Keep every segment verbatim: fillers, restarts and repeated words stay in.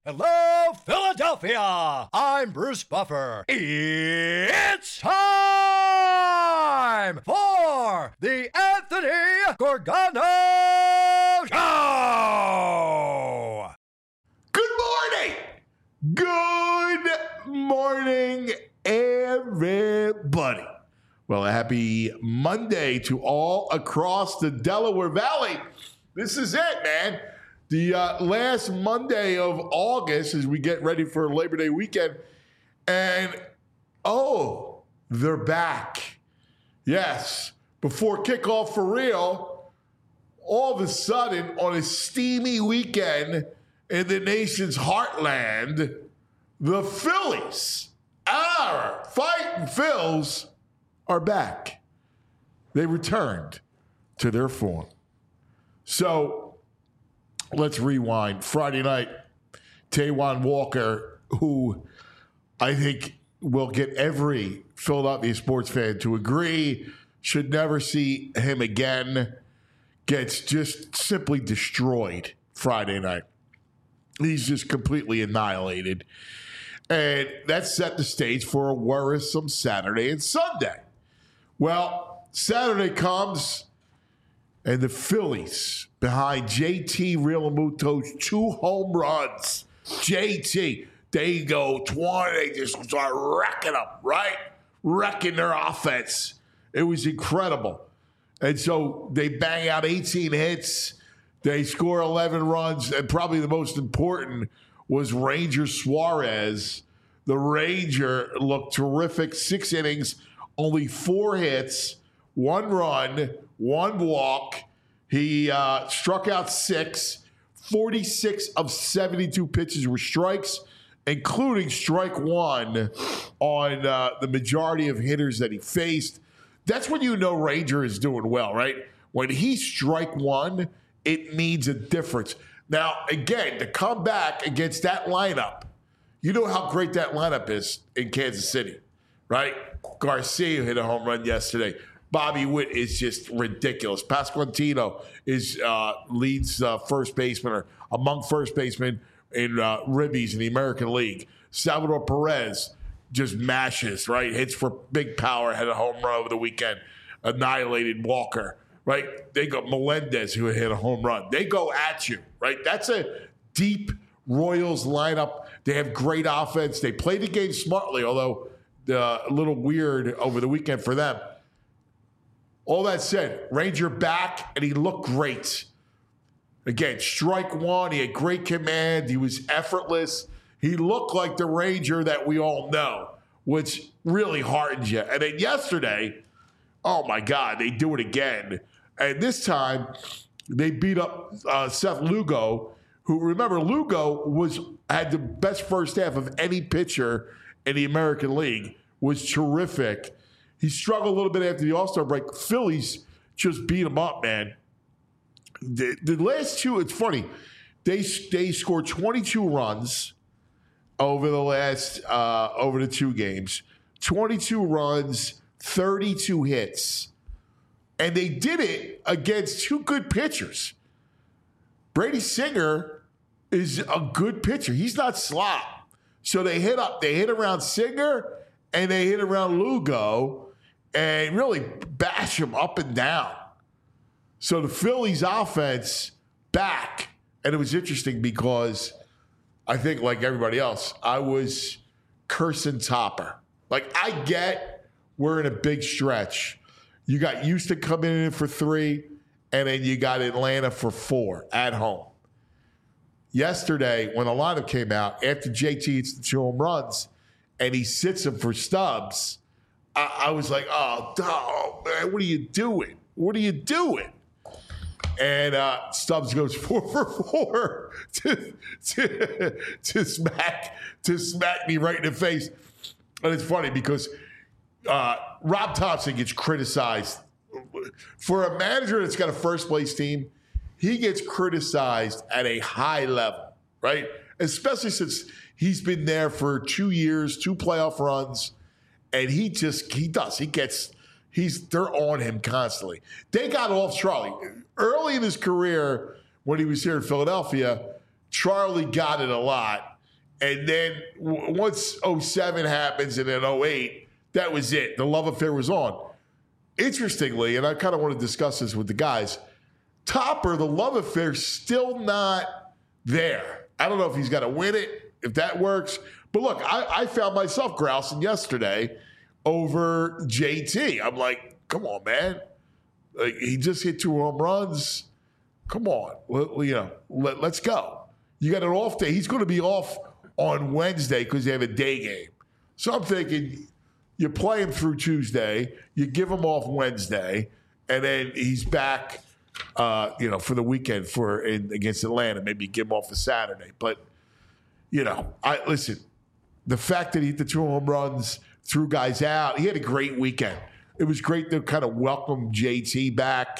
Hello, Philadelphia! I'm Bruce Buffer. It's time for the Anthony Gorgano Show! Good morning! Good morning, everybody. Well, a happy Monday to all across the Delaware Valley. This is it, man. The uh, last Monday of August as we get ready for Labor Day weekend. And, oh, they're back. Yes, before kickoff for real, all of a sudden on a steamy weekend in the nation's heartland, the Phillies, our Fighting Phils, are back. They returned to their form. So, let's rewind. Friday night, Taijuan Walker, who I think will get every Philadelphia sports fan to agree, should never see him again, gets just simply destroyed Friday night. He's just completely annihilated. And that set the stage for a worrisome Saturday and Sunday. Well, Saturday comes, and the Phillies, behind J T Realmuto's two home runs, J T, they go twenty, they just start wrecking them, right? Wrecking their offense. It was incredible. And so they bang out eighteen hits. They score eleven runs. And probably the most important was Ranger Suarez. The Ranger looked terrific. Six innings, only four hits, one run, one walk. He uh, struck out six. forty-six of seventy-two pitches were strikes, including strike one on uh, the majority of hitters that he faced. That's when you know Ranger is doing well, right? When he strike one, it means a difference. Now, again, to come back against that lineup, you know how great that lineup is in Kansas City, right? Garcia hit a home run yesterday. Bobby Witt is just ridiculous. Pasquantino is uh, leads uh, first baseman or among first basemen in uh, ribbies in the American League. Salvador Perez just mashes, right? Hits for big power, had a home run over the weekend, annihilated Walker, right? They got Melendez who hit a home run. They go at you, right? That's a deep Royals lineup. They have great offense. They play the game smartly, although uh, a little weird over the weekend for them. All that said, Ranger back, and he looked great. Again, strike one, he had great command, he was effortless. He looked like the Ranger that we all know, which really heartens you. And then yesterday, oh my God, they do it again. And this time, they beat up uh, Seth Lugo, who, remember, Lugo was had the best first half of any pitcher in the American League, was terrific. He struggled a little bit after the All-Star break. Phillies just beat him up, man. The, the last two, it's funny. They they scored twenty-two runs over the last uh, over the two games. twenty-two runs, thirty-two hits, and they did it against two good pitchers. Brady Singer is a good pitcher. He's not slop. So they hit up. They hit around Singer and they hit around Lugo. And really bash him up and down. So the Phillies offense back. And it was interesting because I think, like everybody else, I was cursing Topper. Like, I get we're in a big stretch. You got Houston coming in for three, and then you got Atlanta for four at home. Yesterday, when the lineup came out, after J T hits the two home runs, and he sits him for Stubbs, I was like, oh, oh, man, what are you doing? What are you doing? And uh, Stubbs goes four for four to, to, to, smack, to smack me right in the face. And it's funny because uh, Rob Thompson gets criticized. For a manager that's got a first-place team, he gets criticized at a high level, right? Especially since he's been there for two years, two playoff runs. And he just, he does. He gets, he's, they're on him constantly. They got off Charlie. Early in his career, when he was here in Philadelphia, Charlie got it a lot. And then w- once oh seven happens and then oh eight, that was it. The love affair was on. Interestingly, and I kind of want to discuss this with the guys, Topper, the love affair, still not there. I don't know if he's got to win it, if that works. But look, I, I found myself grousing yesterday over J T. I'm like, come on, man. Like, he just hit two home runs. Come on. Well, you know, let, let's go. You got an off day. He's going to be off on Wednesday because they have a day game. So I'm thinking you play him through Tuesday, you give him off Wednesday, and then he's back, uh, you know, for the weekend for in, against Atlanta. Maybe give him off for Saturday. But, you know, I listen, the fact that he hit the two home runs, threw guys out, he had a great weekend. It was great to kind of welcome J T back.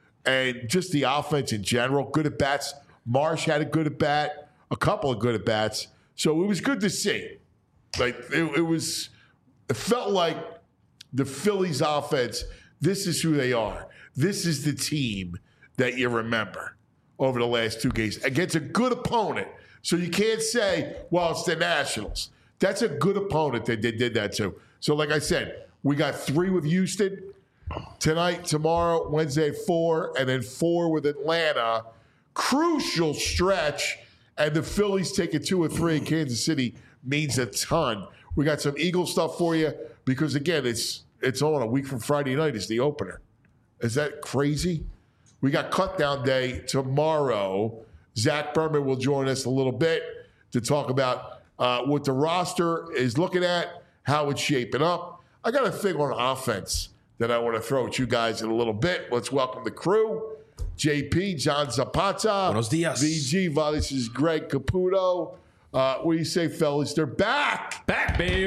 And just the offense in general, good at bats. Marsh had a good at bat, a couple of good at bats. So it was good to see. Like it, it was, it felt like the Phillies offense, this is who they are. This is the team that you remember over the last two games against a good opponent. So you can't say, well, it's the Nationals. That's a good opponent that they did that to. So like I said, we got three with Houston tonight, tomorrow, Wednesday at four, and then four with Atlanta. Crucial stretch, and the Phillies taking two or three in Kansas City means a ton. We got some Eagles stuff for you because, again, it's it's on a week from Friday night is the opener. Is that crazy? We got cut down day tomorrow. Zach Berman will join us a little bit to talk about uh, what the roster is looking at, how it's shaping up. I got a thing on offense that I want to throw at you guys in a little bit. Let's welcome the crew. J P, John Zapata. Buenos dias. V G, well, this is Greg Caputo. Uh, what do you say, fellas? They're back. Back, baby.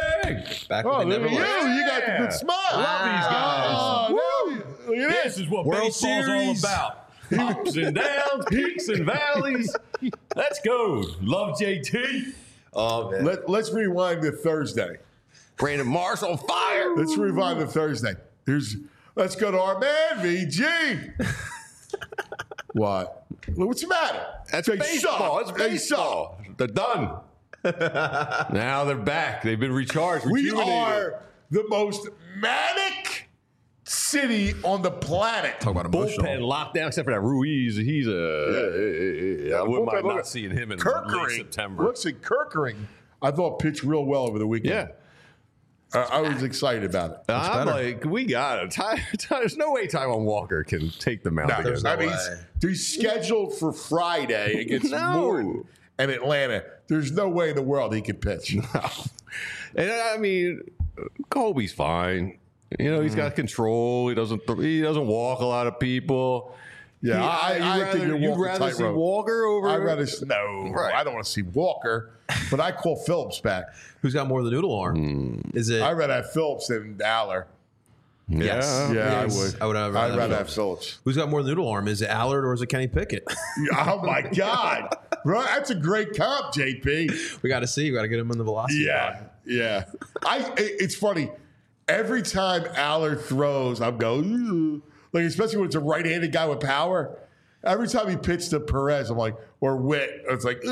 Back Oh, when they look never at you. left. You got the good smile. I love these guys. Oh, now, look at This this. is what World baseball's Series. all about. Ups and downs, peaks and valleys. Let's go. Love J T. Oh, man. Let, let's rewind to Thursday. Brandon Marsh on fire. Let's rewind to Thursday. Here's, let's go to our man, V G. What? What's the matter? That's They baseball. suck. It's They baseball. They're done. Now they're back. They've been recharged. We rejuvenated. are the most manic city on the planet. Talk about bullpen emotional. lockdown, except for that Ruiz. He's a. I wouldn't Bullpen, mind look not at seeing him in Kirkering. late September. Looks like Kirkering, I thought pitched real well over the weekend. Yeah. Uh, I was excited about it. I'm better. like, we got it. Ty, Ty, there's no way Taiwan Walker can take the mound No, again. there's no I mean, way. he's, he's scheduled for Friday against No. Morton and Atlanta. There's no way in the world he can pitch. And I mean, Kobe's fine. You know, he's got control. He doesn't. He doesn't walk a lot of people. Yeah, He- I, you'd I rather, think you're you'd walking rather see tightrope. Walker over. I'd rather s- no. Right. I don't want to see Walker, but I call Phillips back. Who's got more of the noodle arm? Is it? I'd rather have Phillips than Aller. Yeah. Yes. Yeah, Yes. I would. I would have- I'd I'd rather have have Phillips. Who's got more of the noodle arm? Is it Allard or is it Kenny Pickett? Oh my God, bro, that's a great comp, J P. we got to see. We got to get him in the velocity. Yeah, yeah. I. it- It's funny. Every time Allard throws, I'm going "Ooh." Like, especially when it's a right-handed guy with power. Every time he pitched to Perez, I'm like, or Witt, it's like,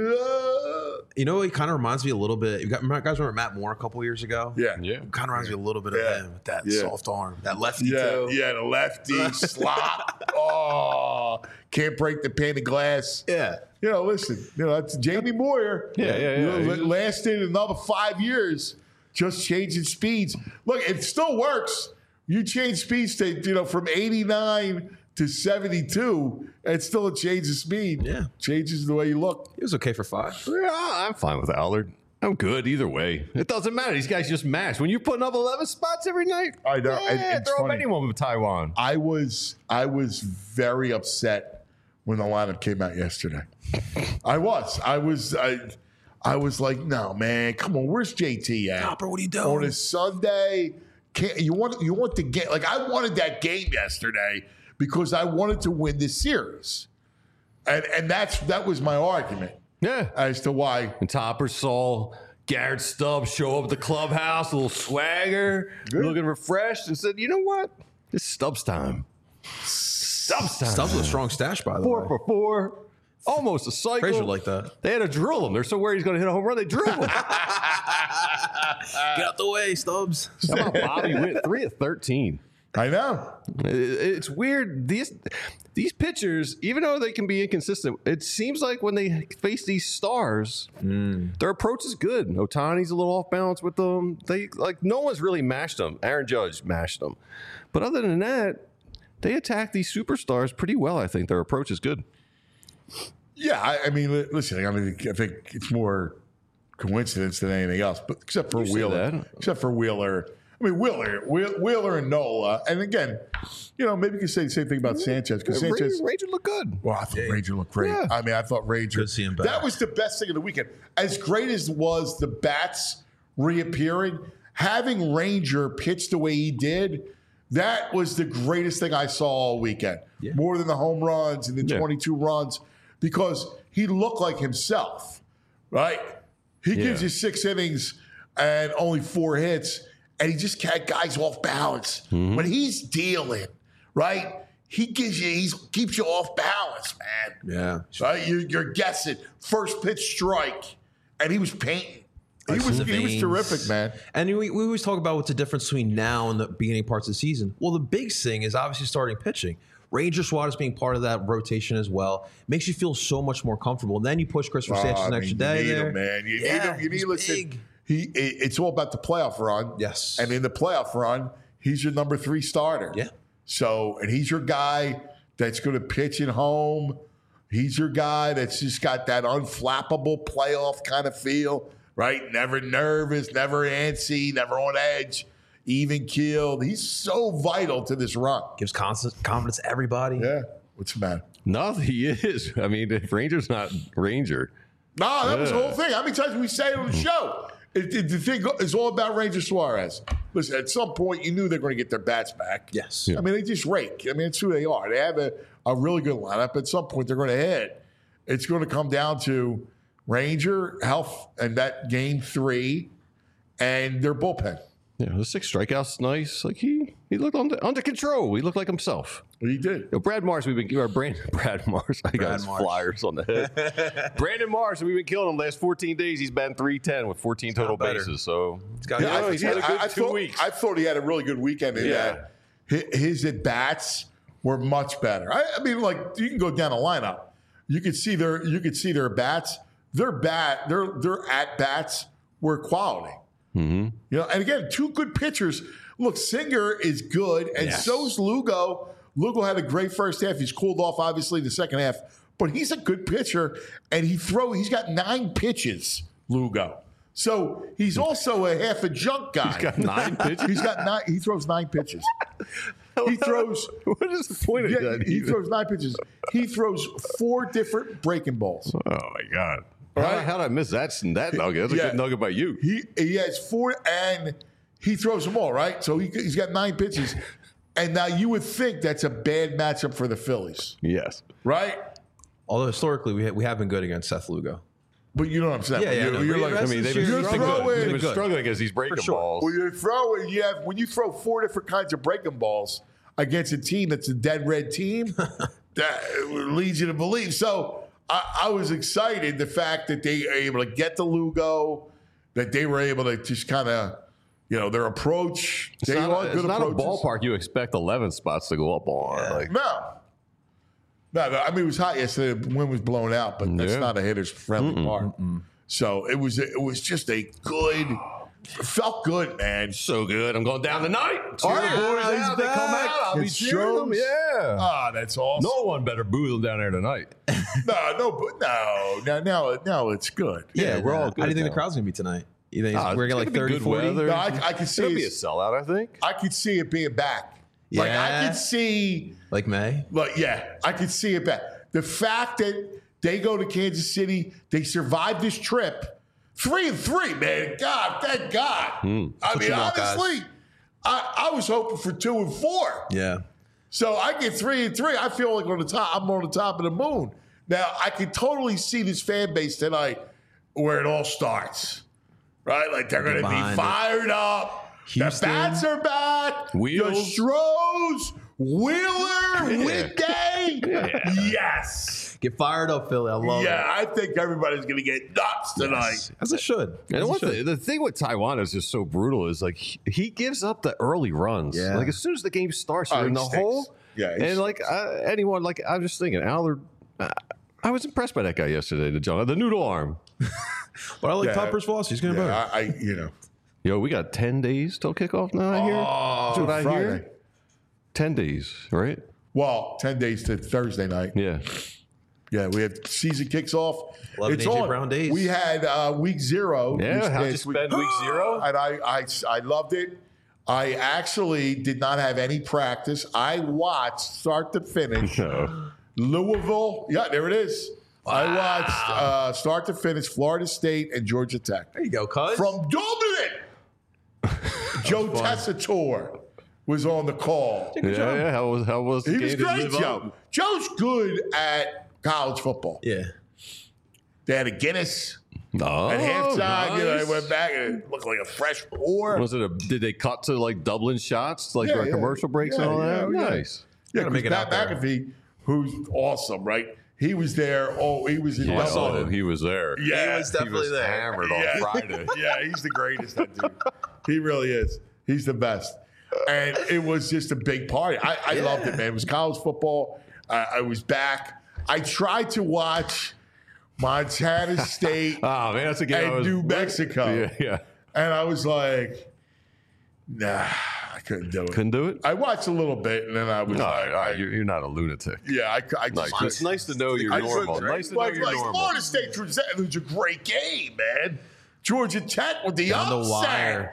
"Ooh." You know, he kind of reminds me a little bit. You got, remember, guys remember Matt Moore a couple years ago? yeah, Yeah. Kind of reminds me a little bit of Yeah. him with that Yeah. soft arm, that lefty yeah, too. yeah. The lefty slot. Oh, can't break the pane of glass. Yeah. You know, listen, you know, that's Jamie Moyer. Yeah, yeah, You know, yeah. la- lasted another five years, just changing speeds. Look, it still works. You change speeds to, you know, from eighty-nine to seventy-two, it's still a change of speed. Yeah. Changes the way you look. He was okay for five. Yeah, I'm fine with Allard. I'm good either way. It doesn't matter. These guys just match. When you're putting up eleven spots every night, I know. yeah, And it's throw up funny. anyone with Taiwan. I was I was very upset when the lineup came out yesterday. I was. I was I I was like, no, man, come on, where's J T at? Copper, what are you doing? On a Sunday, can't you want you want the game? Like, I wanted that game yesterday because I wanted to win this series, and and that's that was my argument Yeah. as to why. And Topper saw Garrett Stubbs show up at the clubhouse, a little swagger, looking refreshed, and said, you know what? It's Stubbs time. Stubbs time. Stubbs with a strong stash, by the Four way. for four. almost a cycle. Frazier like that. They had to drill him. They're so worried he's going to hit a home run. They drill him. Get out the way, Stubbs. How about Bobby Witt? three of thirteen. I know. It- It's weird. These these pitchers, even though they can be inconsistent, it seems like when they face these stars, their approach is good. Ohtani's a little off balance with them. They like no one's really mashed them. Aaron Judge mashed them, but other than that, they attack these superstars pretty well. I think their approach is good. Yeah, I, I mean, li- listen, I mean, I think it's more coincidence than anything else, but except for You say Wheeler, that. except for Wheeler. I mean, Wheeler, Wheel- Wheeler and Nola, and again, you know, maybe you could say the same thing about Sanchez because Ranger, Sanchez. Ranger look good. Well, I thought Ranger looked great. Yeah. I mean, I thought Ranger. Good to see him back. That was the best thing of the weekend. As great as was the bats reappearing, having Ranger pitch the way he did, that was the greatest thing I saw all weekend. Yeah. More than the home runs and the Yeah. twenty-two runs, because he looked like himself, right? He Yeah. gives you six innings and only four hits, and he just had guys off balance. Mm-hmm. When he's dealing, right? He gives you, he keeps you off balance, man. Yeah. Right? You, you're guessing first pitch strike, and he was painting. He Ice was in the he was veins. terrific, man. And we, we always talk about what's the difference between now and the beginning parts of the season. Well, the big thing is obviously starting pitching. Ranger Suarez being part of that rotation as well makes you feel so much more comfortable. And then you push Christopher Oh, Sanchez I an mean, extra you day need there. him, man. You Yeah, need him. You need he's listen. big. He, it- it's all about the playoff run. Yes. And in the playoff run, he's your number three starter. Yeah. So, and he's your guy that's going to pitch at home. He's your guy that's just got that unflappable playoff kind of feel, right? Never nervous, never antsy, never on edge, even keeled. He's so vital to this run. Gives constant confidence to everybody. Yeah. What's the matter? No, he is. I mean, if Ranger's not Ranger, No, that was the Yeah. whole thing. How many times did we say it on the show? It, it, the thing is all about Ranger Suarez. Listen, at some point, you knew they were going to get their bats back. Yes. I mean, they just rake. I mean, it's who they are. They have a, a really good lineup. At some point, they're going to hit. It's going to come down to Ranger, health, and that game three, and their bullpen. yeah, the six strikeouts, nice. Like he, he looked under, under control. He looked like himself. He did. You know, Brad Mars, we've been or Brandon, Brad Mars. I got Brad his Marsh. flyers on the head. Brandon Mars, we've been killing him last fourteen days. He's batting three ten with fourteen total better. bases. So He's got Yeah, Yeah, I, he's had a good I- I two thought, weeks. I thought he had a really good weekend in Yeah. that. Hi- His at bats were much better. I, I mean, like you can go down a lineup. You could see their you could see their bats. Their bat, their their at bats were quality. Mm-hmm. You know, and again, two good pitchers. Look, Singer is good, and Yes. so's Lugo. Lugo had a great first half. He's cooled off, obviously, the second half, but he's a good pitcher, and he throw. He's got nine pitches, Lugo. So he's also a half a junk guy. he's got nine pitches. He's got nine. He throws nine pitches. He throws. What is the point of Yeah, that? he even? throws nine pitches. He throws four different breaking balls. Oh my god! All How, right. how did I miss that? That nugget. That's a Yeah. good nugget by you. He he has four, and he throws them all, right? So he, he's got nine pitches. And now you would think that's a bad matchup for the Phillies, Yes. right? Although historically we ha- we have been good against Seth Lugo. But you know what I'm saying? Yeah, yeah, You're, no, you're but like, the I rest mean, of they've this been, year- You're they've been good. throwing- They've been Been good. struggling against these breaking sure. balls. when you're throwing, you have when you throw four different kinds of breaking balls against a team that's a dead red team, that leads you to believe. So I, I was excited the fact that they were able to get the Lugo, that they were able to just kind of, you know, their approach. It's they not, are a, it's good not a approaches. ballpark you expect eleven spots to go up on. Like, No. No, no, I mean, it was hot yesterday. The wind was blown out, but that's Yeah. not a hitter's friendly park. So it was it was just a good, it felt good, man. so good. I'm going down tonight. All right, boys he's out. They come back. out. I'll be It cheering them. shows. Yeah. Ah, that's awesome. No one better boo them down there tonight. No, no, but no, now, now, now it's good. Yeah, we're all How do you good think now. the crowd's gonna be tonight? You think Ah, we're it's gonna like gonna be thirty, good forty? weather. No, I, I could see It'll be a it, sellout, I think. I could see it being back. Like I Yeah. could see, Like May? like yeah, I could see it back. The fact that they go to Kansas City, they survive this trip, three and three, man. God, thank God. I what mean, you want, guys. honestly, I, I was hoping for two and four. Yeah. So I get three and three. I feel like on the top, I'm on the top of the moon. Now I can totally see this fan base tonight where it all starts. Right? Like they're gonna Behind be it. fired up. Houston. The bats are back. Wheels. The Stros. Wheeler win day? Yeah. Yes. Get fired up, Philly. I love Yeah, it. I think everybody's going to get nuts tonight. Yes. As it should. And As it what should. the, the thing with Taiwan is just so brutal is like he, he gives up the early runs. Yeah. Like as soon as the game starts, Oh, you're in he the stinks. hole. Yeah, he and like uh, anyone, like I'm just thinking, Allard. Uh, I was impressed by that guy yesterday, the John, the noodle arm. But I like Yeah. Todd Perswasi. He's going to Yeah, better. I, I, you know. Yo, we got ten days till kickoff now. I hear. Oh, That's what I Friday. hear. Ten days, right? Well, ten days to Thursday night. Yeah. Yeah, we have season kicks off. eleven It's A J on. Brown days. We had uh, week zero. Yeah. which How'd you is- spend week zero? And I, I, I loved it. I actually did not have any practice. I watched start to finish No. Louisville. Yeah, there it is. I watched uh, start to finish Florida State and Georgia Tech. There you go, cuz. From Dublin, Joe Tessitore was on the call. Yeah, yeah. How was how was the He game was to great, live up? Joe. Joe's good at college football. Yeah. They had a Guinness Oh, at halftime. You know, nice. they went back and it looked like a fresh pour. Was it a? Did they cut to like Dublin shots, like Yeah, during yeah. commercial breaks Yeah, and all that? yeah, yeah. Nice. Yeah, Gotta make because it Pat out there. McAfee, who's awesome, right? He was there. Oh, he was in Yeah, Dublin. oh, he was there. Yeah, He was definitely there. hammered on Yeah. Friday. yeah, he's the greatest, that dude. He really is. He's the best. And it was just a big party. I, I loved it, man. It was college football. I, I was back. I tried to watch Montana State Oh man, that's a game. I and was, New Mexico. Yeah, yeah. And I was like, nah, I couldn't do it. Couldn't do it. I watched a little bit, and then I was No, like, no, I- you're, you're not a lunatic. yeah, I, I just Like, couldn't. it's nice to know you're I normal. couldn't. Nice to know Like, you're like normal. Florida State, it was a great game, man. Georgia Tech with the Down the upset. wire.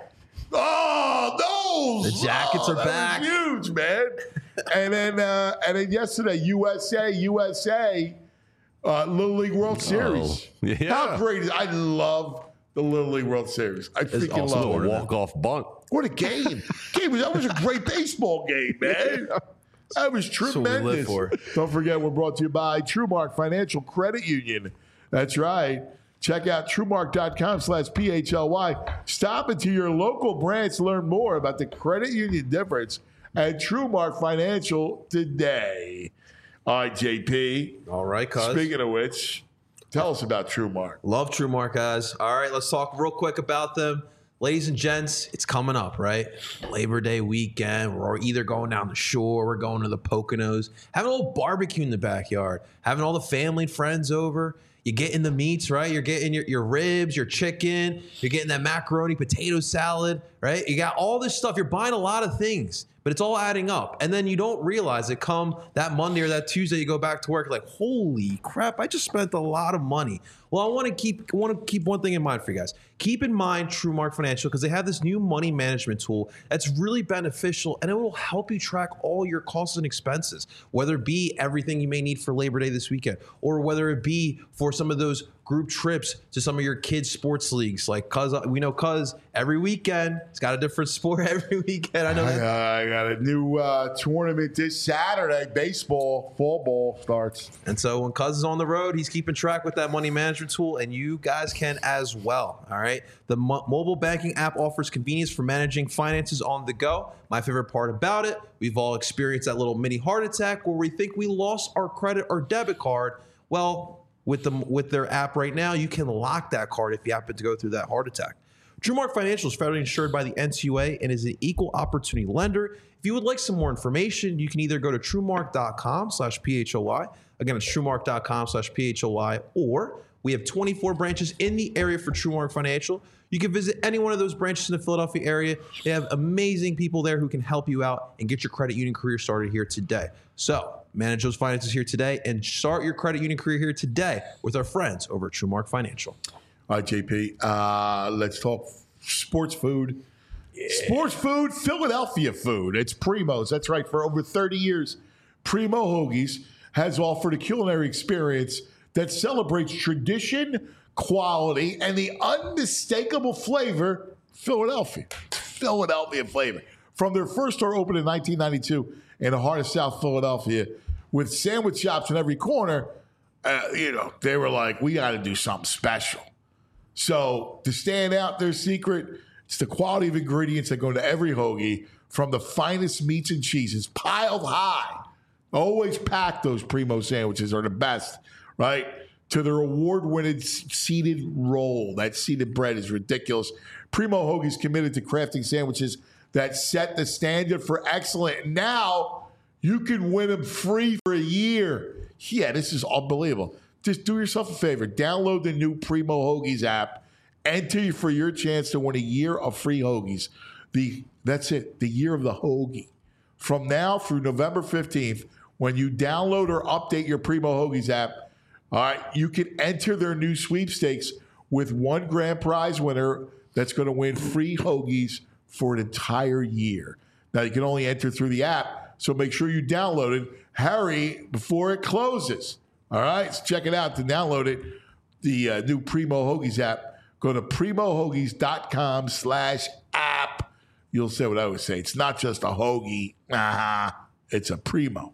Oh, those The Jackets oh, are that back. was huge, man. and then, uh, and then yesterday, U S A, U S A, uh, Little League World Series. yeah. How great is? I love the Little League World Series. I freaking awesome. love A it. walk off bunt. What a game! game was, that was a great baseball game, man. That was what we live tremendous. for. Don't forget, we're brought to you by TrueMark Financial Credit Union. That's right. Check out TrueMark.com slash PHLY. Stop into your local branch to learn more about the credit union difference at TrueMark Financial today. All right, J P. All right, cuz. Speaking of which, tell us about TrueMark. Love TrueMark, guys. All right, let's talk real quick about them. Ladies and gents, it's coming up, right? Labor Day weekend. We're either going down the shore, we're going to the Poconos, having a little barbecue in the backyard, having all the family and friends over. You're getting the meats, right? You're getting your, your ribs, your chicken. You're getting that macaroni potato salad, right? You got all this stuff. You're buying a lot of things, but it's all adding up. And then you don't realize it come that Monday or that Tuesday, you go back to work, like, holy crap, I just spent a lot of money. Well, I want to keep want to keep one thing in mind for you guys. Keep in mind TrueMark Financial, because they have this new money management tool that's really beneficial, and it will help you track all your costs and expenses, whether it be everything you may need for Labor Day this weekend, or whether it be for some of those group trips to some of your kids' sports leagues. Like, cuz we know cuz every weekend, it's got a different sport every weekend. I know I, that. uh, I got a new uh, tournament this Saturday. Baseball, fall ball starts. And so when Cuz is on the road, he's keeping track with that money management tool, and you guys can as well. All right. The mo- mobile banking app offers convenience for managing finances on the go. My favorite part about it, we've all experienced that little mini heart attack where we think we lost our credit or debit card. Well, with them with their app right now, you can lock that card if you happen to go through that heart attack. TrueMark Financial is federally insured by the N C U A and is an equal opportunity lender. If you would like some more information, you can either go to TrueMark.com slash PHOY. Again, it's TrueMark.com slash PHOY, or we have twenty-four branches in the area for TrueMark Financial. You can visit any one of those branches in the Philadelphia area. They have amazing people there who can help you out and get your credit union career started here today. So manage those finances here today and start your credit union career here today with our friends over at TrueMark Financial. All right, J P. Uh, let's talk sports food. Sports food, Philadelphia food. It's Primo's. That's right. For over thirty years, Primo Hoagies has offered a culinary experience that celebrates tradition, quality, and the unmistakable flavor, Philadelphia. Philadelphia flavor. From their first store opened in nineteen ninety-two in the heart of South Philadelphia, with sandwich shops in every corner, uh, you know, they were like, we got to do something special. So to stand out, their secret It's the quality of ingredients that go into every hoagie, from the finest meats and cheeses piled high. Always pack those Primo sandwiches are the best, right? To their award-winning seeded roll. That seeded bread is ridiculous. Primo Hoagie is committed to crafting sandwiches that set the standard for excellence. Now you can win them free for a year. Yeah, this is unbelievable. Just do yourself a favor. Download the new Primo Hoagies app. Enter for your chance to win a year of free hoagies. The That's it, the year of the hoagie. From now through November fifteenth, when you download or update your Primo Hoagies app, all right, you can enter their new sweepstakes with one grand prize winner that's going to win free hoagies for an entire year. Now, you can only enter through the app, so make sure you download it. Hurry before it closes. All right, so check it out to download it, the uh, new Primo Hoagies app. Go to primohoagies.com slash app. You'll say what I would say. It's not just a hoagie. Uh-huh. It's a Primo.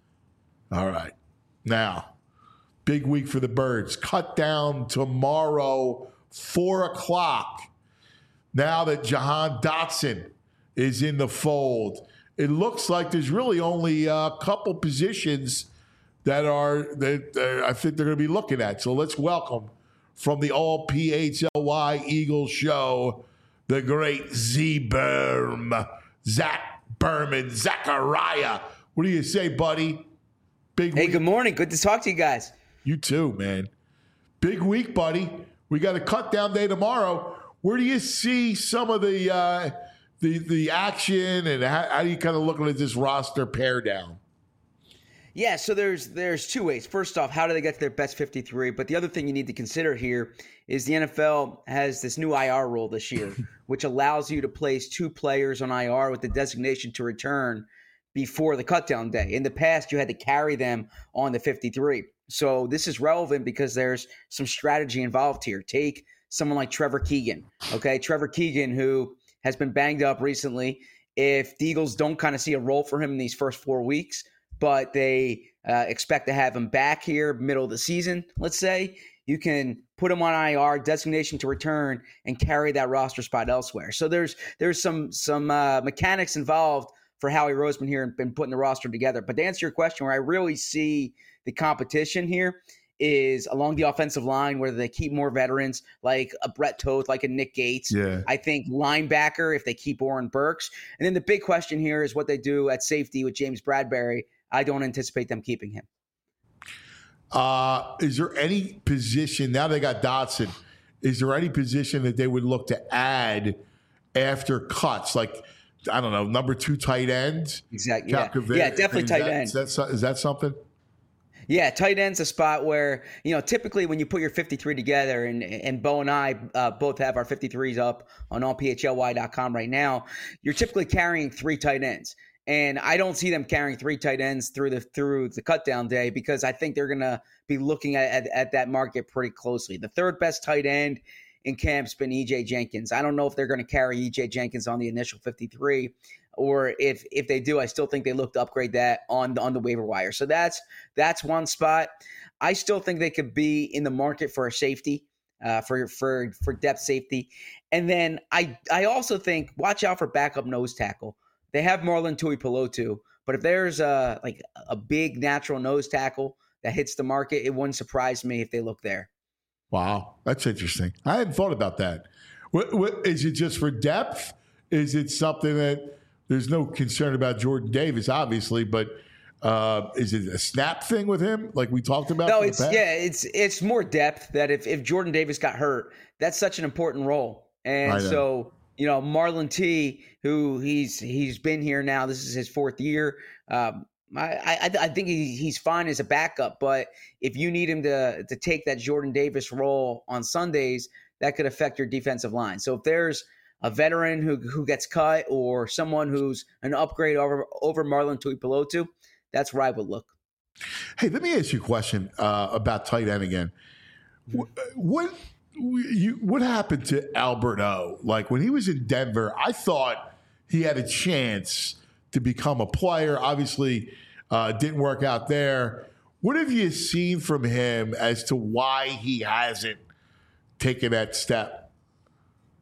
All right. Now, big week for the Birds. Cut down tomorrow, four o'clock. Now that Jahan Dotson is in the fold, it looks like there's really only a couple positions that are that uh, I think they're going to be looking at. So let's welcome from the all P H L Y Eagles show, the great Z-Berm, Zach Berman, Zachariah. What do you say, buddy? Big Hey, week. good morning. Good to talk to you guys. You too, man. Big week, buddy. We got a cut down day tomorrow. Where do you see some of the uh, the the action, and how, how do you kind of looking at this roster pare down? Yeah, so there's there's two ways. First off, how do they get to their best fifty-three? But the other thing you need to consider here is the N F L has this new I R rule this year, which allows you to place two players on I R with the designation to return before the cutdown day. In the past, you had to carry them on the fifty-three. So this is relevant because there's some strategy involved here. Take someone like Trevor Keegan, okay? Trevor Keegan, who has been banged up recently. If the Eagles don't kind of see a role for him in these first four weeks, but they uh, expect to have him back here middle of the season, let's say, you can put him on I R, designation to return, and carry that roster spot elsewhere. So there's there's some some uh, mechanics involved for Howie Roseman here and been putting the roster together. But to answer your question, where I really see the competition here is along the offensive line, where they keep more veterans like a Brett Toth, like a Nick Gates. Yeah. I think linebacker, if they keep Oren Burks. And then the big question here is what they do at safety with James Bradbury. I don't anticipate them keeping him. Uh, is there any position, now they got Dotson, is there any position that they would look to add after cuts? Like, I don't know, number two tight end? Exactly. Yeah, Calcavet- yeah definitely is tight that, end. Is that, so- is that something? Yeah, tight end's a spot where, you know, typically when you put your fifty-three together, and and Bo and I uh, both have our fifty-threes up on all P H L Y dot com right now, you're typically carrying three tight ends. And I don't see them carrying three tight ends through the through the cutdown day because I think they're going to be looking at, at, at that market pretty closely. The third best tight end in camp's been E J Jenkins. I don't know if they're going to carry E J Jenkins on the initial fifty-three, or if if they do, I still think they look to upgrade that on the, on the waiver wire. So that's that's one spot. I still think they could be in the market for a safety, uh, for for for depth safety, and then I I also think watch out for backup nose tackle. They have Marlon Tuipulotu, but if there's a like a big natural nose tackle that hits the market, it wouldn't surprise me if they look there. Wow, that's interesting. I hadn't thought about that. What, what, is it just for depth? Is it something that there's no concern about Jordan Davis, obviously, but uh, is it a snap thing with him, like we talked about? No, in the it's past? yeah, it's it's more depth. That if if Jordan Davis got hurt, that's such an important role, and so. You know, Marlon T, who he's he's been here now. This is his fourth year. Um, I, I I think he, he's fine as a backup, but if you need him to to take that Jordan Davis role on Sundays, that could affect your defensive line. So if there's a veteran who who gets cut or someone who's an upgrade over over Marlon Tuipulotu, that's where I would look. Hey, let me ask you a question uh, about tight end again. What, what you what happened to Albert O? Like when he was in Denver, I thought he had a chance to become a player. Obviously, uh, didn't work out there. What have you seen from him as to why he hasn't taken that step?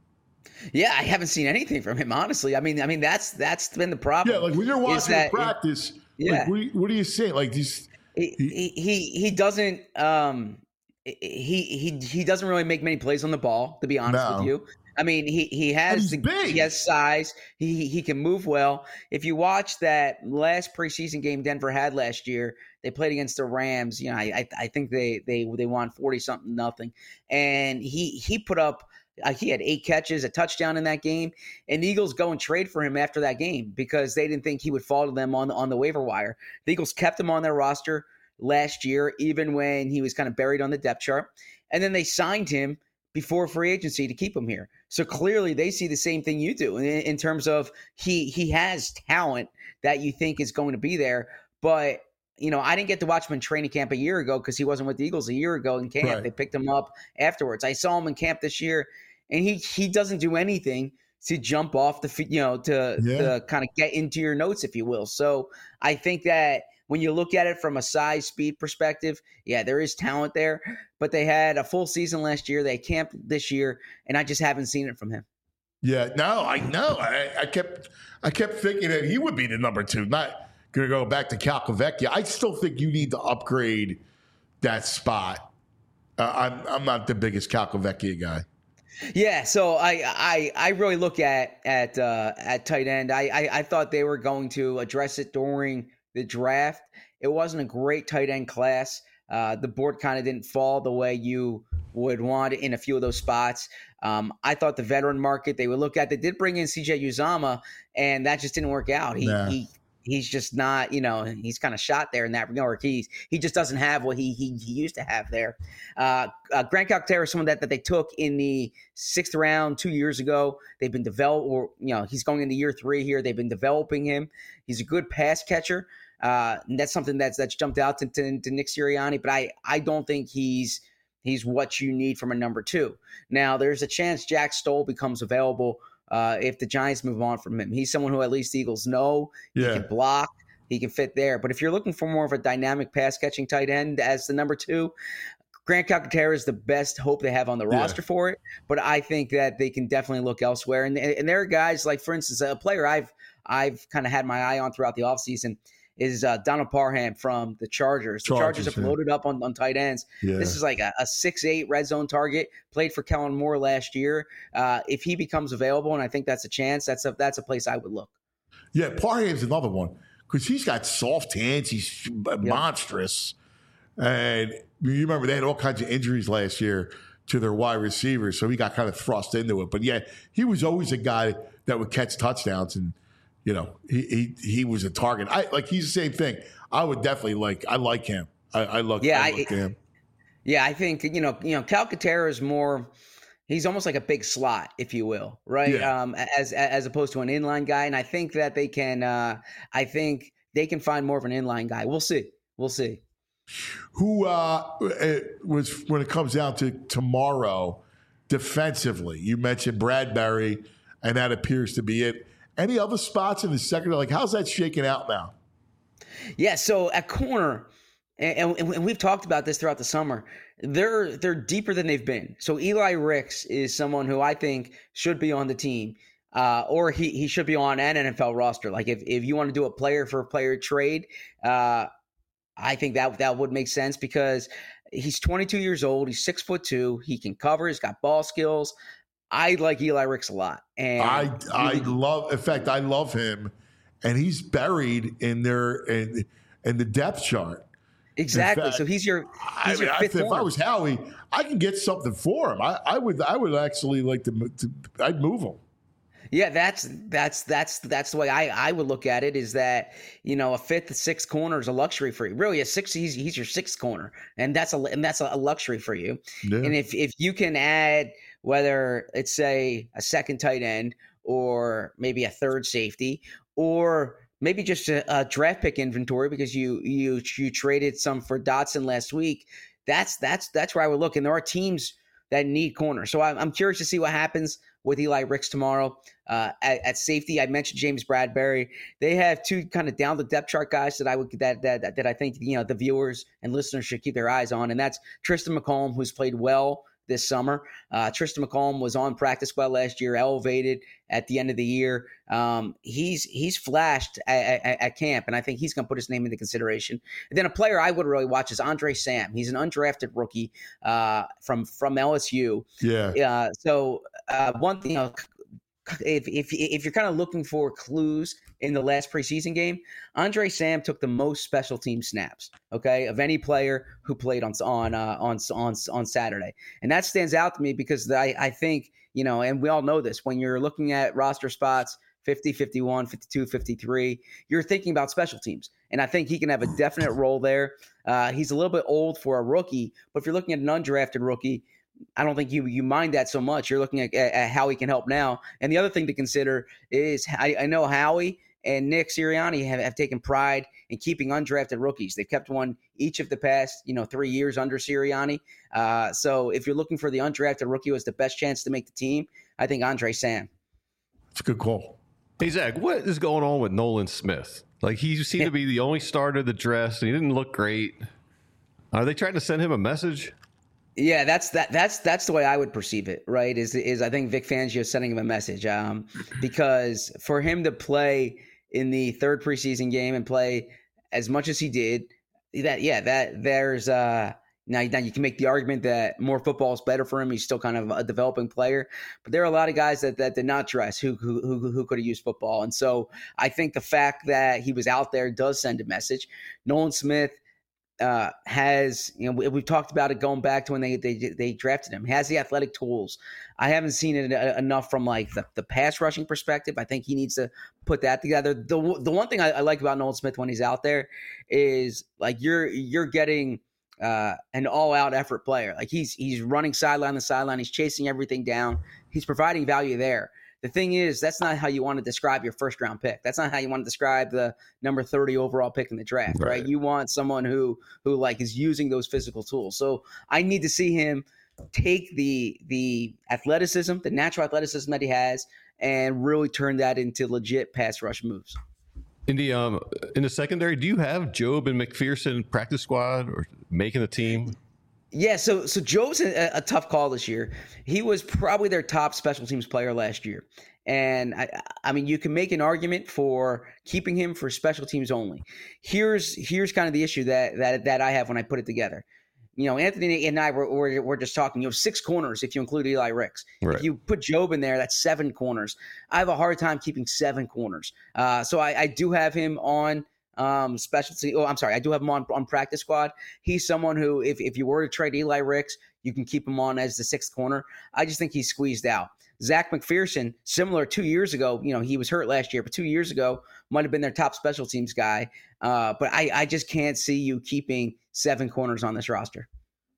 Yeah, I haven't seen anything from him, honestly. I mean, I mean that's that's been the problem. Yeah, like when you're watching that, the practice, yeah. like what, do you, what do you say? Like these, he he he, he doesn't um he he he doesn't really make many plays on the ball, to be honest No. with you. I mean, he he has the, big. he has size. He he can move well. If you watch that last preseason game Denver had last year, they played against the Rams. You know, I I think they they they won forty something nothing, and he he put up. Uh, he had eight catches, a touchdown in that game, and the Eagles go and trade for him after that game because they didn't think he would fall to them on on the waiver wire. The Eagles kept him on their roster last year, even when he was kind of buried on the depth chart, and then they signed him before free agency to keep him here. So clearly they see the same thing you do in, in terms of he he has talent that you think is going to be there. But, you know, I didn't get to watch him in training camp a year ago because he wasn't with the Eagles a year ago in camp. Right. They picked him up afterwards. I saw him in camp this year, and he he doesn't do anything to jump off the, you know, to, Yeah. to kind of get into your notes, if you will. So I think that when you look at it from a size speed perspective, yeah, there is talent there, but they had a full season last year. They camped this year, and I just haven't seen it from him. Yeah, no, I know. I, I kept, I kept thinking that he would be the number two. Not going to go back to Calcavecchia. I still think you need to upgrade that spot. Uh, I'm, I'm not the biggest Calcavecchia guy. Yeah, so I I, I really look at at uh, at tight end. I, I I thought they were going to address it during the draft. It wasn't a great tight end class. Uh, the board kind of didn't fall the way you would want in a few of those spots. Um, I thought the veteran market they would look at. They did bring in C J Uzomah, and that just didn't work out. He Nah. he he's just not, you know, he's kind of shot there in that regard. He he just doesn't have what he he, he used to have there. Uh, uh, Grant Calcaterra is someone that, that they took in the sixth round two years ago. They've been developed, or you know, he's going into year three here. They've been developing him. He's a good pass catcher. Uh, and that's something that's that's jumped out to, to, to Nick Sirianni, but I I don't think he's he's what you need from a number two. Now there's a chance Jack Stoll becomes available uh, if the Giants move on from him. He's someone who at least the Eagles know. Yeah. He can block. He can fit there. But if you're looking for more of a dynamic pass catching tight end as the number two, Grant Calcaterra is the best hope they have on the Yeah. roster for it. But I think that they can definitely look elsewhere. And and there are guys like, for instance, a player I've I've kind of had my eye on throughout the offseason is uh, Donald Parham from the Chargers. The Chargers, Chargers, have yeah. loaded up on, on tight ends. Yeah. This is like a, a six eight red zone target, played for Kellen Moore last year. Uh, if he becomes available, and I think that's a chance, that's a, that's a place I would look. Yeah, Parham's another one because he's got soft hands. He's monstrous. And you remember they had all kinds of injuries last year to their wide receivers, so he got kind of thrust into it. But yeah, he was always a guy that would catch touchdowns, and you know he he, he was a target. I like he's the same thing. I would definitely like. I like him. I, I look. Yeah, I I- look at him. Yeah, I think you know, you know, Calcaterra is more. He's almost like a big slot, if you will, right? Yeah. Um, as as opposed to an inline guy, and I think that they can. Uh, I think they can find more of an inline guy. We'll see. We'll see. Who uh, it was when it comes down to tomorrow defensively? You mentioned Bradbury, and that appears to be it. Any other spots in the secondary? Like, how's that shaking out now? Yeah, so at corner, and, and, and we've talked about this throughout the summer. They're they're deeper than they've been. So Eli Ricks is someone who I think should be on the team, uh, or he he should be on an N F L roster. Like if if you want to do a player for player trade, uh, I think that that would make sense because he's twenty-two years old. He's six foot two. He can cover. He's got ball skills. I like Eli Ricks a lot, and I I love. In fact, I love him, and he's buried in their in, in the depth chart. exactly. fact, so he's your I, he's mean, your I fifth think if I one. was Howie, I can get something for him. I, I would I would actually like to, to. I'd move him. Yeah, that's that's that's that's the way I, I would look at it. Is that you know a fifth, sixth corner is a luxury for you. Really, a six he's he's your sixth corner, and that's a and that's a luxury for you. Yeah. And if if you can add whether it's say a second tight end or maybe a third safety or maybe just a, a draft pick inventory because you you you traded some for Dotson last week, that's that's that's where I would look. And there are teams that need corners, so I'm, I'm curious to see what happens with Eli Ricks tomorrow. Uh, at, at safety, I mentioned James Bradbury. They have two kind of down the depth chart guys that I would that that that I think you know the viewers and listeners should keep their eyes on, and that's Tristan McCollum, who's played well this summer. Uh, Tristan McCollum was on practice squad last year, elevated at the end of the year. Um, he's he's flashed at, at, at camp, and I think he's going to put his name into consideration. And then a player I would really watch is Andre Sam. He's an undrafted rookie uh, from from L S U. Yeah. Uh, so uh, one thing, you know, if if if you're kind of looking for clues in the last preseason game, Andre Sam took the most special team snaps, okay, of any player who played on on uh, on on on Saturday, and that stands out to me because I I think, you know, and we all know this, when you're looking at roster spots fifty, fifty-one, fifty-two, fifty-three, you're thinking about special teams, and I think he can have a definite role there. Uh, he's a little bit old for a rookie, but if you're looking at an undrafted rookie, I don't think you you mind that so much. You're looking at, at how he can help now. And the other thing to consider is I, I know Howie and Nick Sirianni have, have taken pride in keeping undrafted rookies. They've kept one each of the past, you know, three years under Sirianni. Uh, so if you're looking for the undrafted rookie who has the best chance to make the team, I think Andre Sam. It's a good call. Hey, Zach, what is going on with Nolan Smith? Like, he seemed Yeah. to be the only starter that dressed, and he didn't look great. Are they trying to send him a message? Yeah, that's that. That's that's the way I would perceive it, right? Is is I think Vic Fangio is sending him a message, um, because for him to play in the third preseason game and play as much as he did, that yeah, that there's uh, now now you can make the argument that more football is better for him. He's still kind of a developing player, but there are a lot of guys that that did not dress who who who, who could have used football, and so I think the fact that he was out there does send a message. Nolan Smith uh, has, you know, we, we've talked about it going back to when they, they they drafted him. He has the athletic tools. I haven't seen it enough from like the, the pass rushing perspective. I think he needs to put that together. The the one thing I, I like about Nolan Smith when he's out there is like you're you're getting uh, an all out effort player. Like he's he's running sideline to sideline. He's chasing everything down. He's providing value there. The thing is, that's not how you want to describe your first round pick. That's not how you want to describe the number thirty overall pick in the draft, right? right? You want someone who who like is using those physical tools. So I need to see him take the the athleticism, the natural athleticism that he has, and really turn that into legit pass rush moves. In the um in the secondary, do you have Jobe and McPherson practice squad or making the team? Yeah, so so Joe's a, a tough call this year. He was probably their top special teams player last year. And, I, I mean, you can make an argument for keeping him for special teams only. Here's here's kind of the issue that that, that I have when I put it together. You know, Anthony and I were, were, were just talking. You have six corners if you include Eli Ricks. Right. If you put Jobe in there, that's seven corners. I have a hard time keeping seven corners. Uh, so I, I do have him on um specialty. Oh, I'm sorry. I do have him on, on practice squad. He's someone who, if, if you were to trade Eli Ricks, you can keep him on as the sixth corner. I just think he's squeezed out. Zach McPherson, similar two years ago, you know, he was hurt last year, but two years ago might have been their top special teams guy. Uh, but I, I just can't see you keeping seven corners on this roster.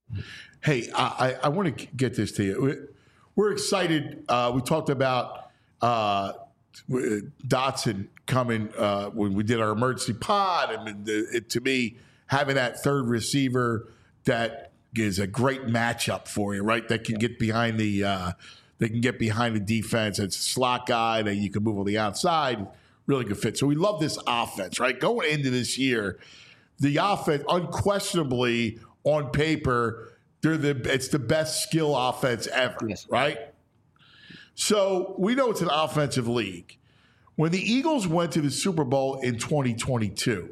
Hey, I, I want to get this to you. We're excited. Uh, we talked about uh, Dotson coming uh, when we did our emergency pod, and it, to me, having that third receiver that is a great matchup for you, right? That can get behind the uh, they can get behind the defense. It's a slot guy that you can move on the outside. Really good fit. So we love this offense, right? Going into this year, the offense unquestionably on paper, they're the it's the best skill offense ever, Yes. right? So we know it's an offensive league. When the Eagles went to the Super Bowl in twenty twenty-two,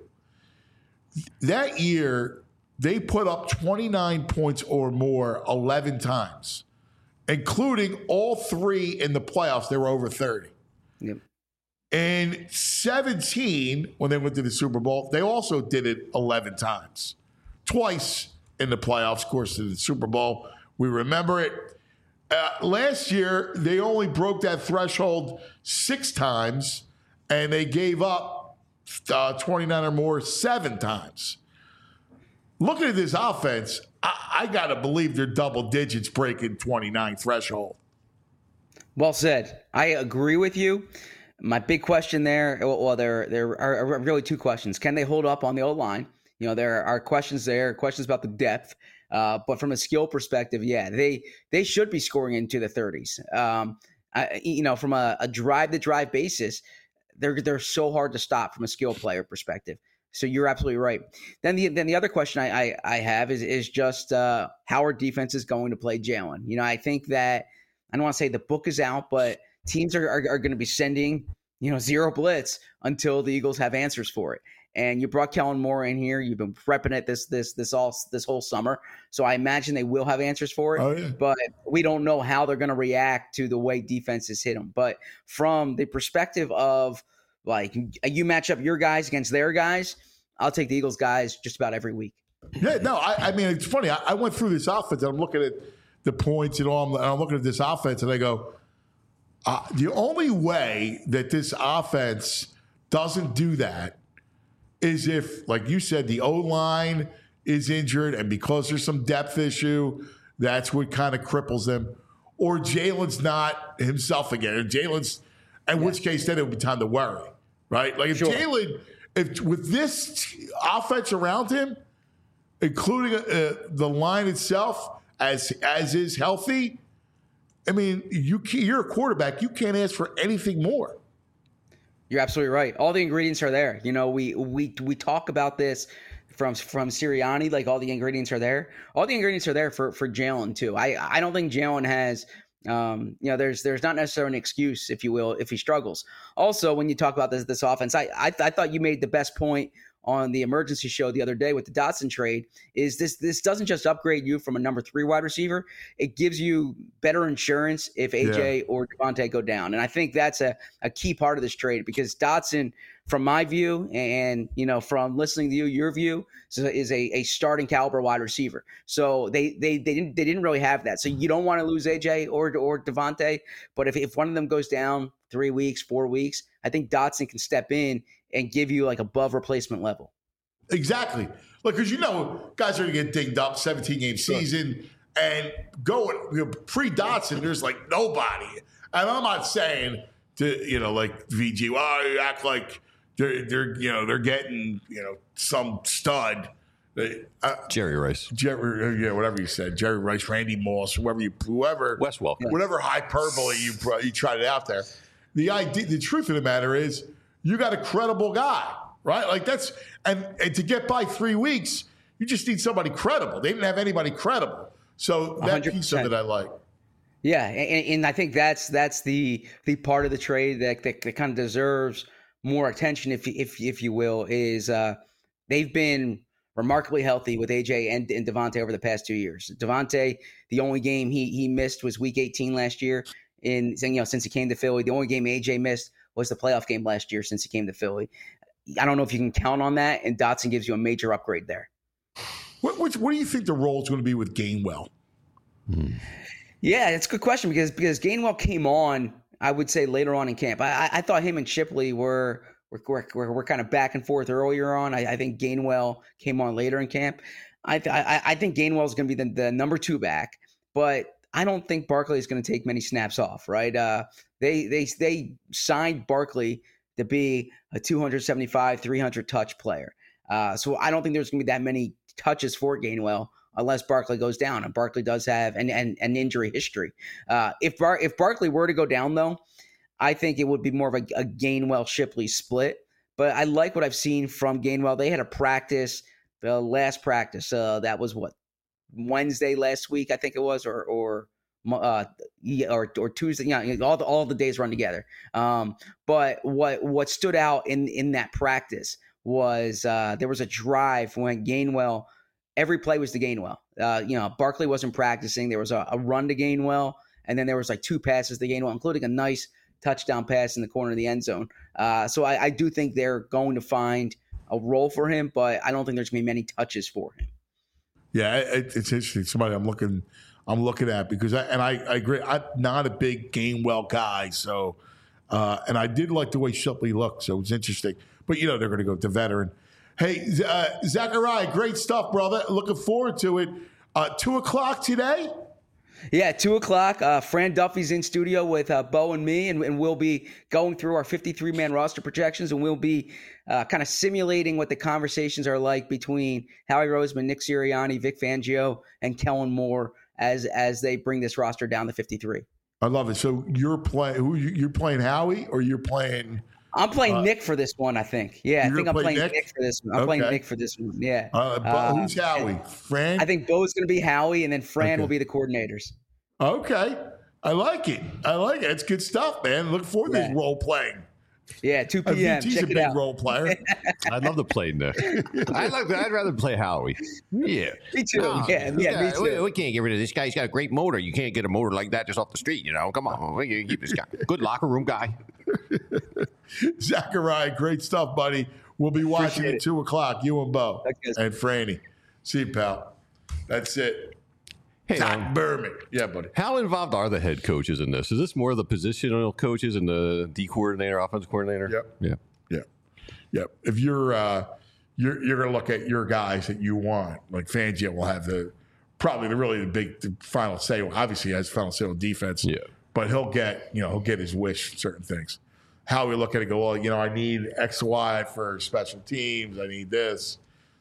that year they put up twenty-nine points or more eleven times, including all three in the playoffs. They were over thirty. Yep. In seventeen, when they went to the Super Bowl, they also did it eleven times. Twice in the playoffs, of course, to the Super Bowl. We remember it. Uh, last year, they only broke that threshold six times, and they gave up uh, twenty-nine or more seven times. Looking at this offense, I, I got to believe they're double digits breaking twenty-nine threshold. Well said. I agree with you. My big question there, well, there there are really two questions. Can they hold up on the O-line? You know, there are questions there, questions about the depth. Uh, but from a skill perspective, yeah, they they should be scoring into the thirties. Um, I, you know, from a, a drive-to-drive basis, they're they're so hard to stop from a skill player perspective. So you're absolutely right. Then the then the other question I I, I have is is just uh, how our defense is going to play Jalen. You know, I think that I don't want to say the book is out, but teams are are, are going to be sending you know zero blitz until the Eagles have answers for it. And you brought Kellen Moore in here. You've been prepping it this this this all this whole summer. So I imagine they will have answers for it. Oh, yeah. But we don't know how they're going to react to the way defenses hit them. But from the perspective of like you match up your guys against their guys, I'll take the Eagles guys just about every week. Yeah, no, I, I mean it's funny. I, I went through this offense and I'm looking at the points and all. And I'm looking at this offense and I go, uh, the only way that this offense doesn't do that is if, like you said, the O-line is injured and because there's some depth issue, that's what kind of cripples them. Or Jalen's not himself again. Or Jalen's, in yeah. which case then it would be time to worry, right? Like if sure. Jalen, if with this offense around him, including uh, the line itself, as as is healthy, I mean, you you're a quarterback. You can't ask for anything more. You're absolutely right. All the ingredients are there. You know, we we we talk about this from from Sirianni, like all the ingredients are there. All the ingredients are there for for Jalen too. I I don't think Jalen has, um, you know, there's there's not necessarily an excuse, if you will, if he struggles. Also, when you talk about this this offense, I I, I thought you made the best point on the emergency show the other day with the Dotson trade. Is this this doesn't just upgrade you from a number three wide receiver, it gives you better insurance if A J yeah. or Devontae go down. And I think that's a, a key part of this trade because Dotson, from my view, and you know, from listening to you, your view, is a, a starting caliber wide receiver. So they they they didn't they didn't really have that. So you don't want to lose A J or or Devontae, but if, if one of them goes down three weeks, four weeks, I think Dotson can step in and give you like above replacement level. Exactly. Like, because you know, guys are going to get dinged up, seventeen game season, sure. and going you know, pre Dotson, there's like nobody. And I'm not saying to you know like V G, well, you act like they're they're you know they're getting you know some stud. Uh, Jerry Rice, Jerry, yeah, whatever you said, Jerry Rice, Randy Moss, whoever you, whoever, Wes Welker, whatever hyperbole you you tried it out there. The idea, the truth of the matter is, you got a credible guy, right? Like that's and, and to get by three weeks, you just need somebody credible. They didn't have anybody credible, so that one hundred percent piece of it I like. Yeah, and, and I think that's that's the the part of the trade that that, that kind of deserves more attention, if if if you will, is uh, they've been remarkably healthy with A J and, and Devontae over the past two years. Devontae, the only game he he missed was Week eighteen last year. In you know since he came to Philly, the only game A J missed was the playoff game last year since he came to Philly. I don't know if you can count on that, and Dotson gives you a major upgrade there. What what, what do you think the role is going to be with Gainwell? Hmm. Yeah, it's a good question because because Gainwell came on, I would say later on in camp. I, I thought him and Shipley were were, were, were kind of back and forth earlier on. I, I think Gainwell came on later in camp. I th- I, I think Gainwell is going to be the, the number two back, but I don't think Barkley is going to take many snaps off, right? Uh, they they they signed Barkley to be a two seventy-five, three hundred touch player. Uh, so I don't think there's going to be that many touches for Gainwell unless Barkley goes down, and Barkley does have an an, an injury history. Uh, if Bar- if Barkley were to go down, though, I think it would be more of a, a Gainwell-Shipley split. But I like what I've seen from Gainwell. They had a practice, the last practice. Uh, that was what? Wednesday last week, I think it was, or or uh, or, or Tuesday. Yeah, you know, all the all the days run together. Um, but what what stood out in in that practice was uh, there was a drive when Gainwell. Every play was to Gainwell. Uh, you know, Barkley wasn't practicing. There was a, a run to Gainwell, and then there was like two passes to Gainwell, including a nice touchdown pass in the corner of the end zone. Uh, so I, I do think they're going to find a role for him, but I don't think there's going to be many touches for him. Yeah, it, it's interesting. Somebody I'm looking, I'm looking at because I and I, I agree. I'm not a big Gainwell guy, so uh, and I did like the way Shipley looked, so it was interesting. But you know they're going to go with the veteran. Hey, uh, Zachariah, great stuff, brother. Looking forward to it. Uh, two o'clock today. Yeah, two o'clock. Uh, Fran Duffy's in studio with uh, Bo and me, and, and we'll be going through our fifty-three man roster projections, and we'll be uh, kind of simulating what the conversations are like between Howie Roseman, Nick Sirianni, Vic Fangio, and Kellen Moore as as they bring this roster down to fifty-three. I love it. So you're playing who? You're playing Howie, or you're playing? I'm playing Uh, Nick for this one, I think. Yeah, I you're think gonna I'm play playing Nick? Nick? for this one. I'm playing Okay. Nick for this one. Yeah. Uh, but Uh, who's Howie? Fran? I think Bo's going to be Howie, and then Fran Okay. will be the coordinators. Okay. I like it. I like it. It's good stuff, man. Look forward to Yeah. this role playing. Yeah, two Uh, p.m. V T's Check a it big out. role player. I'd love to play Nick. I'd like. I'd rather play Howie. Yeah. Me too. No, yeah, we yeah, got- me too. We, we can't get rid of this guy. He's got a great motor. You can't get a motor like that just off the street. You know, come on. We can keep this guy. Good locker room guy. Zachariah, great stuff, buddy. We'll be watching Appreciate at it. two o'clock. You and Bo Thanks, guys. and Franny. See you, pal. That's it. Hey, Zach um, Berman. Yeah, buddy. how involved are the head coaches in this? Is this more of the positional coaches and the D coordinator, offensive coordinator? Yep. Yeah. Yeah, yeah. If you're uh, you're you're gonna look at your guys that you want, like Fangio will have the probably the really the big the final say. Well, obviously, he has final say on defense. Yeah. but he'll get you know he'll get his wish for certain things. How we look at it, go well, you know, I need X, Y for special teams. I need this.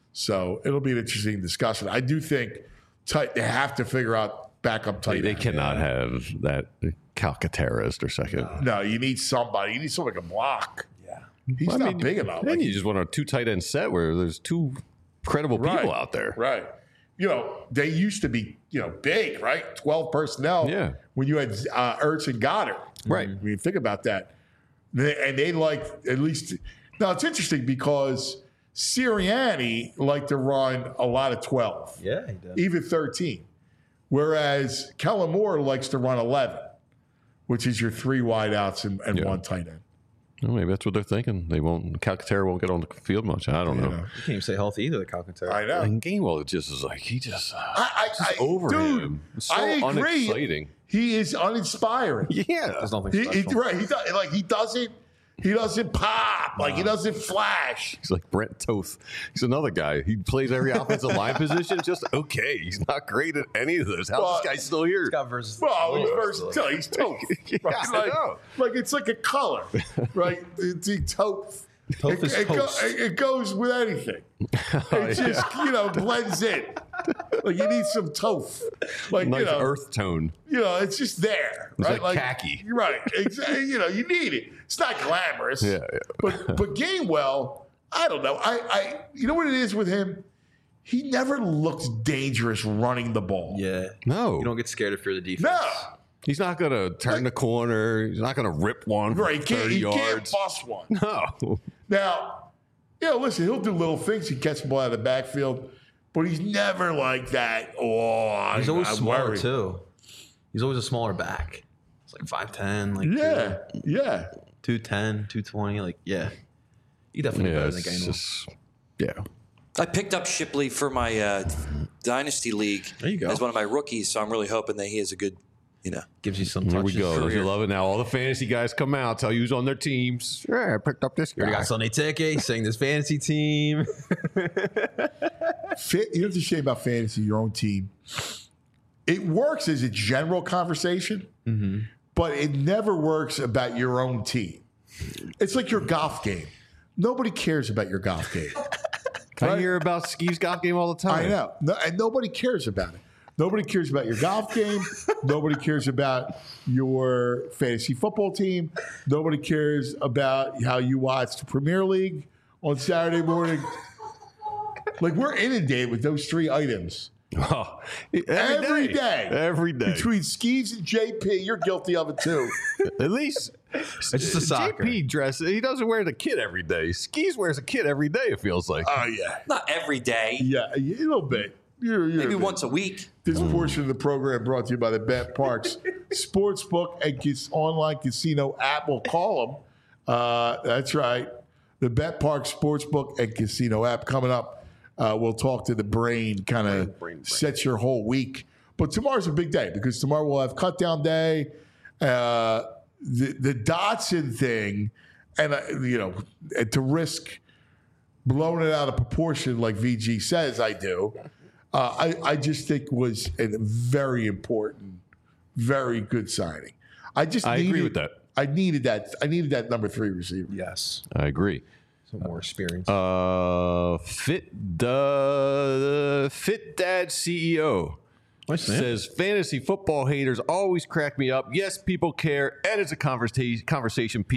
So it'll be an interesting discussion. I do think tight, they have to figure out backup tight They, they end. cannot have that Calcaterra as their second. No, you need somebody. You need somebody who can block. Yeah. He's Well, I not mean, big enough. Then Like, you just want a two tight end set where there's two credible people Right, out there. Right. You know, they used to be, you know, big, right? twelve personnel. Yeah. When you had uh, Ertz and Goddard. Right. When you think about that. They, and they like at least. Now, it's interesting because Sirianni liked to run a lot of twelve, Yeah, he does. even thirteen. Whereas Kellen Moore likes to run eleven, which is your three wideouts and, and Yeah. one tight end. Well, maybe that's what they're thinking. They won't. Calcaterra won't get on the field much. I don't You know. know. You can't even say healthy either, the Calcaterra. I know. And Gainwell just is like he just, uh, I, I, just I, over dude, him. It's so I agree. unexciting. He is uninspiring. Yeah, There's nothing He, special. he, right. He does, like he doesn't. He doesn't pop. Like he doesn't flash. he's like Brent Toth. He's another guy. He plays every offensive line position. Just okay. He's not great at any of those. How's Well, this guy still here? He's got versus. Well, he's versatile. He's tough. Yeah, Right? I Like, know. like it's like a color, right? It's a taupe. Taupe is it, it, go- toast. it- it goes with anything. Oh, It just you know blends in. Like you need some taupe. Like Nice you know, earth tone. you know, it's just there, It's right? like khaki. Right. Exactly. You know, you need it. It's not glamorous. Yeah, yeah. But but Gainwell, I don't know. I I you know what it is with him? He never looks dangerous running the ball. Yeah. No, You don't get scared if you're the defense. No. he's not gonna turn the corner. He's not gonna rip one for Right. He can't, thirty he can't yards. bust one. No. Now, you know, listen, he'll do little things. He catch the ball out of the backfield, but he's never like that. Oh, He's always I'm smaller, worried. too. He's always a smaller back. It's like five ten, like Yeah, yeah. two ten, two twenty. Like, yeah. You definitely Yeah, better than it's Gainwell. just yeah. I picked up Shipley for my uh, dynasty league There you go. as one of my rookies, so I'm really hoping that he has a good, you know. Gives you some Here touches. we go. Don't career. you love it? Now all the fantasy guys come out, tell you who's on their teams. Yeah, I picked up this You already guy. got Sunday Ticket, saying this fantasy team. Fa- You know what's a shame about fantasy, your own team? It works as a general conversation, Mm-hmm. but it never works about your own team. It's like your golf game. Nobody cares about your golf game. I Right? hear about Skee's golf game all the time. I know. No, and nobody cares about it. Nobody cares about your golf game. Nobody cares about your fantasy football team. Nobody cares about how you watch the Premier League on Saturday morning. Like, we're inundated with those three items. Oh, Every day. Every day. Between Skeeves and J P, you're guilty of it too. At least It's just a soccer. J P dress. He doesn't wear the kit every day. Skis wears a kit every day. It feels like. Oh, yeah. Not every day, Yeah, a little bit. You're, you're maybe a bit. once a week. This portion of the program brought to you by the Bet Parks Sportsbook and Cas- online casino app. We'll call them. Uh, that's right. The Bet Parks Sportsbook and Casino app coming up. Uh, we'll talk to the brain, kind of sets your whole week. But tomorrow's a big day because tomorrow we'll have cut down day. Uh, the, the Dotson thing, and, uh, you know, and to risk blowing it out of proportion like V G says I do, uh, I, I just think was a very important, very good signing. I just I needed, agree with that. I needed that. I needed that number three receiver. Yes. I agree. Some more experience. Uh, fit the Fit Dad C E O Nice name. says fantasy football haters always crack me up. Yes, people care, and it's a conversation conversation piece.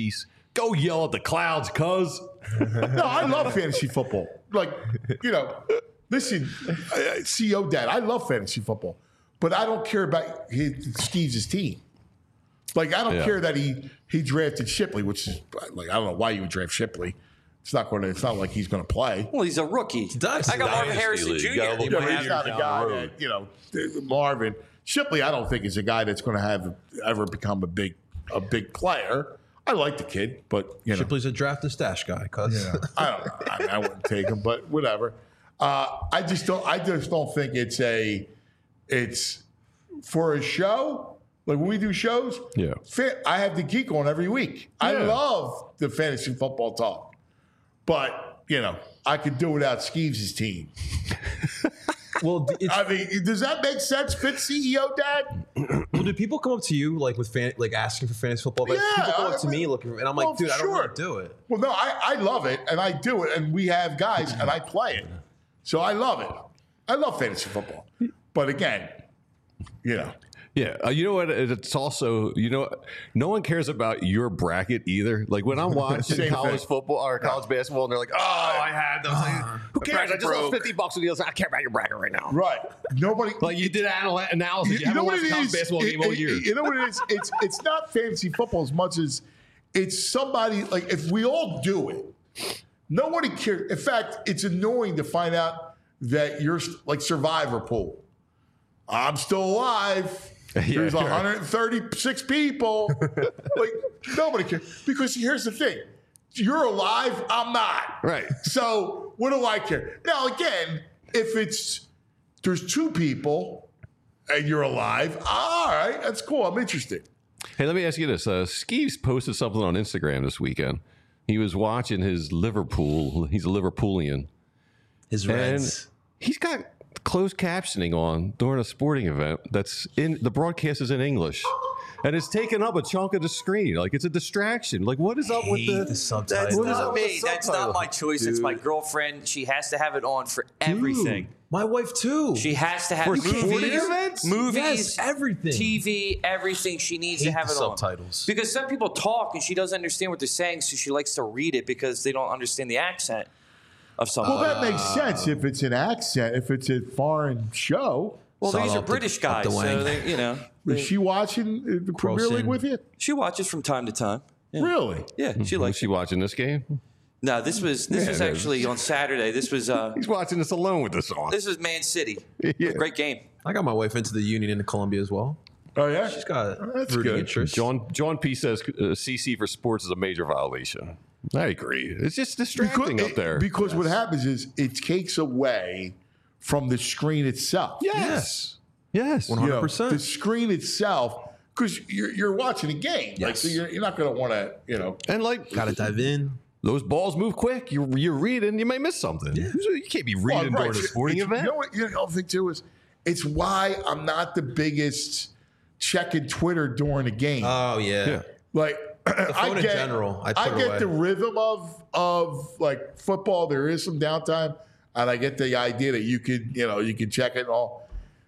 Go yell at the clouds, cuz. No, I love fantasy football. Like, you know, listen, uh, C E O Dad, I love fantasy football, but I don't care about his, Steve's team. Like, I don't Yeah. care that he he drafted Shipley, which is like I don't know why you would draft Shipley. It's not going to. It's not like he's going to play. Well, he's a rookie. Dynasty I got Marvin League. Harrison You Junior gotta look Yeah, at but it he's not a down guy the road. that, you know, Marvin Shipley. I don't think is a guy that's going to have ever become a big a big player. I like the kid, but you know, Shipley's a draft and stash guy, cuz. Yeah. I don't know. I, mean, I wouldn't take him, but whatever. Uh, I just don't. I just don't think it's a. It's for a show. Like when we do shows. Yeah. fa- I have the geek on every week. I Yeah. love the fantasy football talk, but you know I could do without Skeeves' team. Well, it's, I mean, does that make sense, Fit C E O Dad? well, do people come up to you like with fan, like asking for fantasy football? Like, Yeah, people come up to I- me looking, and I'm like, well, dude, I don't sure. want to do it. Well, no, I, I love it, and I do it, and we have guys, and I play it. So I love it. I love fantasy football. But again, you know. Yeah, uh, you know what? It's also, you know, no one cares about your bracket either. Like when I'm watching Same college thing. football or college basketball, and they're like, "Oh, I had those." Who cares? I just lost fifty bucks with the other. I care about your bracket right now. Right. Nobody. Like you did anal- analysis. You, you haven't know what watched it a college is? basketball It- game all it- year. You know what it is? It's it's not fantasy football as much as it's somebody like if we all do it, nobody cares. In fact, it's annoying to find out that you're like Survivor pool. I'm still alive. Yeah, There's sure. one hundred thirty-six people. Like nobody cares because here's the thing: you're alive. I'm not. Right. So what do I care? Now again, if it's there's two people and you're alive, all right, that's cool. I'm interested. Hey, let me ask you this: uh, Skeeves posted something on Instagram this weekend. He was watching his Liverpool. He's a Liverpoolian. His And Reds. he's got closed captioning on during a sporting event that's in the broadcast is in English. And it's taking up a chunk of the screen. Like it's a distraction. Like what is up with Hate the, the subtitles. That's What is not up with me. the That's subtitle? not my choice. It's my girlfriend. She has to have it on for everything. My wife too. She has to have For movies, sporting events? movies, Yes, everything. T V, everything. She needs Hate to have the it on. subtitles. Because some people talk and she doesn't understand what they're saying, so she likes to read it because they don't understand the accent of something. Well, that makes sense if it's an accent, if it's a foreign show. well, Saw these it are up the- British up guys, the wang. so they, you know, Is she watching uh, the Premier Crossing. League with you? she watches from time to time. Yeah, Really? yeah she Was likes. she watching this game? No, this was this Yeah, was it is. actually on Saturday. This was uh, He's watching this alone with this on. this was Man City. Yeah. Great game. I got my wife into the Union in Colombia as well. Oh, yeah? She's got That's rooting good. interest. John John P says uh, C C for sports is a major violation. I agree. It's just distracting Because, up there. because what happens is it takes away from the screen itself. yes. Yes. One You hundred know, percent. the screen itself, because you're, you're watching a game. Like, Yes. so you're, you're not going to want to, you know. And like Got to dive in. those balls move quick. You're you're reading, you might miss something. You can't be reading Well, during a sporting It's- event. You know what? You know, the other thing too is it's why I'm not the biggest checking Twitter during a game. Oh yeah. Yeah. like phone I in get, general, I put get away. the rhythm of of like football. There is some downtime, and I get the idea that you could you know you can check it all,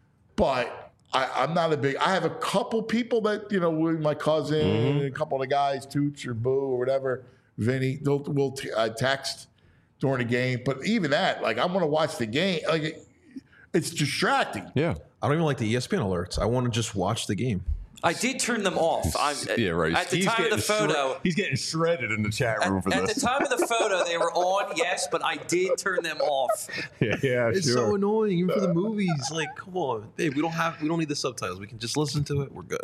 but. I, I'm not a big. I have a couple people that you know, with my cousin, Mm-hmm. a couple of the guys, Toots or Boo or whatever, Vinny. They'll will t- uh, text during the game, but even that, like, I'm going to watch the game. Like, it, it's distracting. Yeah. I don't even like the E S P N alerts. I want to just watch the game. I did turn them off. I'm, Yeah, right. At the He's time of the getting shred- photo, he's getting shredded in the chat room for at this. the time of the photo, they were on, yes, but I did turn them off. yeah, yeah, It's sure. so annoying, even for the movies. Like, come on, babe. We don't have. We don't need the subtitles. We can just listen to it. We're good.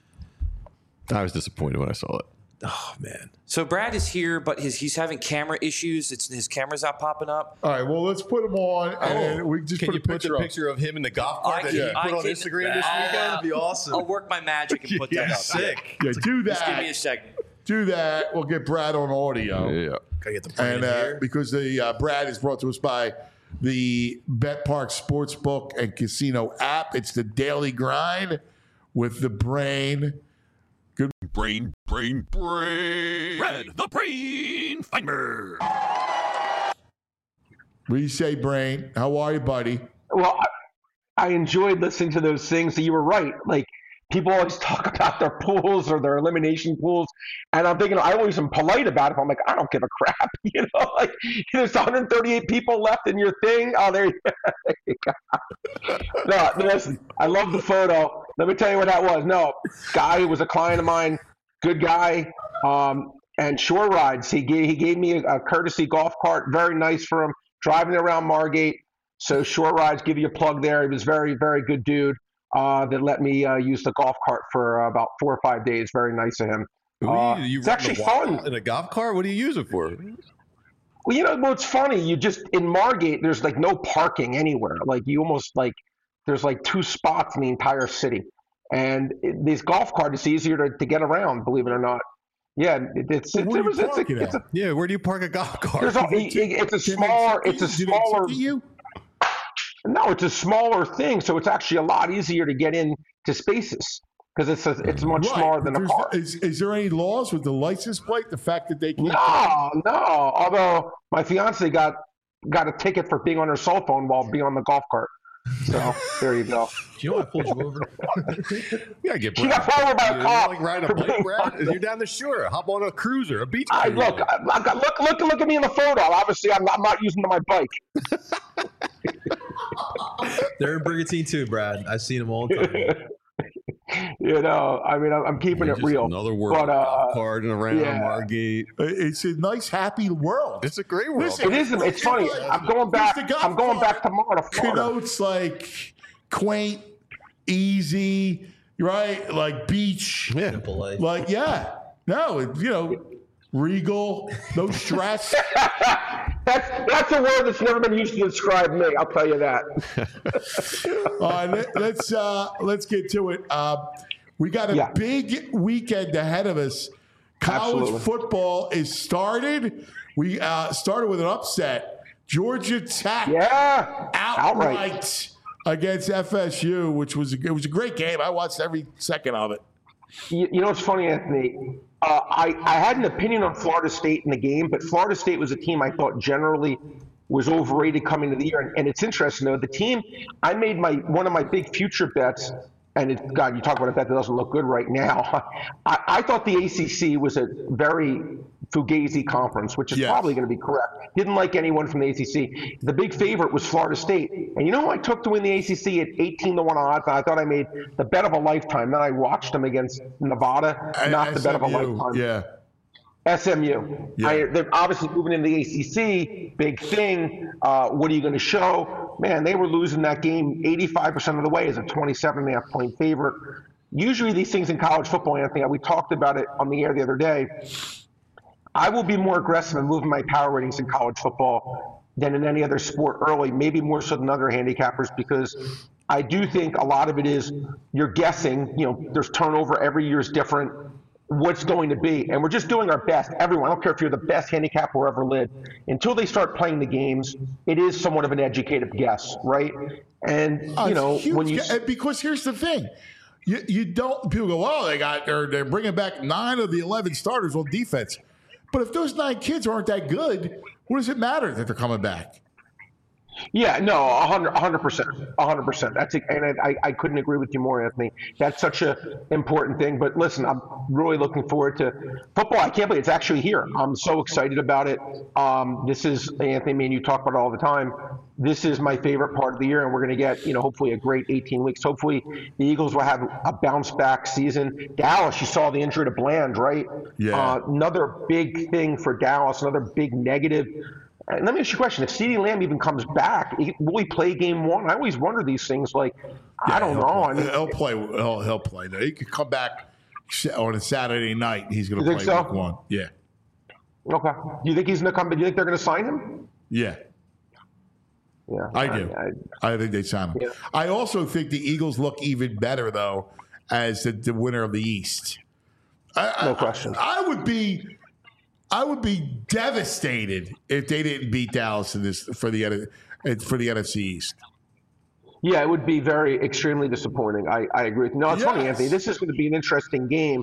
I was disappointed when I saw it. Oh man. So Brad is here, but his he's having camera issues. It's his camera's not popping up. All right, well, let's put them on, and then we just Can put you a put picture the up. picture of him in the golf I cart that can- you I put on can- Instagram this I'll, weekend? uh, That'd be awesome. I'll work my magic and put that up. Sick. Yeah, do Just give me a that. second. Do that. We'll get Brad on audio. Yeah. Gotta get the brand And uh, here. because the uh, Brad is brought to us by the Bet Park Sportsbook and Casino app. It's the daily grind with the brain. Brain, brain, brain. Red, the brain finder. What do you say, Brain? How are you, buddy? Well, I, I enjoyed listening to those things. So you were right. Like people always talk about their pools or their elimination pools, and I'm thinking I always am polite about it. I'm like, I don't give a crap, you know. Like there's one hundred thirty-eight people left in your thing. Oh, there you, there you go. No, listen, I love the photo. Let me tell you what that was. No, guy who was a client of mine, good guy, um, and Shore Rides. He gave he gave me a, a courtesy golf cart, very nice for him, driving around Margate. So Shore Rides, give you a plug there. He was very, very good dude. Uh, that let me uh, use the golf cart for uh, about four or five days. Very nice of him. Uh, you, you it's actually fun. In a golf cart? What do you use it for? Well, you know, well, it's funny. You just in Margate, there's like no parking anywhere. Like you almost like there's like two spots in the entire city, and it, this golf cart is easier to, to get around. Believe it or not. Yeah, it, it's it's, Where do it's, you it's, park a, it it's at? a Yeah, where do you park a golf cart? there's a, it, it's a smaller it's a Do they smaller ticket you? no, it's a smaller thing, so it's actually a lot easier to get in to spaces because it's a, it's much Right, smaller but than a there's- car. Is, is there any laws with the license plate? The fact that they can't. No, no. Although my fiance got got a ticket for being on her cell phone while being on the golf cart. So there you go. Do you know I pulled you over? You gotta get She got Brad. pulled over by a You cop like riding for a bike, being Brad? on- You're down the shore. Hop on a cruiser, a beach I cruiser. look, I, I got, look, look, look at me in the photo. Obviously, I'm not, I'm not using my bike. They're in Brigantine too, Brad. I've seen them all the time. You know, I mean, I'm, I'm keeping it Just real. Another world. But, uh, golf cart and around yeah. Margate. It's a nice, happy world. It's a great world. Listen, It isn't. It's funny. I'm going back. Here's the golf I'm going cart. back tomorrow to Florida. Connotes like quaint, easy, right? Like beach. Yeah. Simple life. Like, yeah. No, it, you know, regal, no stress. That's that's a word that's never been used to describe me. I'll tell you that. All right, let, let's uh, let's get to it. Uh, we got a Yeah. big weekend ahead of us. College Absolutely. football is started. We uh, started with an upset. Georgia Tech Yeah, outright, outright. against F S U, which was a, it was a great game. I watched every second of it. You, you know what's funny, Anthony? Uh, I, I had an opinion on Florida State in the game, but Florida State was a team I thought generally was overrated coming into the year. And, and it's interesting, though. The team, I made my one of my big future bets, and it, God, you talk about a bet that doesn't look good right now. I, I thought the A C C was a very fugazi conference, which is Yes. probably going to be correct. Didn't like anyone from the A C C. The big favorite was Florida State. And you know who I took to win the A C C at eighteen to one odds? And I thought I made the bet of a lifetime. Then I watched them against Nevada, not the bet of a S M U, lifetime. Yeah. S M U. Yeah. I, they're obviously moving into the A C C. Big thing. Uh, what are you going to show? Man, they were losing that game eighty-five percent of the way as a twenty-seven and a half point favorite. Usually these things in college football, Anthony, we talked about it on the air the other day. I will be more aggressive in moving my power ratings in college football than in any other sport early, maybe more so than other handicappers, because I do think a lot of it is you're guessing, you know, there's turnover, every year is different, what's going to be. And we're just doing our best. Everyone, I don't care if you're the best handicapper who ever lived, until they start playing the games, it is somewhat of an educated guess, right? And, Uh, you know, huge when you. ga- because here's the thing. You, you don't, people go, well, they got, they're, they're bringing back nine of the eleven starters on defense. But if those nine kids aren't that good, what does it matter that they're coming back? Yeah, no, a hundred, a hundred percent, a hundred percent. That's a, and I, I couldn't agree with you more, Anthony. That's such a important thing. But listen, I'm really looking forward to football. I can't believe it's actually here. I'm so excited about it. Um, this is Anthony, me and you talk about it all the time. This is my favorite part of the year, and we're going to get, you know, hopefully a great eighteen weeks. Hopefully, the Eagles will have a bounce back season. Dallas, you saw the injury to Bland, right? Yeah. Uh, another big thing for Dallas. Another big negative. And let me ask you a question. If CeeDee Lamb even comes back, will he play game one? I always wonder these things. Like, I don't he'll know. Play. I mean, he'll play. He'll, he'll play. He could come back on a Saturday night. He's going You to think play so? week one. Yeah. okay. Do you think he's going to come? Do you think they're going to sign him? Yeah. Yeah, I do. I, I think they sign him. Yeah. I also think the Eagles look even better, though, as the, the winner of the East. I, No I- question. I, would be, I would be devastated if they didn't beat Dallas in this for the N- for the N F C East. Yeah, it would be very extremely disappointing. I, I agree with you. No, it's Yes. funny, Anthony. This is going to be an interesting game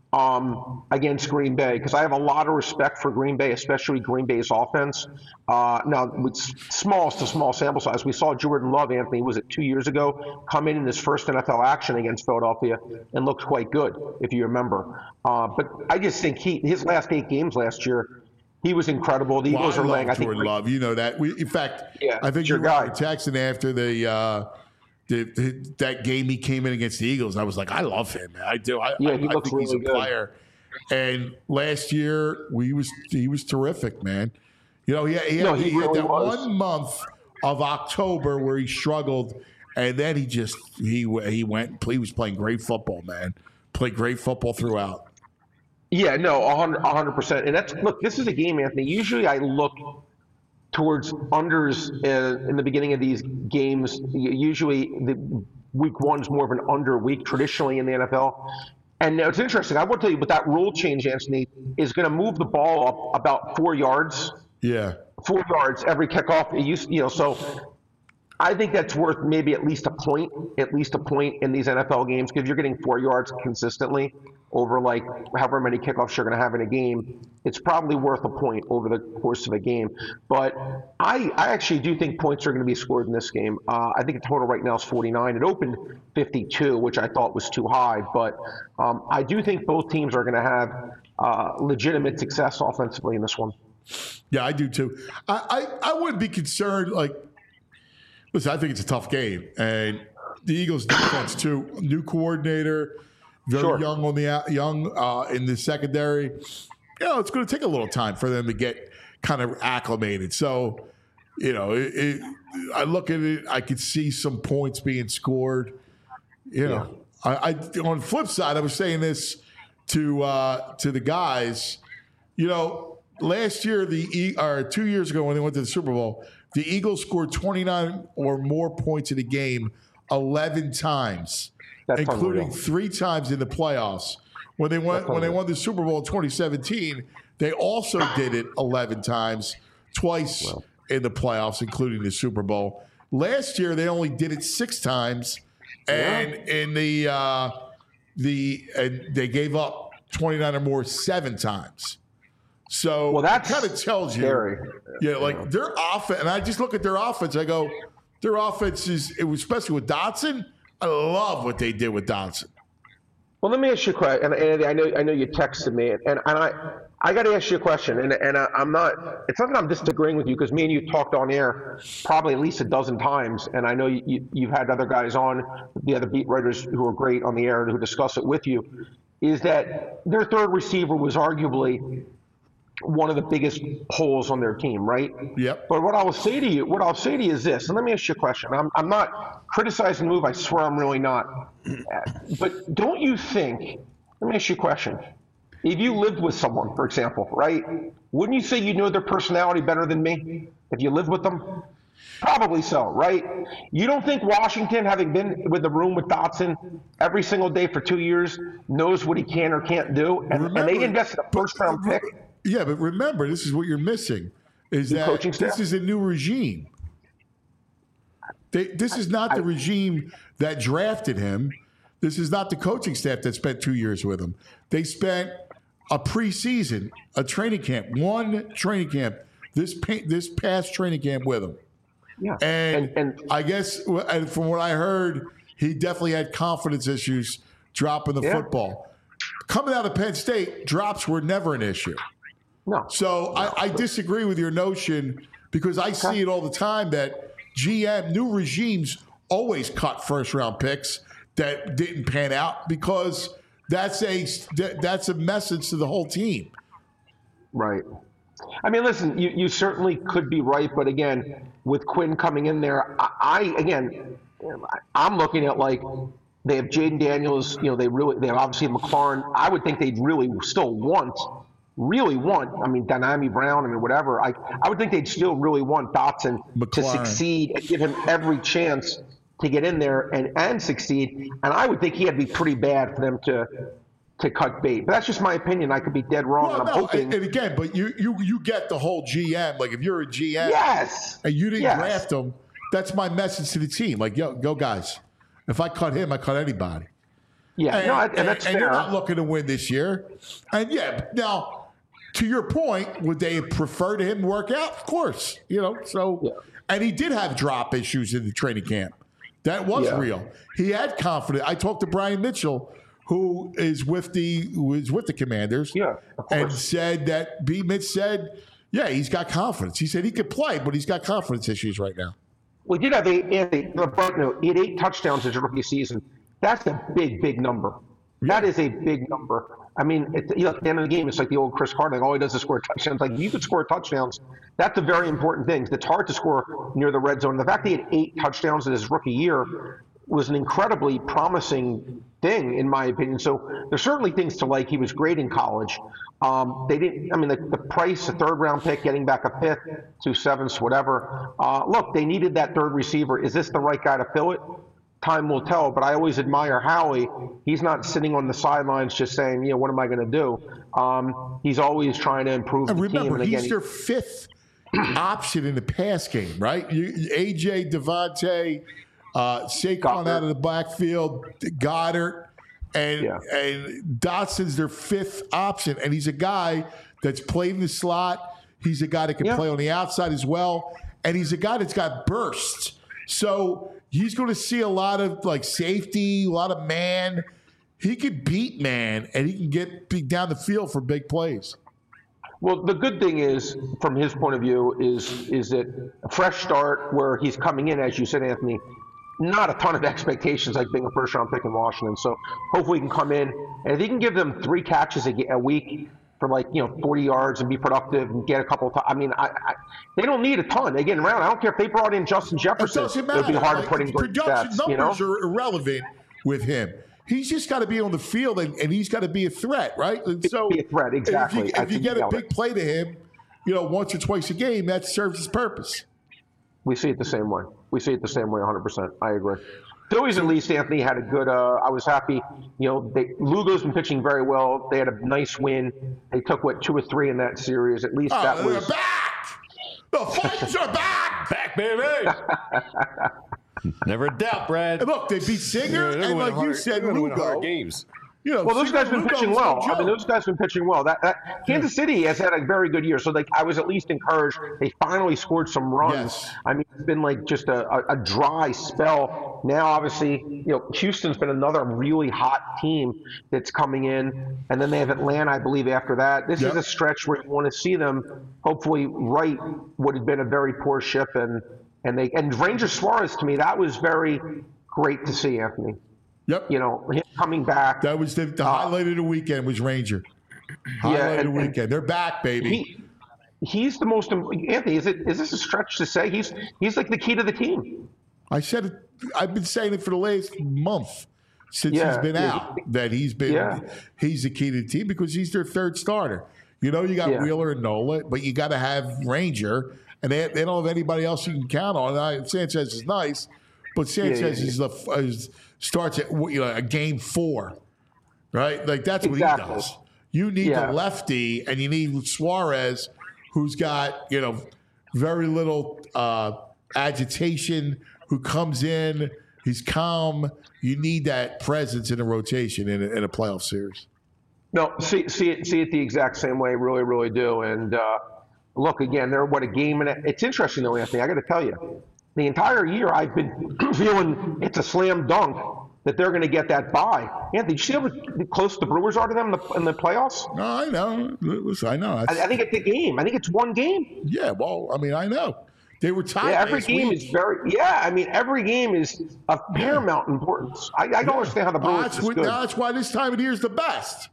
um, against Green Bay because I have a lot of respect for Green Bay, especially Green Bay's offense. Uh, now, with small to small sample size, we saw Jordan Love, Anthony, was it two years ago, come in in his first N F L action against Philadelphia and looked quite good, if you remember. Uh, but I just think he his last eight games last year, he was incredible. The Well, Eagles I are laying, love I think, Jordan Love. You know that. We, in fact, Yeah, I think it's you your were guy. texting after the, uh, the, the that game he came in against the Eagles. I was like, I love him, man. I do. I, Yeah, I, he I looks think he's a really good. player. And last year, we was he was terrific, man. You know, he, he, No, had, he he had really that was. one month of October where he struggled, and then he just he he went. He was playing great football, man. Played great football throughout. Yeah, no, one hundred percent. And that's, look, this is a game, Anthony. Usually I look towards unders uh, in the beginning of these games. Usually the week one's more of an under week traditionally in the N F L. And now it's interesting. I will tell you, but that rule change, Anthony, is going to move the ball up about four yards, Yeah. four yards every kickoff. It used, you know, so I think that's worth maybe at least a point, at least a point in these N F L games because you're getting four yards consistently over like however many kickoffs you're going to have in a game. It's probably worth a point over the course of a game. But I, I actually do think points are going to be scored in this game. Uh, I think the total right now is forty-nine. It opened fifty-two, which I thought was too high. But um, I do think both teams are going to have uh, legitimate success offensively in this one. Yeah, I do too. I, I, I wouldn't be concerned. Like, listen, I think it's a tough game, and the Eagles' defense too. New coordinator, very Sure. young on the out- young uh, in the secondary. You know, it's going to take a little time for them to get kind of acclimated. So, you know, it, it, I look at it. I could see some points being scored. You know, I, I on the flip side, I was saying this to uh, to the guys. You know, last year the E- or two years ago when they went to the Super Bowl, the Eagles scored twenty-nine or more points in a game eleven times, That's including unreal. three times in the playoffs. When they went That's when they unreal. won the Super Bowl in twenty seventeen, they also did it eleven times, twice in the playoffs, including the Super Bowl. Last year they only did it six times, and in the uh, the and they gave up twenty-nine or more seven times. So Well, that's kind of tells you, scary. yeah, like their offense. And I just look at their offense. I go, their offense is, it was especially with Dotson. I love what they did with Dotson. Well, let me ask you a question. And Andy, I know I know you texted me, and, and I I got to ask you a question. And and I, I'm not. It's not that I'm disagreeing with you because me and you talked on air probably at least a dozen times, and I know you, you, you've had other guys on, the other beat writers who are great on the air who discuss it with you. Is that their third receiver was arguably one of the biggest holes on their team, right? Yep. But what I will say to you, what I'll say to you is this, and let me ask you a question. I'm, I'm not criticizing the move. I swear I'm really not. But don't you think, let me ask you a question. If you lived with someone, for example, right, wouldn't you say you know their personality better than me if you lived with them? Probably so, right? You don't think Washington, having been with the room with Dotson every single day for two years, knows what he can or can't do? And, and Remember- they invested a first-round pick. Yeah, but remember, this is what you're missing: is The that coaching this staff. is a new regime. They, this is not the regime that drafted him. This is not the coaching staff that spent two years with him. They spent a preseason, a training camp, one training camp, this pa- this past training camp with him. Yeah. And, And- and- I guess, and from what I heard, he definitely had confidence issues dropping the Yeah. football. Coming out of Penn State, drops were never an issue. No. So I, I disagree with your notion because I see it all the time that G M, new regimes always cut first round picks that didn't pan out because that's a that- that's a message to the whole team. Right. I mean, listen, you, you certainly could be right, but again, with Quinn coming in there, I, I again, I'm looking at like they have Jaden Daniels. You know, they really they have obviously McLaurin. I would think they'd really still want, really want. I mean, Dynami Brown. I mean, whatever. I I would think they'd still really want Dotson to McLaurin. succeed and give him every chance to get in there and and succeed. And I would think he had to be pretty bad for them to. to cut bait. But that's just my opinion. I could be dead wrong. Well, and I'm no, hoping. and, and again, but you you you get the whole G M. Like if you're a G M, yes. and you didn't Yes. draft him, that's my message to the team. Like, yo, go guys. If I cut him, I cut anybody. Yeah, and, no, and, and that's and fair. you're not looking to win this year. And yeah, now to your point, would they prefer to him work out? Of course, you know. So, yeah. and he did have drop issues in the training camp. That was yeah. real. He had confidence. I talked to Brian Mitchell, who is with the who is with the Commanders, yeah, and said that B. Mitch said, yeah, he's got confidence. He said he could play, but he's got confidence issues right now. We did have eight, eight, no, he had eight touchdowns his rookie season. That's a big, big number. That is a big number. I mean, it, you know, at the end of the game, it's like the old Chris Carter. Like, all he does is score touchdowns. Like, you could score touchdowns. That's a very important thing. It's hard to score near the red zone. The fact that he had eight touchdowns in his rookie year was an incredibly promising thing, in my opinion. So there's certainly things to like. He was great in college. Um, they didn't. I mean, the, the price, a third round pick, getting back a fifth, two sevenths, whatever. Uh, look, they needed that third receiver. Is this the right guy to fill it? Time will tell. But I always admire Howie. He's not sitting on the sidelines just saying, you know, what am I going to do? Um, he's always trying to improve and the remember, team. And again, he's their fifth option in the pass game, right? You, A J, Devontae, uh, Saquon Goddard. out of the backfield, Goddard. And Yeah. and Dotson's their fifth option, and he's a guy that's played in the slot. He's a guy that can Yeah. play on the outside as well, and he's a guy that's got bursts. So he's going to see a lot of like safety, a lot of man. He could beat man, and he can get be down the field for big plays. Well, the good thing is, from his point of view, is is that a fresh start where he's coming in, as you said, Anthony, not a ton of expectations like being a first round pick in Washington. So hopefully he can come in, and if he can give them three catches a, a week for like, you know, forty yards and be productive and get a couple of, t- I mean, I, I, they don't need a ton. They get around. I don't care if they brought in Justin It Jefferson. doesn't It matter. would be hard Like, to put in great production stats, you know? numbers are irrelevant with him. He's just got to be on the field, and, and he's got to be a threat, right? And so Be a threat, exactly. If you, I if you think get you a nailed big it. play to him, you know, once or twice a game, that serves its purpose. We see it the same way. We see it the same way, one hundred percent. I agree. Phillies, at least, Anthony, had a good, uh, I was happy. You know, they, Lugo's been pitching very well. They had a nice win. They took, what, two or three in that series. At least Oh, that they're was. back! The Flames are back! Back, baby. Never a doubt, Brad. And look, they beat Singer, They're gonna and win like you hard- said, they're gonna win Lugo. hard games. You know, Well, those Singer guys been Lugo pitching was no well. I mean, joke. those guys been pitching well. That, that Kansas City has had a very good year. So, like, I was at least encouraged. They finally scored some runs. Yes. I mean, it's been like just a, a, a dry spell. Now, obviously, you know, Houston's been another really hot team that's coming in, and then they have Atlanta, I believe, after that. This Yep. is a stretch where you want to see them hopefully right what had been a very poor ship, and and they and Ranger Suarez, to me, that was very great to see, Anthony. Yep. You know, him coming back. That was the, the highlight of the weekend was Ranger. Highlight Yeah, of the and- and- weekend. They're back, baby. He, he's the most. Anthony, is it? Is this a stretch to say he's he's like the key to the team? I said it. I've been saying it for the last month since Yeah, he's been yeah. out. That he's been Yeah. he's the key to the team because he's their third starter. You know, you got Yeah. Wheeler and Nola, but you got to have Ranger, and they, they don't have anybody else you can count on. I, Sanchez is nice, but Sanchez yeah, is the is, starts at you know a game four, right? Like that's what Exactly. he does. You need Yeah. the lefty, and you need Suarez, who's got you know very little uh, agitation, who comes in, he's calm. You need that presence in a rotation in a, in a playoff series. No, see see it see it the exact same way. Really, really do. And uh, look again, they're what a game and a, it's interesting though, Anthony. I got to tell you, the entire year I've been feeling it's a slam dunk that they're going to get that bye. Anthony, did you see how close the Brewers are to them in the, in the playoffs? No, I know. Listen, I know. I, That's- I think it's a game. I think it's one game. yeah, well, I mean, I know. They were tied. Yeah, every last game week. is very. Yeah, I mean, every game is of paramount importance. I, I don't understand how the Oh, Brewers that's, is what, good. that's why this time of the year is the best.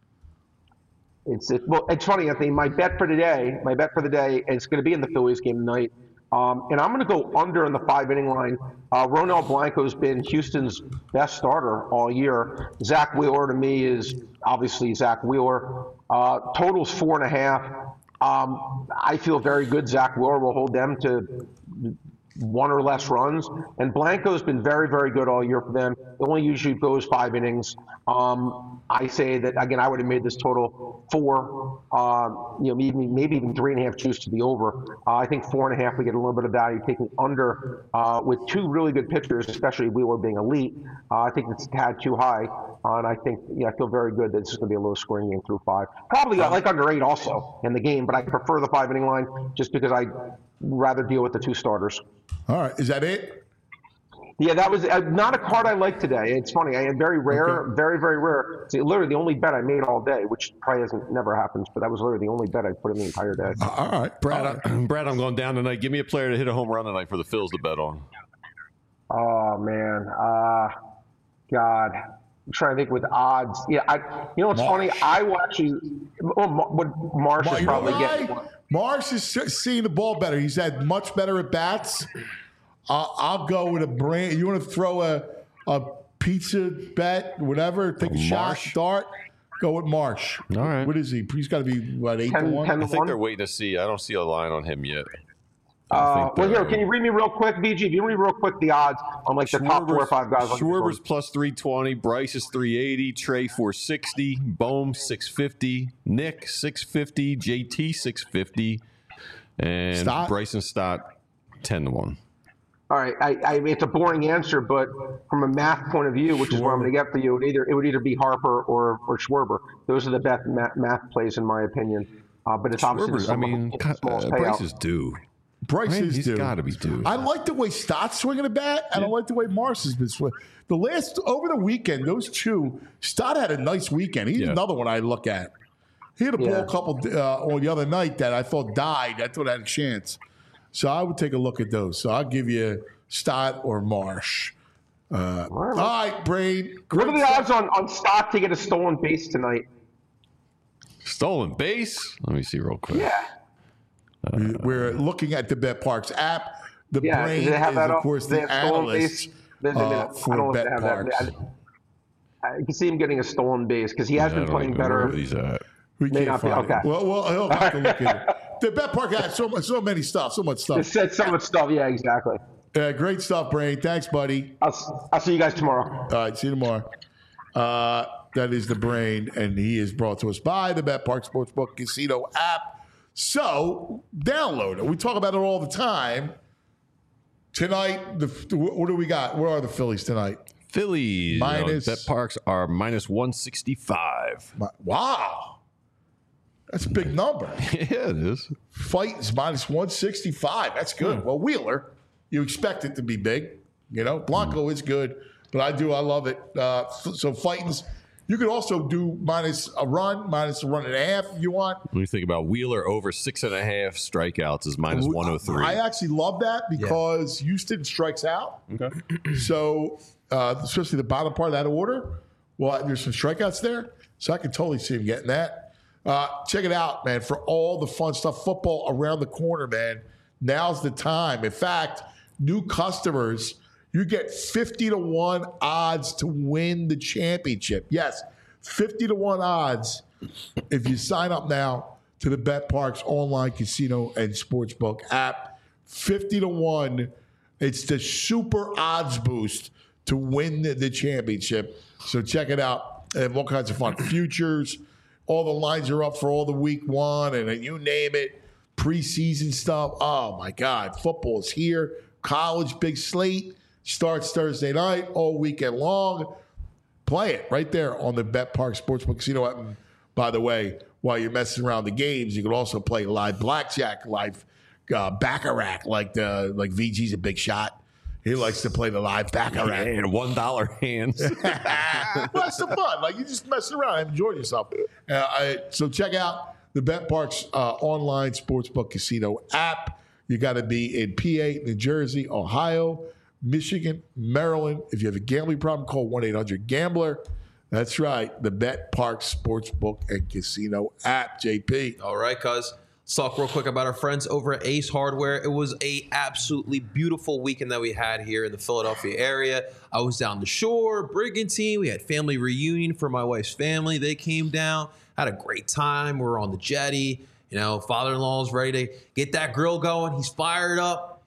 It's it, well, it's funny, Anthony. My bet for today, my bet for the day, is going to be in the Phillies game tonight, um, and I'm going to go under in the five inning line. Uh, Ronel Blanco's been Houston's best starter all year. Zach Wheeler to me is obviously Zach Wheeler. Uh, total's four and a half. Um, I feel very good. Zach Wheeler will hold them to one or less runs. And Blanco's been very, very good all year for them. It only usually goes five innings. Um, I say that, again, I would have made this total four, um, you know, maybe, maybe even three and a half juice to the over. Uh, I think four and a half, we get a little bit of value taking under uh, with two really good pitchers, especially Wheeler being elite. Uh, I think it's a tad too high. Uh, and I think, yeah, I feel very good that it's going to be a low scoring game through five. Probably I like under eight also in the game, but I prefer the five inning line just because I'd rather deal with the two starters. All right. Is that it? Yeah, that was uh, not a card I liked today. It's funny. I had very rare, okay. very, very rare. It's literally the only bet I made all day, which probably hasn't never happens, but that was literally the only bet I put in the entire day. Uh, all right. Brad, all right. I, Brad, I'm going down tonight. Give me a player to hit a home run tonight for the Phils to bet on. Oh, man. Uh, God. I'm trying to think with odds. Yeah, I. You know what's Marsh. funny? I will actually. Well, would Marsh is probably getting. Marsh is seeing the ball better. He's had much better at bats. Uh, I'll go with a brand. You want to throw a a pizza bet, whatever? Take a Marsh. shot, dart. Go with Marsh. All right. What is he? He's got to be what eight ten, to one. I think they're waiting to see. I don't see a line on him yet. Uh, well, here, can you read me real quick, V G? If you read real quick the odds on like the Schwarber's, top four or five guys. Schwarber's plus three twenty, Bryce is three eighty, Trey four sixty, Bohm six fifty, Nick six fifty, J T six fifty, and Stott? Bryson Stott ten to one. All right, I, I, it's a boring answer, but from a math point of view, which Schwarber. is what I'm going to get for you, it, either, it would either be Harper or, or Schwarber. Those are the best math, math plays, in my opinion. Uh, but it's Schwarber, obviously the I mean, uh, Bryce is due. Bryce right? is He's due. got to be due. I like the way Stott's swinging a bat, and yeah. I like the way Marsh has been swinging. The last over the weekend, those two, Stott had a nice weekend. He's yeah. another one I look at. He had a yeah. ball couple uh, on the other night that I thought died. I thought I had a chance, so I would take a look at those. So I'll give you Stott or Marsh. Uh, all right, all right Brain. What are the stuff. odds on, on Stott to get a stolen base tonight? Stolen base? Let me see real quick. Yeah. Uh, We're looking at the BetParx app. The yeah, Brain is, of course, the analyst uh, for BetParx. I, I can see him getting a stolen base because he has yeah, been playing better. He's at. We can't find be, okay. it. Well, well, he'll have to look at it. The BetParx has so much, so many stuff, so much stuff. It said so much stuff. Yeah, exactly. Uh, great stuff, Brain. Thanks, buddy. I'll, I'll see you guys tomorrow. All right, see you tomorrow. Uh, that is the Brain, and he is brought to us by the BetParx Sportsbook Casino app. So, download it. We talk about it all the time. Tonight, the what do we got? Where are the Phillies tonight? Phillies. Minus. BetParx are minus one sixty-five. Wow. That's a big number. Yeah, it is. Fighting's minus one sixty-five. That's good. Hmm. Well, Wheeler, you expect it to be big. You know, Blanco hmm. is good, but I do. I love it. Uh, so, Fighting's. You could also do minus a run, minus a run and a half if you want. When you think about Wheeler over six and a half strikeouts is minus one oh three. I actually love that because yeah. Houston strikes out. Okay. So, uh, especially the bottom part of that order, well, there's some strikeouts there. So I can totally see him getting that. Uh, check it out, man, for all the fun stuff. Football around the corner, man. Now's the time. In fact, new customers, you get fifty to one odds to win the championship. Yes, fifty to one odds if you sign up now to the BetParx online casino and sportsbook app. fifty to one. It's the super odds boost to win the, the championship. So check it out. They have all kinds of fun. Futures. All the lines are up for all the week one, and you name it. Preseason stuff. Oh, my God. Football's here. College, big slate. Starts Thursday night, all weekend long. Play it right there on the BetParx Sportsbook Casino app. And by the way, while you're messing around the games, you can also play live blackjack, live uh, baccarat. Like the like V G's a big shot. He likes to play the live baccarat and one dollar hands. Well, that's the fun. Like you just messing around, enjoy yourself. Uh, I, so check out the BetParx uh, online sportsbook casino app. You got to be in P A, New Jersey, Ohio, Michigan, Maryland. If you have a gambling problem, call one eight hundred gambler. That's right, the BetParx Sportsbook and Casino app, J P. All right, cuz. Let's talk real quick about our friends over at Ace Hardware. It was a absolutely beautiful weekend that we had here in the Philadelphia area. I was down the shore, Brigantine. We had family reunion for my wife's family. They came down, had a great time. We were on the jetty. You know, father-in-law is ready to get that grill going. He's fired up.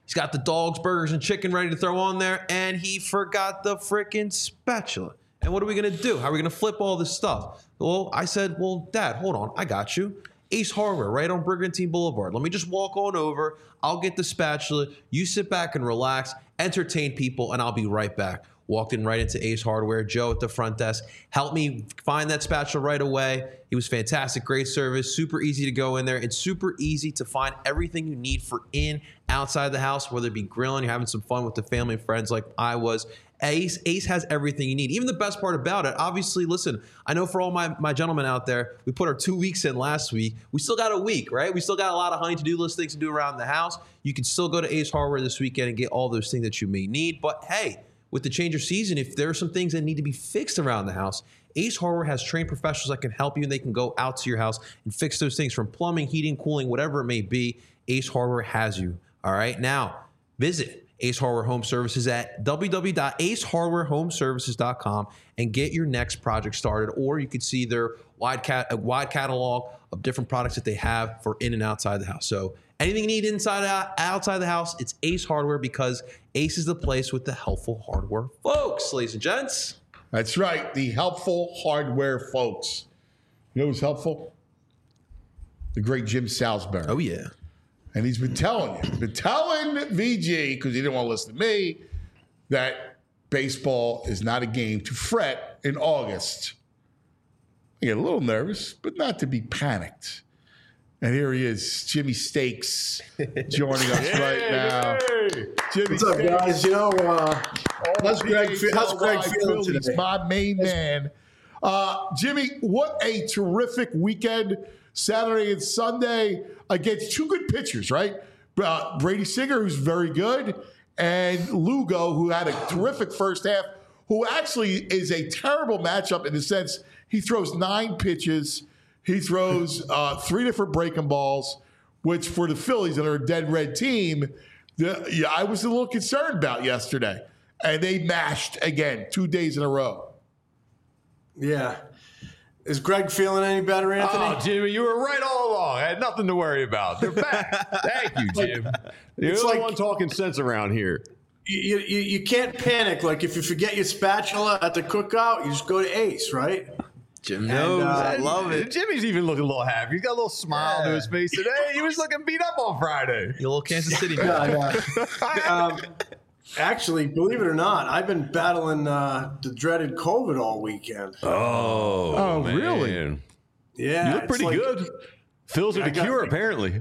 He's got the dogs, burgers, and chicken ready to throw on there, and he forgot the freaking spatula. And what are we going to do? How are we going to flip all this stuff? Well, I said, well, Dad, hold on. I got you. Ace Hardware, right on Brigantine Boulevard. Let me just walk on over. I'll get the spatula. You sit back and relax, entertain people, and I'll be right back. Walked in right into Ace Hardware. Joe at the front desk helped me find that spatula right away. He was fantastic, great service, super easy to go in there. It's super easy to find everything you need for in, outside the house, whether it be grilling, you're having some fun with the family and friends like I was. Ace, Ace has everything you need. Even the best part about it, obviously, listen, I know for all my, my gentlemen out there, we put our two weeks in last week. We still got a week, right? We still got a lot of honey to-do list things to do around the house. You can still go to Ace Hardware this weekend and get all those things that you may need. But hey, with the change of season, if there are some things that need to be fixed around the house, Ace Hardware has trained professionals that can help you, and they can go out to your house and fix those things from plumbing, heating, cooling, whatever it may be. Ace Hardware has you. All right, now visit Ace Hardware Home Services at w w w dot ace hardware home services dot com and get your next project started. Or you could see their wide cat a wide catalog of different products that they have for in and outside the house. So anything you need inside out, outside the house, it's Ace Hardware, because Ace is the place with the helpful hardware folks, ladies and gents. That's right, the helpful hardware folks. You know who's helpful? The great Jim Salisbury. Oh, yeah. And he's been telling you, been telling V G, because he didn't want to listen to me, that baseball is not a game to fret in August. I get a little nervous, but not to be panicked. And here he is, Jimmy Stakes, joining us Hey, right now. hey. Jimmy What's up, Stakes. guys? You know, uh, how's Greg, fe- how's Greg feeling Phillies, today? my main man. Uh, Jimmy, what a terrific weekend, Saturday and Sunday, against two good pitchers, right? Uh, Brady Singer, who's very good, and Lugo, who had a terrific first half, who actually is a terrible matchup in the sense he throws nine pitches. He throws uh, three different breaking balls, which for the Phillies that are a dead red team, the, yeah, I was a little concerned about yesterday. And they mashed again two days in a row. Yeah. Is Greg feeling any better, Anthony? Oh, Jimmy, you were right all along. I had nothing to worry about. They're back. Thank you, Jim. You're It's the like- one talking sense around here. You, you, you can't panic. Like, if you forget your spatula at the cookout, you just go to Ace, right? Jim knows. uh, I love it. Jimmy's even looking a little happy. He's got a little smile to his face today. He was looking beat up on Friday. You little Kansas City man. Yeah, yeah. um, actually, believe it or not, I've been battling uh, the dreaded COVID all weekend. Oh, Oh, man. really? Yeah. You look it's pretty like- good. Phil's are I the got- cure, apparently.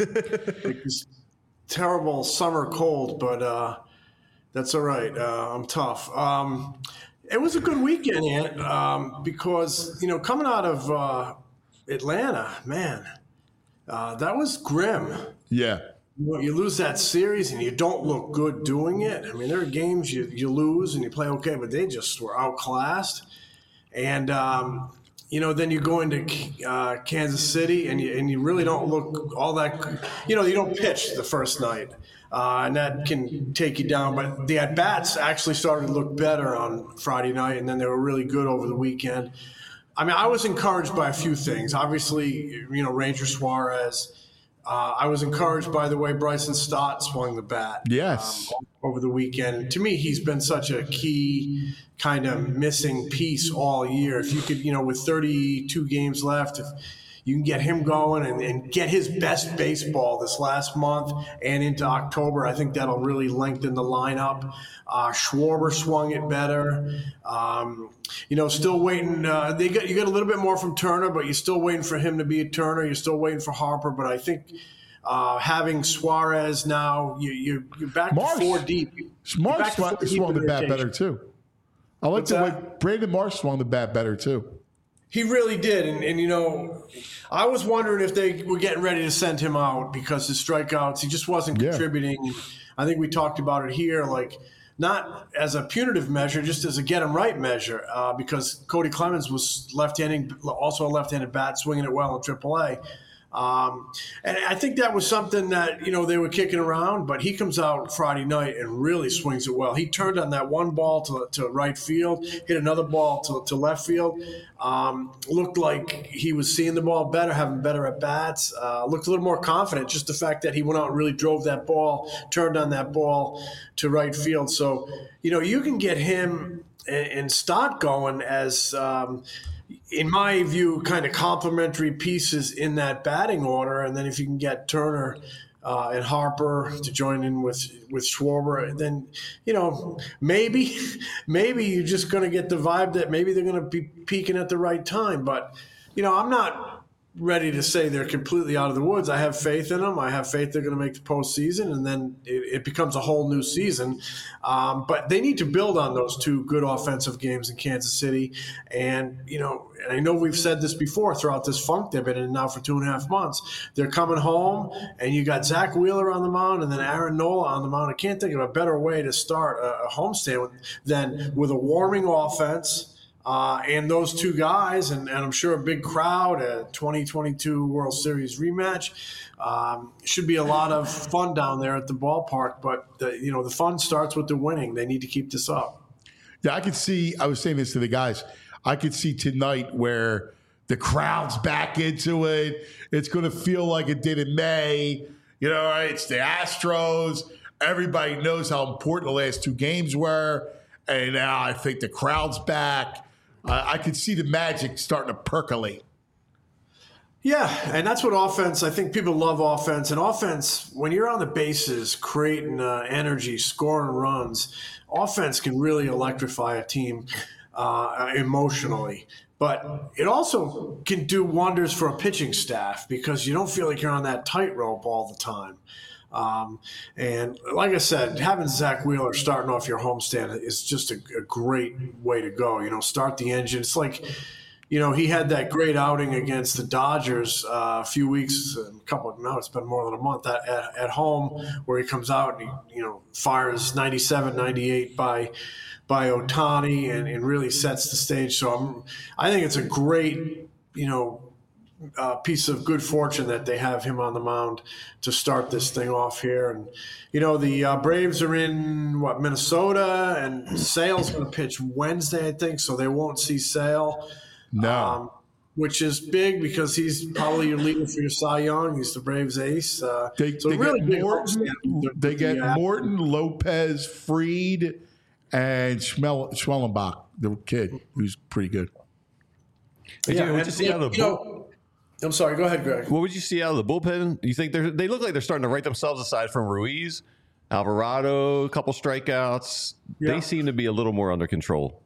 like this terrible summer cold, but uh, that's all right. Uh, I'm tough. Um, it was a good weekend, Ant, um, because, you know, coming out of uh, Atlanta, man, uh, that was grim. Yeah. You know, you lose that series and you don't look good doing it. I mean, there are games you, you lose and you play okay, but they just were outclassed. And, um, you know, then you go into uh, Kansas City and you, and you really don't look all that – you know, you don't pitch the first night, uh, and that can take you down. But the at-bats actually started to look better on Friday night, and then they were really good over the weekend. I mean, I was encouraged by a few things. Obviously, you know, Ranger Suarez – Uh, I was encouraged by the way Bryson Stott swung the bat Yes. um, over the weekend. And to me, he's been such a key kind of missing piece all year. If you could, you know, with thirty-two games left, if you can get him going and, and get his best baseball this last month and into October, I think that'll really lengthen the lineup. Uh, Schwarber swung it better. Um, you know, still waiting. Uh, they got you got a little bit more from Turner, but you're still waiting for him to be a Turner. You're still waiting for Harper, but I think uh, having Suarez now, you, you, you're back Marsh. to four deep. You're Marsh back to swung, four deep swung the in bat rotation. better, too. I like What's the way that? Brandon Marsh swung the bat better, too. He really did, and, and you know, I was wondering if they were getting ready to send him out because his strikeouts, he just wasn't Yeah. contributing. I think we talked about it here, like not as a punitive measure, just as a get him right measure, uh, because Cody Clemens was left-handed, also a left-handed bat, swinging it well in triple A. Um, and I think that was something that, you know, they were kicking around, but he comes out Friday night and really swings it well. He turned on that one ball to, to right field, hit another ball to, to left field. Um, looked like he was seeing the ball better, having better at bats. Uh, looked a little more confident. Just the fact that he went out and really drove that ball, turned on that ball to right field. So, you know, you can get him and, and start going as, um, in my view, kind of complementary pieces in that batting order. And then if you can get Turner uh, and Harper to join in with with Schwarber, then, you know, maybe maybe you're just going to get the vibe that maybe they're going to be peaking at the right time. But, you know, I'm not ready to say they're completely out of the woods. I have faith in them. I have faith they're going to make the postseason, and then it, it becomes a whole new season. Um, but they need to build on those two good offensive games in Kansas City. And, you know, and I know we've said this before throughout this funk they've been in now for two and a half months. They're coming home, and you got Zach Wheeler on the mound and then Aaron Nola on the mound. I can't think of a better way to start a, a homestand than with a warming offense. Uh, and those two guys, and, and I'm sure a big crowd, a twenty twenty-two World Series rematch, um, should be a lot of fun down there at the ballpark. But, the, you know, the fun starts with the winning. They need to keep this up. Yeah, I could see, I was saying this to the guys, I could see tonight where the crowd's back into it. It's going to feel like it did in May. You know, right? It's the Astros. Everybody knows how important the last two games were. And now I think the crowd's back. Uh, I could see the magic starting to percolate. Yeah, and that's what offense, I think people love offense. And offense, when you're on the bases, creating uh, energy, scoring runs, offense can really electrify a team uh, emotionally. But it also can do wonders for a pitching staff because you don't feel like you're on that tightrope all the time. Um, and like I said, having Zach Wheeler starting off your homestand is just a, a great way to go. You know, start the engine. It's like, you know, he had that great outing against the Dodgers uh, a few weeks, a couple of, no, it's been more than a month at, at, at home where he comes out and he, you know, fires ninety-seven, ninety-eight by, by Ohtani and, and really sets the stage. So I'm, I think it's a great, you know, Uh, piece of good fortune that they have him on the mound to start this thing off here. And, you know, the uh, Braves are in, what, Minnesota, and Sale's going to pitch Wednesday, I think, so they won't see Sale. No. Um, which is big because he's probably your leader for your Cy Young. He's the Braves ace. Uh, They, so they really get big Morton, homestand. they get Yeah. Morton, Lopez, Fried, and Schmel- Schwellenbach, the kid, who's pretty good. Did Yeah, you, would and, you see out of the you bull- know, I'm sorry. Go ahead, Greg. What would you see out of the bullpen? You think they're they look like they're starting to write themselves aside from Ruiz, Alvarado, a couple strikeouts. Yeah. They seem to be a little more under control.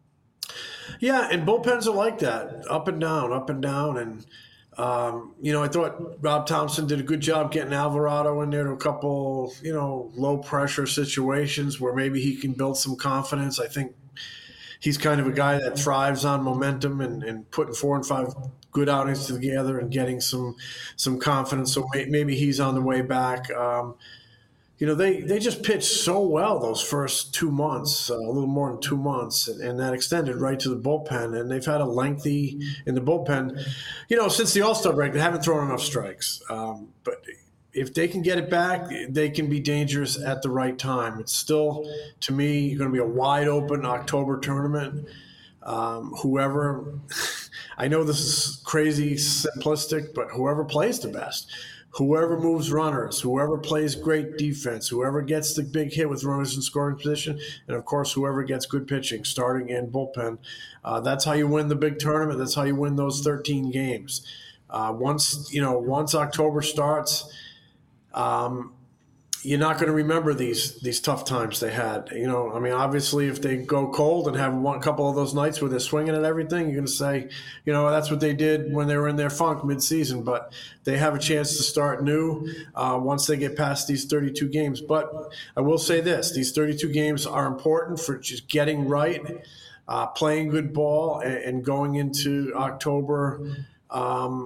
Yeah, and bullpens are like that, up and down, up and down. And, um, you know, I thought Rob Thompson did a good job getting Alvarado in there to a couple, you know, low-pressure situations where maybe he can build some confidence. I think he's kind of a guy that thrives on momentum and, and putting four and five good outings together and getting some some confidence. So maybe he's on the way back. Um, you know, they, they just pitched so well those first two months, uh, a little more than two months, and, and that extended right to the bullpen. And they've had a lengthy in the bullpen. You know, since the All-Star break, they haven't thrown enough strikes. Um, but if they can get it back, they can be dangerous at the right time. It's still, to me, going to be a wide-open October tournament. Um, whoever, I know this is crazy simplistic, but whoever plays the best, whoever moves runners, whoever plays great defense, whoever gets the big hit with runners in scoring position, and of course, whoever gets good pitching, starting and bullpen, uh, that's how you win the big tournament. That's how you win those thirteen games. Uh, once, you know, once October starts, um, you're not going to remember these these tough times they had. You know, I mean, obviously, if they go cold and have one couple of those nights where they're swinging at everything, you're going to say, you know, that's what they did when they were in their funk mid-season. But they have a chance to start new uh, once they get past these thirty-two games. But I will say this: these thirty-two games are important for just getting right, uh, playing good ball, and, and going into October. Um,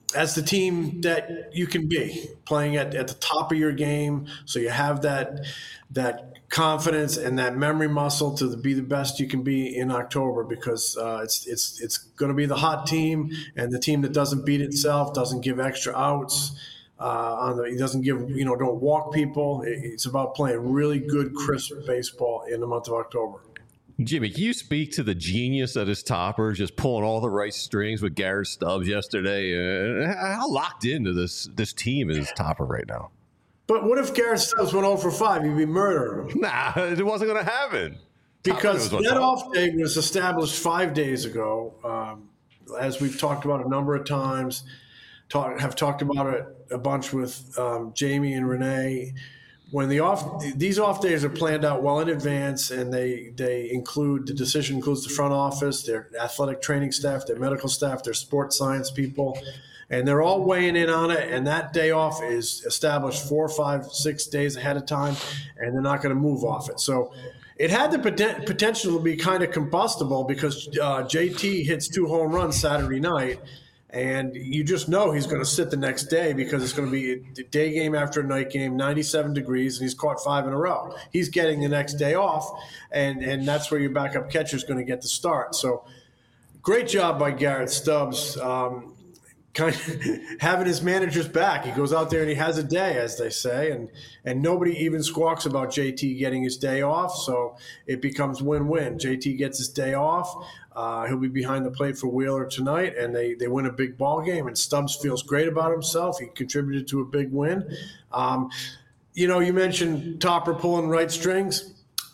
as the team that you can be, playing at, at the top of your game, so you have that that confidence and that memory muscle to be the best you can be in October, because uh, it's it's it's going to be the hot team, and the team that doesn't beat itself, doesn't give extra outs, uh, on the, it doesn't give you know don't walk people. It, it's about playing really good, crisp baseball in the month of October. Jimmy, can you speak to the genius that is Topper, just pulling all the right strings with Garrett Stubbs yesterday? Uh, how locked into this this team is Topper right now? But what if Garrett Stubbs went oh for five? You'd be murdering him. Nah, it wasn't going to happen. Because that off day was established five days ago. Um, as we've talked about a number of times, talk, have talked about it a bunch with um, Jamie and Renee. When the off these off days are planned out well in advance, and they they include the decision includes the front office, their athletic training staff, their medical staff, their sports science people, and they're all weighing in on it. And that day off is established four, five, six days ahead of time, and they're not going to move off it. So it had the poten- potential to be kind of combustible, because uh, J T hits two home runs Saturday night. And you just know he's going to sit the next day, because it's going to be a day game after a night game, ninety-seven degrees, and he's caught five in a row. He's getting the next day off, and, and that's where your backup catcher is going to get the start. So great job by Garrett Stubbs, um, kind of having his manager's back. He goes out there and he has a day, as they say, and, and nobody even squawks about J T getting his day off, so it becomes win-win. J T gets his day off. Uh, he'll be behind the plate for Wheeler tonight, and they, they win a big ball game. And Stubbs feels great about himself. He contributed to a big win. Um, you know, you mentioned Topper pulling right strings.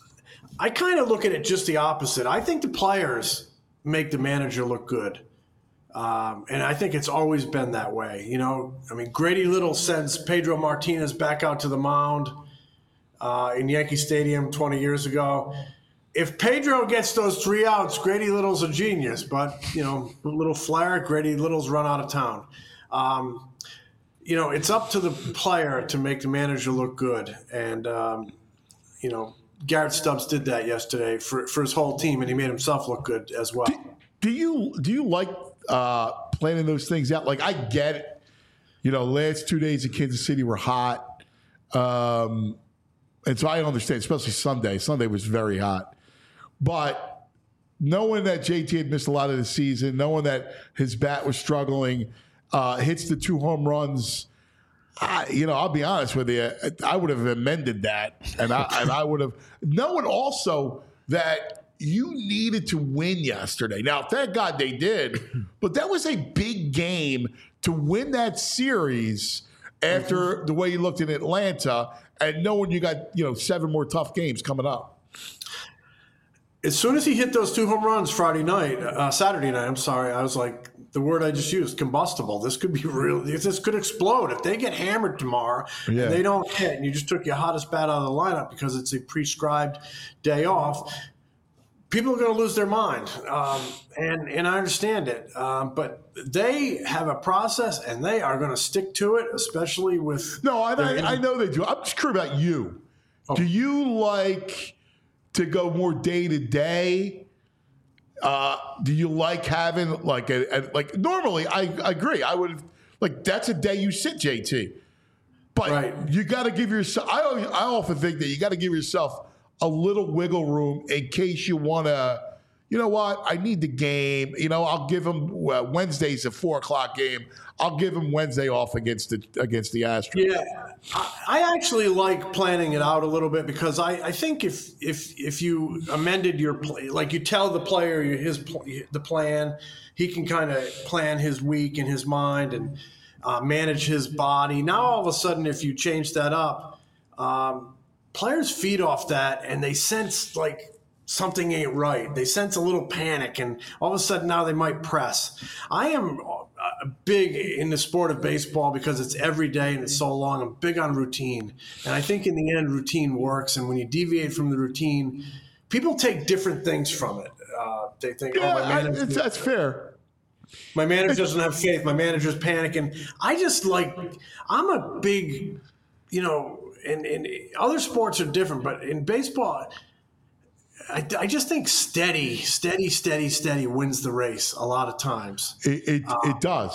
I kind of look at it just the opposite. I think the players make the manager look good. Um, and I think it's always been that way. You know, I mean, Grady Little sends Pedro Martinez back out to the mound uh, in Yankee Stadium twenty years ago. If Pedro gets those three outs, Grady Little's a genius. But, you know, a little flare, Grady Little's run out of town. Um, you know, it's up to the player to make the manager look good. And, um, you know, Garrett Stubbs did that yesterday for, for his whole team, and he made himself look good as well. Do, do you do you like uh, planning those things out? Like, I get it. You know, last two days in Kansas City were hot. Um, and so I understand, especially Sunday. Sunday was very hot. But knowing that J T had missed a lot of the season, knowing that his bat was struggling, uh, hits the two home runs, I, you know, I'll be honest with you, I would have amended that. And I, and I would have, knowing also that you needed to win yesterday. Now, thank God they did, but that was a big game to win that series after mm-hmm. the way you looked in Atlanta, and knowing you got, you know, seven more tough games coming up. As soon as he hit those two home runs Friday night, uh, Saturday night, I'm sorry, I was like, the word I just used, combustible. This could be real. This could explode. If they get hammered tomorrow yeah. and they don't hit, and you just took your hottest bat out of the lineup because it's a prescribed day off, people are going to lose their mind. Um, and, and I understand it. Um, but they have a process, and they are going to stick to it, especially with. No, I, I, I know they do. I'm just curious about you. Oh. Do you like to go more day to day? Uh, do you like having like a, a like normally I, I agree. I would like that's a day you sit J T. But right. you got to give yourself I I often think that you got to give yourself a little wiggle room in case you want to, you know what, I need the game. You know, I'll give them uh, Wednesday's a four o'clock game. I'll give them Wednesday off against the against the Astros. Yeah, I, I actually like planning it out a little bit, because I, I think if if if you amended your play, like you tell the player his the plan, he can kind of plan his week in his mind and uh, manage his body. Now all of a sudden, if you change that up, um, players feed off that, and they sense like something ain't right. They sense a little panic, and all of a sudden now they might press. I am big in the sport of baseball because it's every day and it's so long. I'm big on routine. And I think in the end, routine works. And when you deviate from the routine, people take different things from it. Uh, they think, yeah, oh, my manager, I, that's fair. My manager doesn't have faith. My manager's panicking. I just like, I'm a big, you know, and, and other sports are different, but in baseball, I, I just think steady, steady, steady, steady wins the race a lot of times. It it, uh, it does.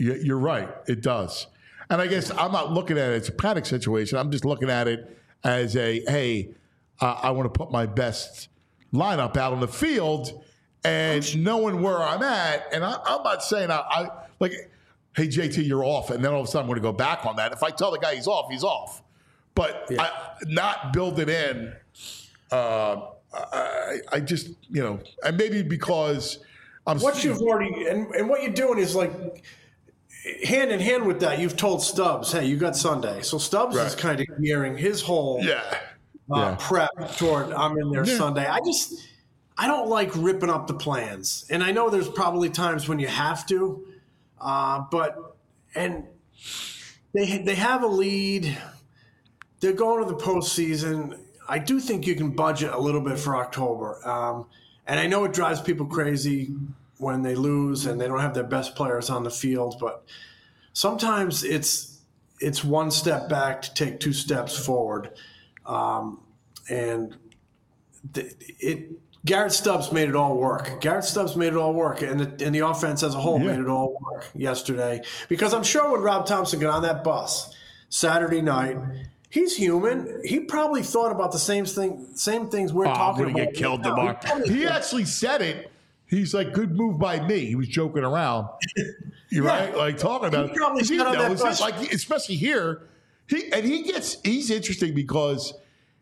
You- You're right. It does. And I guess I'm not looking at it as a panic situation. I'm just looking at it as a, hey, uh, I want to put my best lineup out on the field and knowing where I'm at. And I, I'm not saying I, I like, hey, J T, you're off. And then all of a sudden I'm going to go back on that. If I tell the guy he's off, he's off. But Yeah. I, not build it in. Uh, I, I just, you know, and maybe because I'm. What you've already and, and what you're doing is like hand in hand with that. You've told Stubbs, "Hey, you got Sunday," so Stubbs Right. is kind of gearing his whole Yeah. uh, Yeah. prep toward I'm in there Yeah. Sunday. I just I don't like ripping up the plans, and I know there's probably times when you have to, uh, but and they they have a lead. They're going to the postseason. I do think you can budget a little bit for October. Um, and I know it drives people crazy when they lose and they don't have their best players on the field, but sometimes it's it's one step back to take two steps forward. Um, and th- it Garrett Stubbs made it all work. Garrett Stubbs made it all work, and the, and the offense as a whole Yeah. made it all work yesterday. Because I'm sure when Rob Thompson got on that bus Saturday night, he's human. He probably thought about the same thing, same things we're Oh, I'm talking going to about. get killed now. tomorrow. He probably He thought- actually said it. He's like, good move by me. He was joking around. You're Yeah. right? Like talking about He probably it. He got on that knows it. bus. Like, especially here. He and he gets he's interesting because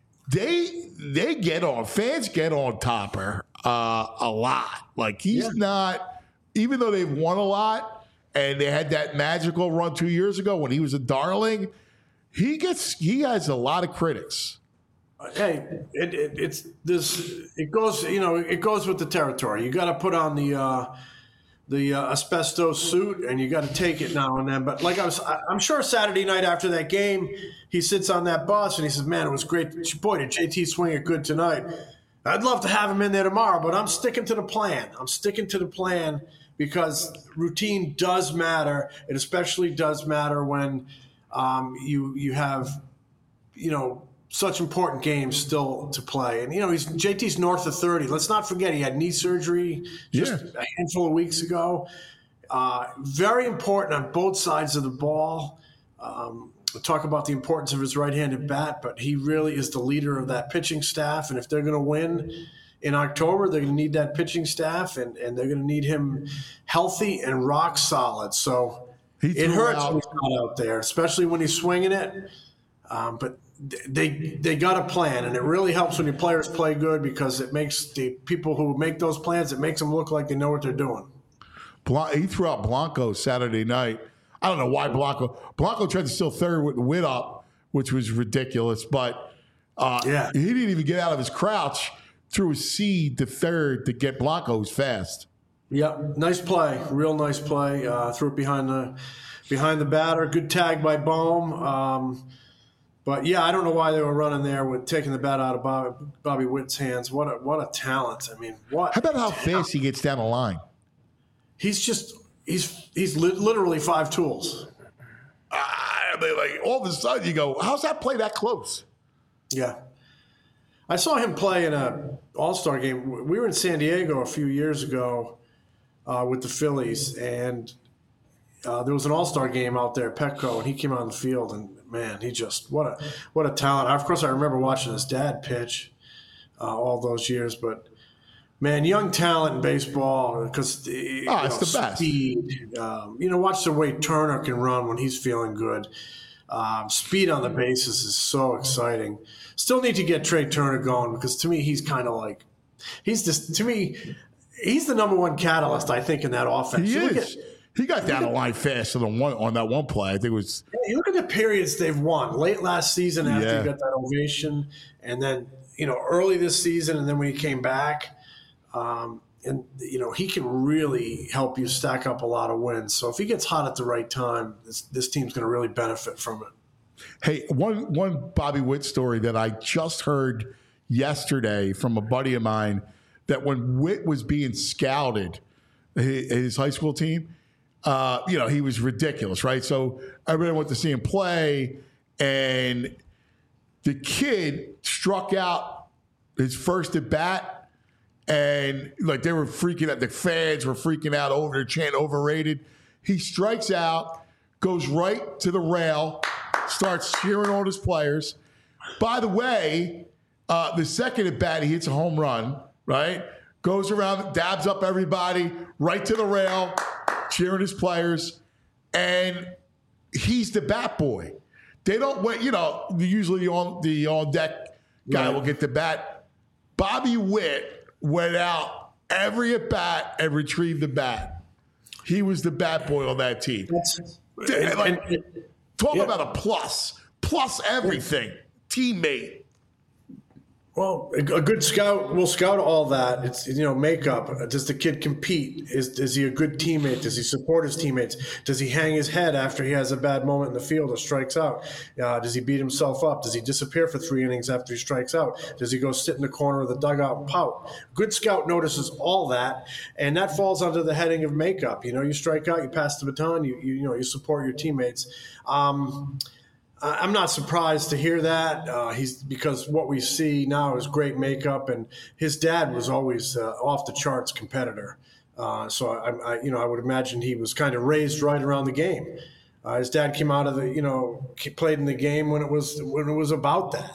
they they get on fans get on Topper uh, a lot. Like he's Yeah. not, even though they've won a lot and they had that magical run two years ago when he was a darling. He gets he has a lot of critics. Hey, it, it, it's this. It goes, you know, it goes with the territory. You got to put on the uh, the uh, asbestos suit, and you got to take it now and then. But like I was, I- I'm sure Saturday night after that game, he sits on that bus and he says, "Man, it was great. Boy, did J T swing it good tonight. I'd love to have him in there tomorrow, but I'm sticking to the plan. I'm sticking to the plan because routine does matter. It especially does matter when um, you you have, you know." Such important games still to play. And, you know, he's J T's north of thirty. Let's not forget he had knee surgery just Yeah. a handful of weeks ago. Uh, very important on both sides of the ball. Um, we'll talk about the importance of his right-handed bat, but he really is the leader of that pitching staff. And if they're going to win in October, they're going to need that pitching staff, and, and they're going to need him healthy and rock solid. So He it threw hurts out- when he's not out there, especially when he's swinging it. Um, but they they got a plan, and it really helps when your players play good because it makes the people who make those plans, it makes them look like they know what they're doing. Blan- he threw out Blanco Saturday night. I don't know why Blanco. Blanco tried to steal third with Witt up, which was ridiculous. But uh, Yeah. he didn't even get out of his crouch. Threw a seed to third to get Blanco's fast. Yep, nice play, real nice play. Uh, threw it behind the behind the batter. Good tag by Bohm. Um, but yeah, I don't know why they were running there with taking the bat out of Bobby, Bobby Witt's hands. What a what a talent! I mean, what? How about how fast he gets down the line? He's just he's he's li- literally five tools. Ah, they like all of a sudden you go, how's that play that close? Yeah. I saw him play in a All-Star game. We were in San Diego a few years ago uh, with the Phillies, and uh, there was an All-Star game out there at Petco, and he came on the field, and man, he just what a what a talent. Of course, I remember watching his dad pitch uh, all those years, but man, young talent in baseball because Oh, it's the best. Speed. Um, you know, watch the way Turner can run when he's feeling good. Um, speed on the bases is so exciting. Still need to get Trey Turner going because to me he's kind of like he's just to me he's the number one catalyst I think in that offense. He You look is. at- He got down the line faster than one on that one play. I think it was. You look at the periods they've won late last season after Yeah. he got that ovation, and then you know early this season, and then when he came back, um, and you know he can really help you stack up a lot of wins. So if he gets hot at the right time, this, this team's going to really benefit from it. Hey, one one Bobby Witt story that I just heard yesterday from a buddy of mine that when Witt was being scouted, his, his high school team. Uh, you know, he was ridiculous, right? So everybody went to see him play, and the kid struck out his first at bat, and like they were freaking out. The fans were freaking out over the chant, overrated. He strikes out, goes right to the rail, starts cheering on his players. By the way, uh, the second at bat, he hits a home run, right? Goes around, dabs up everybody, right to the rail, cheering his players. And he's the bat boy. They don't wait, you know, usually on the on deck guy right. will get the bat. Bobby Witt went out every at bat and retrieved the bat. He was the bat boy on that team. And, like, and, talk yeah. about a plus, plus everything, teammate. Well, a good scout will scout all that. It's, you know, makeup. Does the kid compete? Is is he a good teammate? Does he support his teammates? Does he hang his head after he has a bad moment in the field or strikes out? Uh, does he beat himself up? Does he disappear for three innings after he strikes out? Does he go sit in the corner of the dugout and pout? Good scout notices all that, and that falls under the heading of makeup. You know, you strike out, you pass the baton, you you, you know, you support your teammates. Um, I'm not surprised to hear that. Uh, he's because what we see now is great makeup, and his dad was always uh, off the charts competitor. Uh, so I, I, you know, I would imagine he was kind of raised right around the game. Uh, his dad came out of the, you know, played in the game when it was when it was about that.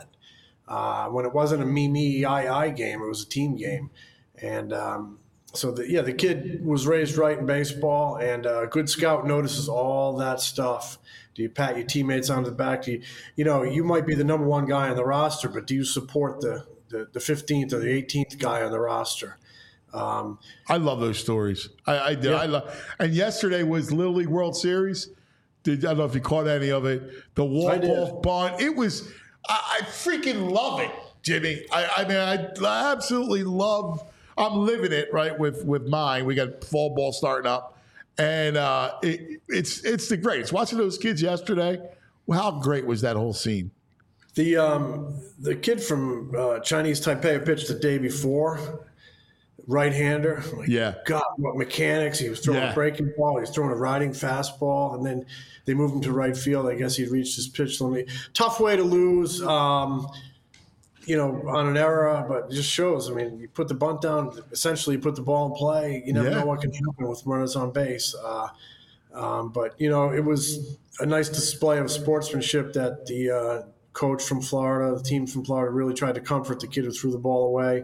Uh, when it wasn't a me me I I game, it was a team game, and um, so the, yeah, the kid was raised right in baseball, and a good scout notices all that stuff. Do you pat your teammates on the back? Do you, you know, you might be the number one guy on the roster, but do you support the the, the fifteenth or the eighteenth guy on the roster? Um, I love those stories. I, I do. Yeah. I love. And yesterday was Little League World Series. Did I don't know if you caught any of it? The walk-off bunt. It was. I, I freaking love it, Jimmy. I, I mean, I absolutely love. I'm living it right with with mine. We got fall ball starting up. And uh, it, it's it's the greatest. Watching those kids yesterday, well, how great was that whole scene? The um, the kid from uh, Chinese Taipei pitched the day before, right-hander. Like, yeah. God, what mechanics. He was throwing Yeah. a breaking ball. He was throwing a riding fastball. And then they moved him to right field. I guess he'd reached his pitch limit. Tough way to lose. Um, you know, on an error, but it just shows. I mean, you put the bunt down, essentially you put the ball in play. You never Yeah. know what can happen with runners on base. Uh, um, but, you know, it was a nice display of sportsmanship that the uh, coach from Florida, the team from Florida, really tried to comfort the kid who threw the ball away.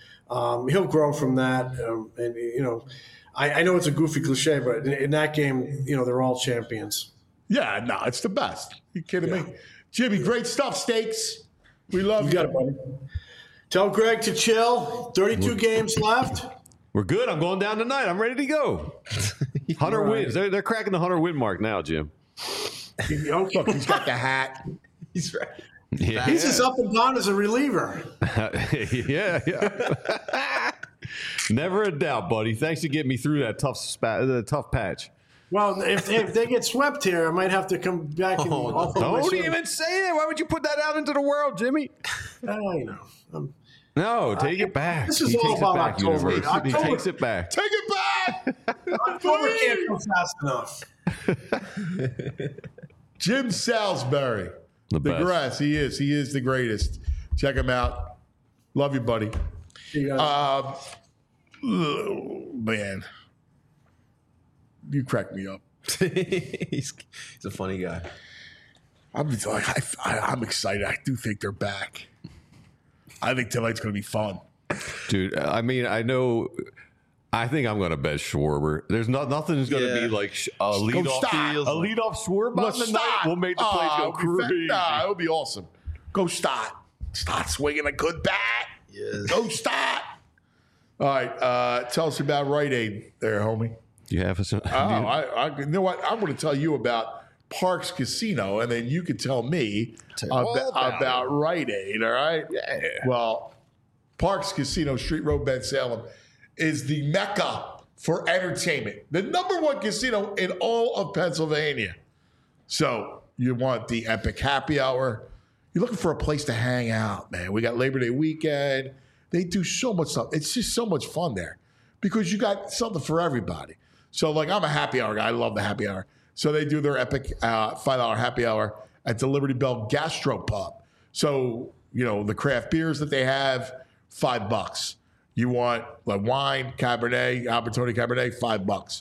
Um, he'll grow from that. Um, and, you know, I, I know it's a goofy cliche, but in, in that game, you know, they're all champions. Yeah, no, it's the best. You kidding Yeah. me? Jimmy, great stuff, Steaks. We love You you. got it, buddy. Tell Greg to chill. thirty-two games left. We're good. I'm going down tonight. I'm ready to go. Hunter Right. wins. They're, they're cracking the Hunter win mark now, Jim. Look, he's got the hat. He's right. Yeah, He's as up and down as a reliever. yeah, yeah. Never a doubt, buddy. Thanks for getting me through that tough spat, the tough patch. Well, if, if they get swept here, I might have to come back and Oh, offer my Don't service. even say that. Why would you put that out into the world, Jimmy? Oh, you know. Um, No, take it back. This is he all takes about it back, October. Universe. He October. takes it back. Take it back. October can't go fast enough. Jim Salisbury. The The best. grass. He is. He is the greatest. Check him out. Love you, buddy. You guys- Um, oh, man. You crack me up. he's, he's a funny guy. I'm just like I, I, I'm excited. I do think they're back. I think tonight's going to be fun. Dude, I mean, I know. I think I'm going to bet Schwarber. There's not nothing's going to Yeah. be like sh- a lead off, stop. a lead off Schwarber Let's on the night. start. We'll make the place Oh, go it'll be fa- crazy. Nah, it'll be awesome. Go start. Start swinging a good bat. Yes. Go start. All right. Uh, tell us about Rite Aid there, homie. You have a. Oh, I, I, you know what? I'm going to tell you about Parks Casino, and then you can tell me all about, about about Rite Aid, all right? Yeah. Well, Parks Casino, Street Road, Ben Salem, is the mecca for entertainment. The number one casino in all of Pennsylvania. So you want the epic happy hour. You're looking for a place to hang out, man. We got Labor Day weekend. They do so much stuff. It's just so much fun there because you got something for everybody. So, like, I'm a happy hour guy. I love the happy hour. So they do their epic uh, five dollar happy hour at the Liberty Bell Gastropub. So, you know, the craft beers that they have, five bucks. You want like wine, Cabernet, Albertoni Cabernet, five bucks.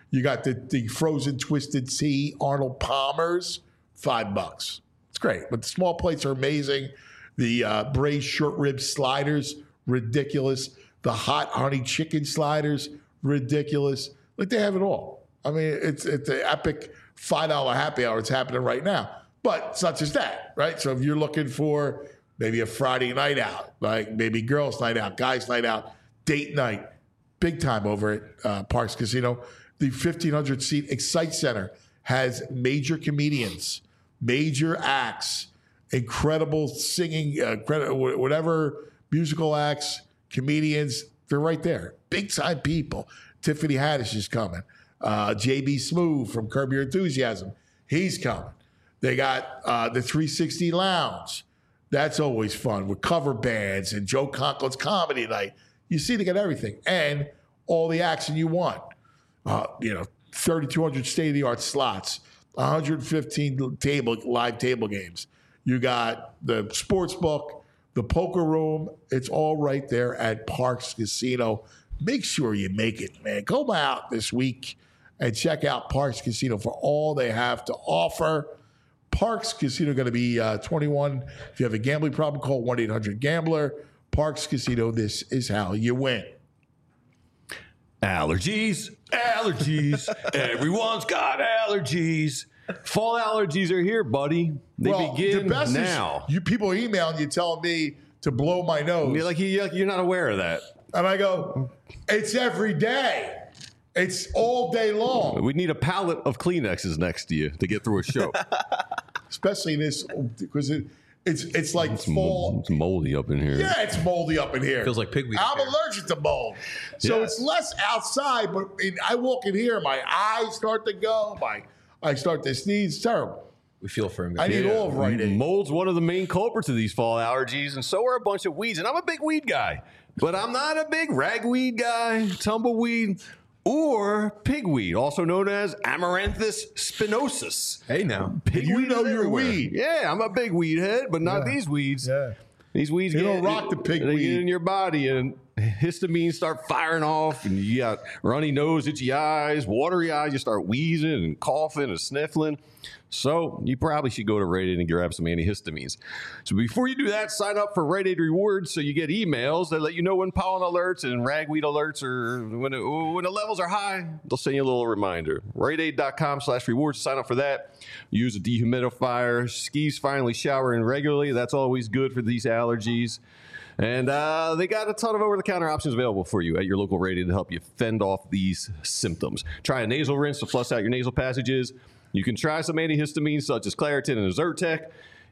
You got the, the frozen twisted tea Arnold Palmer's, five bucks. It's great. But the small plates are amazing. The uh, braised short rib sliders, ridiculous. The hot honey chicken sliders, ridiculous. Like, they have it all. I mean, it's it's an epic five dollar happy hour. It's happening right now. But it's not just that, right? So if you're looking for maybe a Friday night out, like maybe girls' night out, guys' night out, date night, big time over at uh, Parks Casino. The fifteen hundred seat Excite Center has major comedians, major acts, incredible singing, uh, whatever musical acts, comedians. They're right there. Big time people. Tiffany Haddish is coming. Uh, J B Smoove from Curb Your Enthusiasm. He's coming. They got uh, the three sixty Lounge. That's always fun with cover bands and Joe Conklin's Comedy Night. You see, they got everything and all the action you want. Uh, you know, thirty-two hundred state-of-the-art slots, one hundred fifteen table live table games. You got the sports book, the poker room. It's all right there at Parks Casino. Make sure you make it, man. Go out this week and check out Parks Casino for all they have to offer. Parks Casino going to be uh, twenty-one. If you have a gambling problem, call one eight hundred gambler. Parks Casino, this is how you win. Allergies, allergies. Everyone's got allergies. Fall allergies are here, buddy. They well, begin the best now. Is you people are emailing you telling me to blow my nose. You're like, you're not aware of that. And I go, it's every day. It's all day long. We need a pallet of Kleenexes next to you to get through a show. Especially this, because it, it's it's like it's fall. Mo- it's moldy up in here. Yeah, it's moldy up in here. Feels like pigweed. I'm allergic to mold. So Yeah. it's less outside, but in, I walk in here, my eyes start to go. My I start to sneeze. It's terrible. We feel for him. I Guys. need all of Rite Aid. Mold's one of the main culprits of these fall allergies, and so are a bunch of weeds. And I'm a big weed guy, but I'm not a big ragweed guy, tumbleweed, or pigweed, also known as Amaranthus spinosus. Hey, now. Pigweed You know is you're everywhere. weed. Yeah, I'm a big weed head, but not Yeah. these weeds. Yeah. These weeds You get, don't rock the pig they weed. get in your body, and histamines start firing off, and you got runny nose, itchy eyes, watery eyes. You start wheezing and coughing and sniffling. So you probably should go to Rite Aid and grab some antihistamines. So before you do that, sign up for Rite Aid Rewards so you get emails that let you know when pollen alerts and ragweed alerts or when, it, when the levels are high. They'll send you a little reminder. Rite Aid dot com slash rewards. Sign up for that. Use a dehumidifier. Skis finally showering regularly. That's always good for these allergies. And uh, they got a ton of over-the-counter options available for you at your local Rite Aid to help you fend off these symptoms. Try a nasal rinse to flush out your nasal passages. You can try some antihistamines such as Claritin and Zyrtec.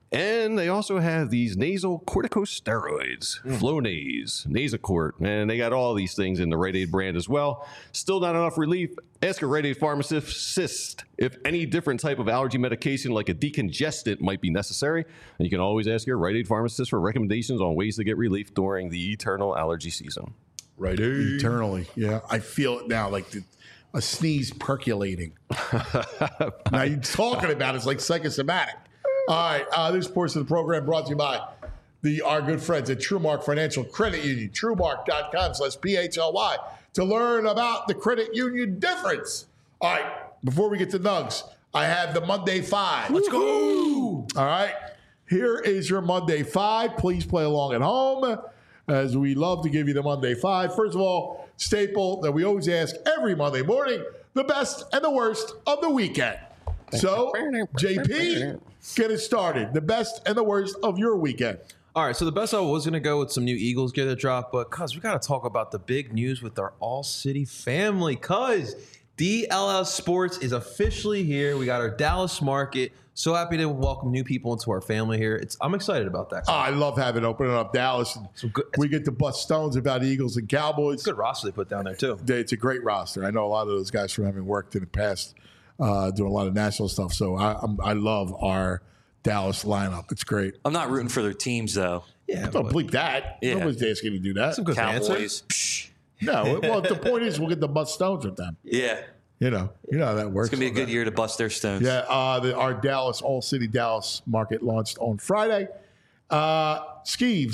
And they also have these nasal corticosteroids, mm. Flonase, Nasacort, and they got all these things in the Rite Aid brand as well. Still not enough relief? Ask a Rite Aid pharmacist if any different type of allergy medication like a decongestant might be necessary. And you can always ask your Rite Aid pharmacist for recommendations on ways to get relief during the eternal allergy season. Rite Aid. Eternally. Yeah, I feel it now, like the, a sneeze percolating. Now you're talking about it, it's like psychosomatic. All right, uh, this portion of the program brought to you by the our good friends at TrueMark Financial Credit Union, truemark dot com slash P H L Y, to learn about the credit union difference. All right, before we get to Nugs, I have the Monday Five. Let's go. All right, here is your Monday Five. Please play along at home, as we love to give you the Monday Five. First of all, staple that we always ask every Monday morning, the best and the worst of the weekend. So, J P, get it started. The best and the worst of your weekend. All right, so the best I was going to go with some new Eagles gear that dropped, but cuz we got to talk about the big news with our All City family, cuz D L S Sports is officially here. We got our Dallas market. So happy to welcome new people into our family here. It's I'm excited about that. Oh, I love having opening up Dallas. And so good, we get to bust stones about Eagles and Cowboys. Good roster they put down there too. It's a great roster. I know a lot of those guys from having worked in the past, uh, doing a lot of national stuff. So I, I'm, I love our Dallas lineup. It's great. I'm not rooting for their teams though. Yeah, don't bleep that. Yeah. Nobody's asking you to do that. Some good Cowboys. Psh. No, well, the point is we'll get the bust stones with them. Yeah. You know, you know how that works. It's gonna be a good year to bust their stones. Yeah, uh, the, our Dallas All City Dallas market launched on Friday. Uh, Skeeves,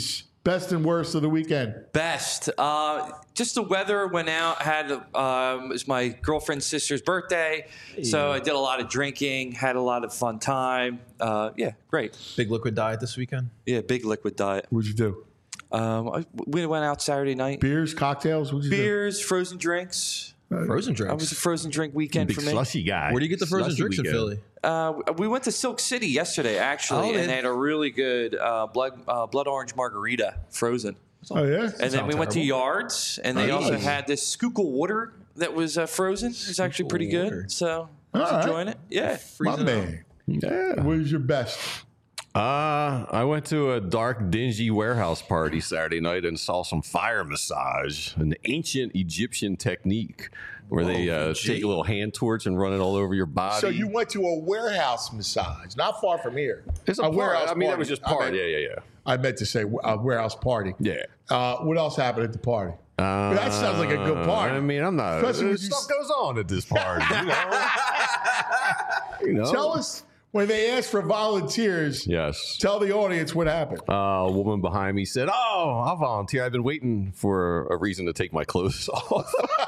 Best and worst of the weekend. Best. Uh, just the weather went out. Had um, it was my girlfriend's sister's birthday, so I did a lot of drinking. Had a lot of fun time. Uh, yeah, great. Big liquid diet this weekend. Yeah, big liquid diet. What'd you do? Um, I, we went out Saturday night. Beers, cocktails. What'd you Beers, frozen drinks. Frozen drinks. I was a frozen drink weekend Big for me. slushy guy. Where do you get the frozen Slushy drinks in weekend. Philly? Uh, we went to Silk City yesterday, actually, Oh, and man. they had a really good uh, blood uh, blood orange margarita, frozen. do? Oh yeah. And then we went to Yards, and they Nice. also had this Schuylkill water that was uh, frozen. It was actually pretty good. water. So I was All right. enjoying it. Yeah. My man. Yeah. What was your best? Uh, I went to a dark, dingy warehouse party Saturday night and saw some fire massage, an ancient Egyptian technique where they uh, take a little hand torch and run it all over your body. So you went to a warehouse massage, not far from here. it's a, a part. warehouse I mean, that party. was just I part. meant- yeah, yeah, yeah. I meant to say a warehouse party. Yeah. Uh, what else happened at the party? Uh, that sounds like a good party. I mean, I'm not. Especially when you stuff s- goes on at this party. You know. You know? Tell us when they asked for volunteers. Yes. Tell the audience what happened. Uh, a woman behind me said, "Oh, I'll volunteer. I've been waiting for a reason to take my clothes off."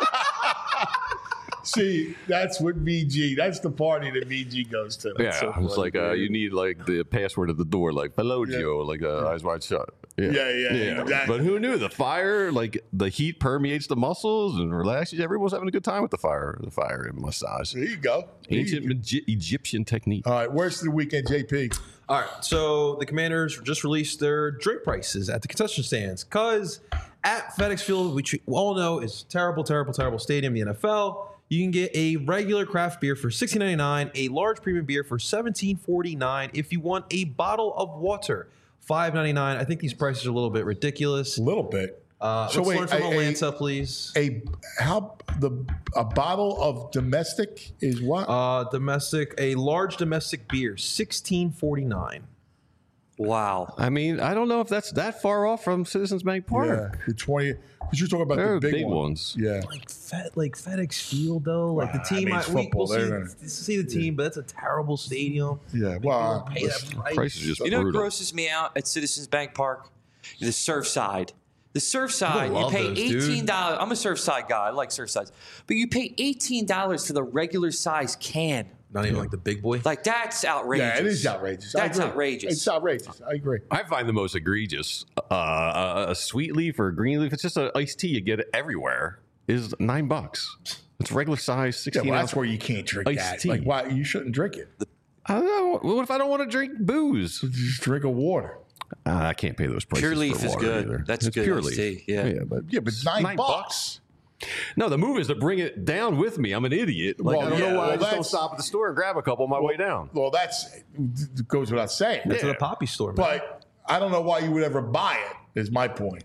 See, that's what V G. That's the party that V G goes to. That's yeah, so it's funny, like uh, dude. you need like the password at the door, like "Hello, Joe," like uh, eyes wide shut. Yeah, yeah, exactly. But who knew the fire? Like the heat permeates the muscles and relaxes. Everyone's having a good time with the fire. The fire massage. There you go. There Ancient you go. Magi- Egyptian technique. All right, worst of the weekend, J P. All right, so the Commanders just released their drink prices at the concession stands because at FedEx Field, which we all know is a terrible, terrible, terrible stadium in the N F L, you can get a regular craft beer for sixteen ninety-nine, a large premium beer for seventeen forty-nine. If you want a bottle of water, five ninety-nine. I think these prices are a little bit ridiculous. A little bit. Uh, So let's wait, learn from a- Atlanta, please. A how the a bottle of domestic is what? Uh, domestic, a large domestic beer, sixteen forty-nine. Wow. I mean, I don't know if that's that far off from Citizens Bank Park. yeah, the twenty. Because you're talking about They're the big, big one. ones. Yeah. Like Fed, like FedEx Field though, like the Well, I team. mean, I, it's we, football. we'll see, They're gonna- see the team, but that's a terrible stadium. Yeah. Well, Pay that listen, price. Price is just You know what brutal. grosses me out at Citizens Bank Park? The Surfside. The Surfside, you love pay those, dude. eighteen dollars. I'm a Surfside guy. I like Surfsides. But you pay eighteen dollars for the regular size can. Not even like the big boy. Like, that's outrageous. yeah, it is outrageous. I That's agree. outrageous. It's outrageous. I agree. I find the most egregious uh, a, a sweet leaf or a green leaf. It's just an iced tea. You get it everywhere. Is nine bucks. It's regular size, Yeah, sixteen well, ounce. that's where you can't drink iced that. tea. Like, why you shouldn't drink it? I don't know. What if I don't want to drink booze? Just drink a water. Uh, I can't pay those prices. Pure leaf for is water good. Either. That's it's good pure iced leaf. tea, yeah. yeah, but Yeah, but nine, nine bucks. no. The move is to bring it down with me. I'm an idiot. Like, Well, I don't yeah, know why well, I just don't that's- stop at the store and grab a couple on my way down. Well, that's it goes without saying. That's at a poppy store, man. But I don't know why you would ever buy it. Is my point.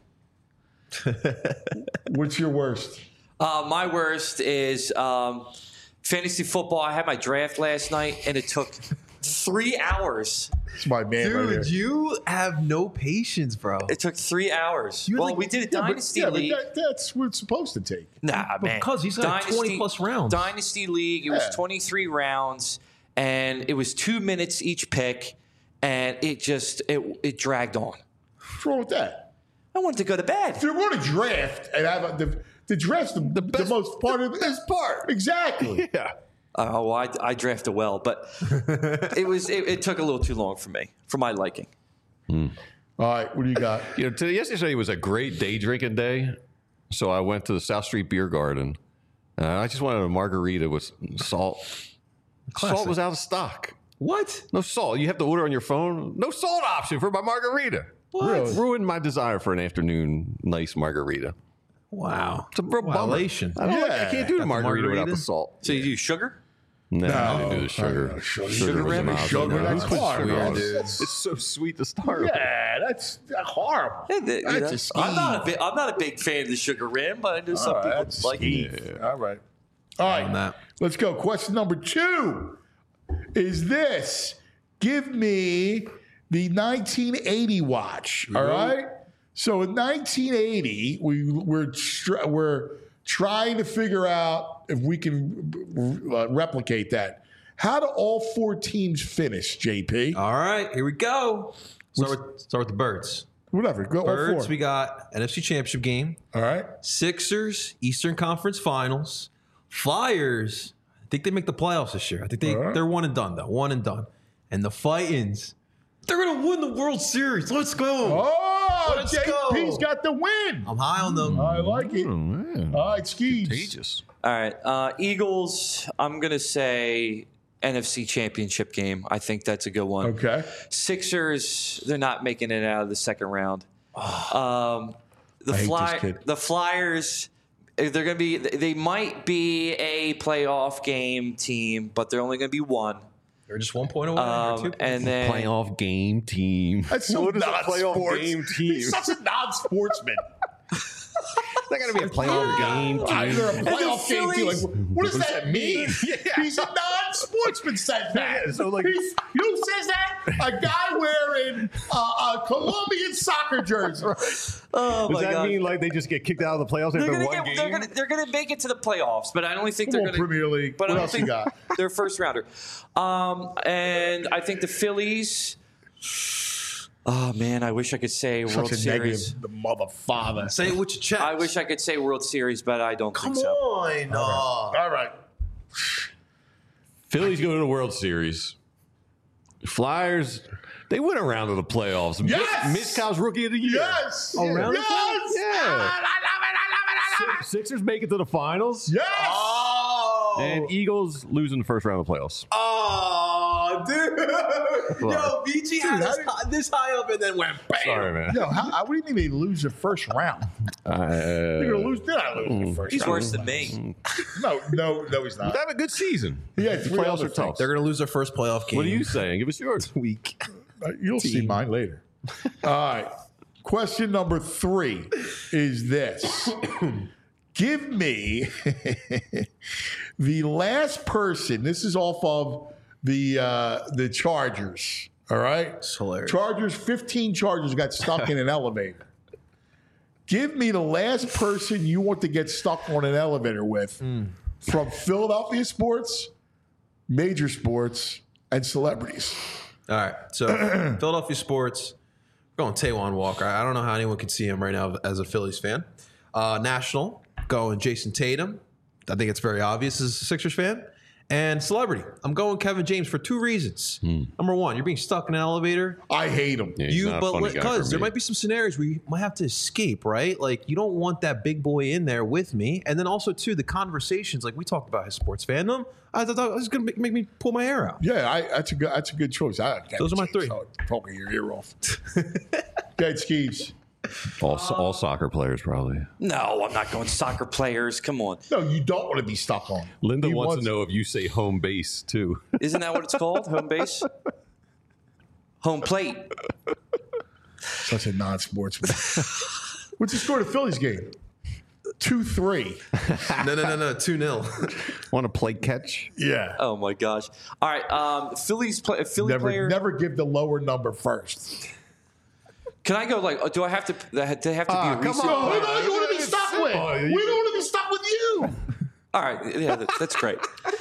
What's your worst? Uh, my worst is um, fantasy football. I had my draft last night, and it took three hours. It's my man right here. Dude, you have no patience, bro. It took three hours. You had well, like- we did a Yeah, but- dynasty yeah, but league. that- that's what it's supposed to take. Nah, man. Because he's got twenty plus rounds. Dynasty league. It was Yeah. twenty-three rounds, and it was two minutes each pick, and it just it it dragged on. What's wrong with that? I wanted to go to bed. If you're going to draft and have a, the the draft's the, the, best- most part of the best part. Exactly. Yeah. Oh, well, I, I drafted well, but it was it, it took a little too long for me, for my liking. All right, what do you got? You know, today, yesterday was a great day drinking day, so I went to the South Street Beer Garden. Uh, I just wanted a margarita with salt. Salt was out of stock. What? No salt. You have to order on your phone. No salt option for my margarita. What? Really? Ruined my desire for an afternoon nice margarita. Wow. It's a real bummer. Violation. I, don't like, I Yeah. can't do the Got the margarita, without margarita? the salt. So you do sugar? No, I No. didn't do the sugar. I know, sugar. Sugar was rim? an option. Sugar, No, that's I put hard, sugar man. on it. That's- It's so sweet to start with. Yeah, that's horrible. Yeah, the- you That's know, a scheme. I'm not a big, I'm not a big fan of the sugar rim, but I know some All right, people that's a like scheme. it. All right. All right. On that. Let's go. Question number two is this. Give me the nineteen eighty watch. All right. So in nineteen eighty, we we're tr- we're trying to figure out if we can uh, replicate that. How do all four teams finish, J P? All right, here we go. Start with, start with the birds. Whatever. Go all Birds, four. we got N F C Championship game. All right. Sixers, Eastern Conference Finals. Flyers, I think they make the playoffs this year. I think they, All right. they're one and done, though. One and done. And the Fightins, they're going to win the World Series. Let's go. Oh, Let's J P's go. got the win. I'm high on them. I like it. Oh, man. All right, Skeeves. Contagious. All right, uh, Eagles. I'm gonna say N F C Championship game. I think that's a good one. Okay. Sixers. They're not making it out of the second round. Um, the I hate Fly, this kid. the Flyers. They're gonna be. They might be a playoff game team, but they're only gonna be one. They're just one point away. or Um, two. and then Playoff game team. That's so What is a playoff non-sports. game team? He's such a non-sportsman. They're going to be a playoff game Either team. a playoff game team. Like, what does that mean? Yeah. He's a non-sportsman. Said that. Yeah, so, like- He's, you know who says that? A guy wearing uh, a Colombian soccer jersey. oh Does my that god. mean like they just get kicked out of the playoffs they're after gonna, one get, game? they're, gonna, they're gonna make it to the playoffs, but I don't think Come they're on, gonna. Premier League. But What I don't else you think got? they're first rounder. Um, and I think the Phillies. Oh man, I wish I could say World Such a Series. negative, the mother father. Say it with your chest. I wish I could say World Series, but I don't Come think so. on. uh, All right. Phillies go to the World Series. Flyers, they went around to the playoffs. Yes! Mitch Cobb's rookie of the year. Yes. Oh, round of yes. Yeah. I love it. I love it. I love it. Sixers make it to the finals. Yes. Oh. And Eagles lose in the first round of the playoffs. Oh, dude. Yo, B G had us high, this high up and then went bam. Sorry, man. Yo, how, how, what do you mean they lose the first round? Uh, They're gonna lose. Did I lose the first He's round? worse than me. No, no, no, he's not. They have a good season. Yeah, The three playoffs other are tough. things. They're going to lose their first playoff game. What are you saying? Give us yours. Week. Uh, You'll see mine later. All right. Question number three is this. Give me the last person. This is off of the uh, the Chargers. All right. It's hilarious. Chargers, fifteen Chargers got stuck in an elevator. Give me the last person you want to get stuck on an elevator with from Philadelphia sports, major sports, and celebrities. All right. So, Philadelphia sports, we're going Taijuan Walker. I don't know how anyone can see him right now as a Phillies fan. Uh, national, going Jason Tatum. I think it's very obvious as a Sixers fan. And celebrity, I'm going Kevin James for two reasons. Number one, you're being stuck in an elevator. I hate him. Yeah, he's You, not a but funny guy for because there me. might be some scenarios where you might have to escape, right? Like you don't want that big boy in there with me. And then also too, the conversations, like we talked about his sports fandom. I thought it was going to make, make me pull my hair out. Yeah, I, that's a good. That's a good choice. I, Those are my three. Poking your ear off. Dead Skeeves. All, all soccer players, probably. No, I'm not going soccer players. Come on. No, you don't want to be stuck on. Linda He wants, to know if you say home base, too. Isn't that what it's called? Home base? Home plate. Such a non-sportsman. What's the score of the Phillies game? two three. No, no, no, no. two nil. Want to play catch? Yeah. Oh my gosh. All right. Um, Phillies play, Philly Never, player. never give the lower number first. Can I go like? Do I have to? They have to be Ah, a come recent on. player? Who do you want to be stuck with? Oh, We don't want to be stuck with you. All right. Yeah, that, that's great.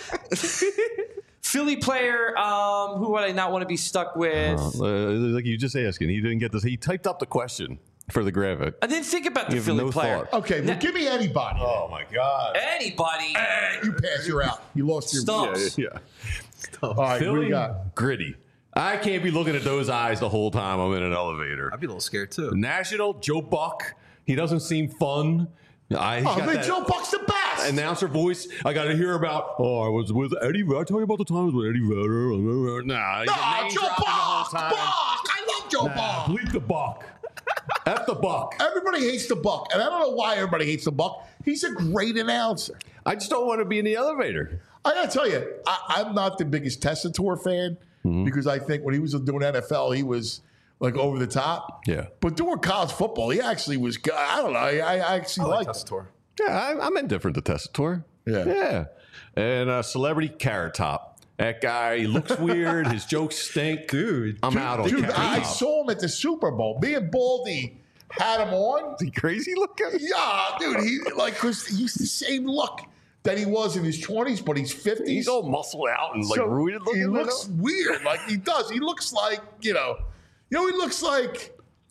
Philly player. Um, who would I not want to be stuck with? Uh, like you just asking. He didn't get this. He typed up the question for the graphic. I didn't think about the You have Philly no player. thought. Okay, well, Now- give me anybody. Oh, my God. Anybody? You pass, you're out. You lost your. Stumps. Yeah. All right, what do Philly, you got? gritty. I can't be looking at those eyes the whole time I'm in an elevator. I'd be a little scared too. National, Joe Buck. He doesn't seem fun. I, he's Oh, got man, that Joe Buck's the best. announcer voice. I got to hear about, oh, I was with Eddie. I tell you about the times with Eddie Vedder. Nah, he's Nah, name Joe dropping Buck. the whole Buck. time. I love Joe Nah, Buck. bleep the Buck. F the Buck. Everybody hates the Buck, and I don't know why everybody hates the Buck. He's a great announcer. I just don't want to be in the elevator. I gotta tell you, I, I'm not the biggest Tessitore fan Mm-hmm. because I think when he was doing N F L, he was like over the top. Yeah. But doing college football, he actually was. good. I don't know. I, I actually like. Tessitore. Yeah, I, I'm indifferent to Tessitore. Yeah. Yeah. And uh, celebrity Carrot Top. That guy, he looks weird. His jokes stink. Dude. I'm out on Dude, Carrot I Top. saw him at the Super Bowl. Me and Baldy had him on. Is he crazy looking? Yeah, dude. He like because he's the same look that he was in his twenties, but he's fifties. He's all muscled out and like So roided looking. He I looks know. weird. Like he does. He looks like, you know, you know, he looks like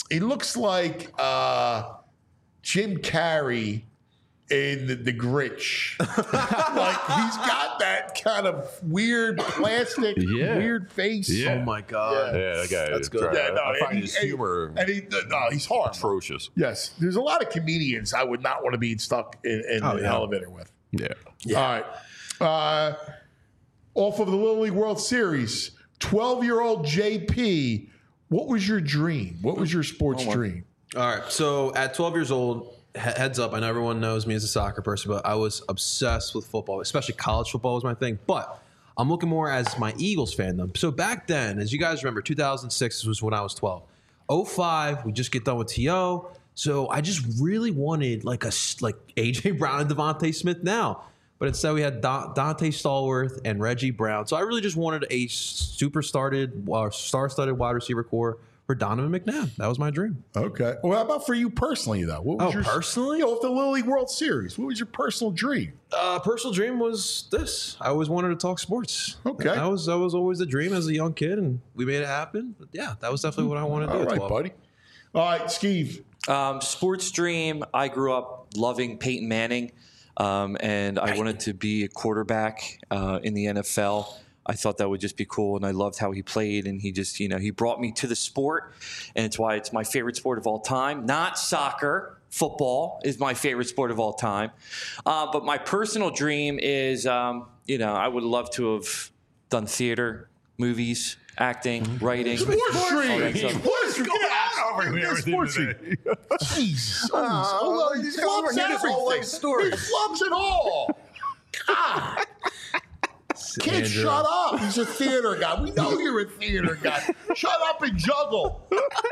he looks like uh, Jim Carrey in the, the Grinch. Like he's got that kind of weird plastic, Yeah. weird face. Yeah. Oh my god. Yeah, that guy. That's is good. dry. Yeah, no, I and find he- his and- humor And he, no, he's horrible. atrocious. Yes, there's a lot of comedians I would not want to be stuck in, in Oh, an yeah. elevator with. Yeah. All right. Uh, off of the Little League World Series, twelve-year-old J P, what was your dream? What was your sports dream? All right. So at twelve years old, he- heads up, I know everyone knows me as a soccer person, but I was obsessed with football, especially college football was my thing. But I'm looking more as my Eagles fandom. So back then, as you guys remember, two thousand six was when I was twelve. oh five, we just get done with T O. So I just really wanted like a s- like A J Brown and Devontae Smith now. But instead we had Da- Dante Stallworth and Reggie Brown. So I really just wanted a super started, uh, star-studded wide receiver core for Donovan McNabb. That was my dream. Okay. Well, how about for you personally, though? What was Oh, your, personally? You know, off the Little League World Series, what was your personal dream? Uh, personal dream was this. I always wanted to talk sports. Okay. That was that was always the dream as a young kid, and we made it happen. But yeah, that was definitely what I wanted to do. All at right, twelve. buddy. All right, Steve. Um, sports dream. I grew up loving Peyton Manning, um, and I wanted to be a quarterback uh, in the N F L. I thought that would just be cool, and I loved how he played, and he just, you know, he brought me to the sport, and it's why it's my favorite sport of all time. Not soccer, football is my favorite sport of all time. Uh, but my personal dream is, um, you know, I would love to have done theater, movies, acting, writing. Sports all dream. that stuff. Sports dream. Get out over here. Sports dream. Jesus. Oh, he flubs everything. He flubs it all. God. Kid, Andrew. shut up. He's a theater guy. We know you're a theater guy. Shut up and juggle.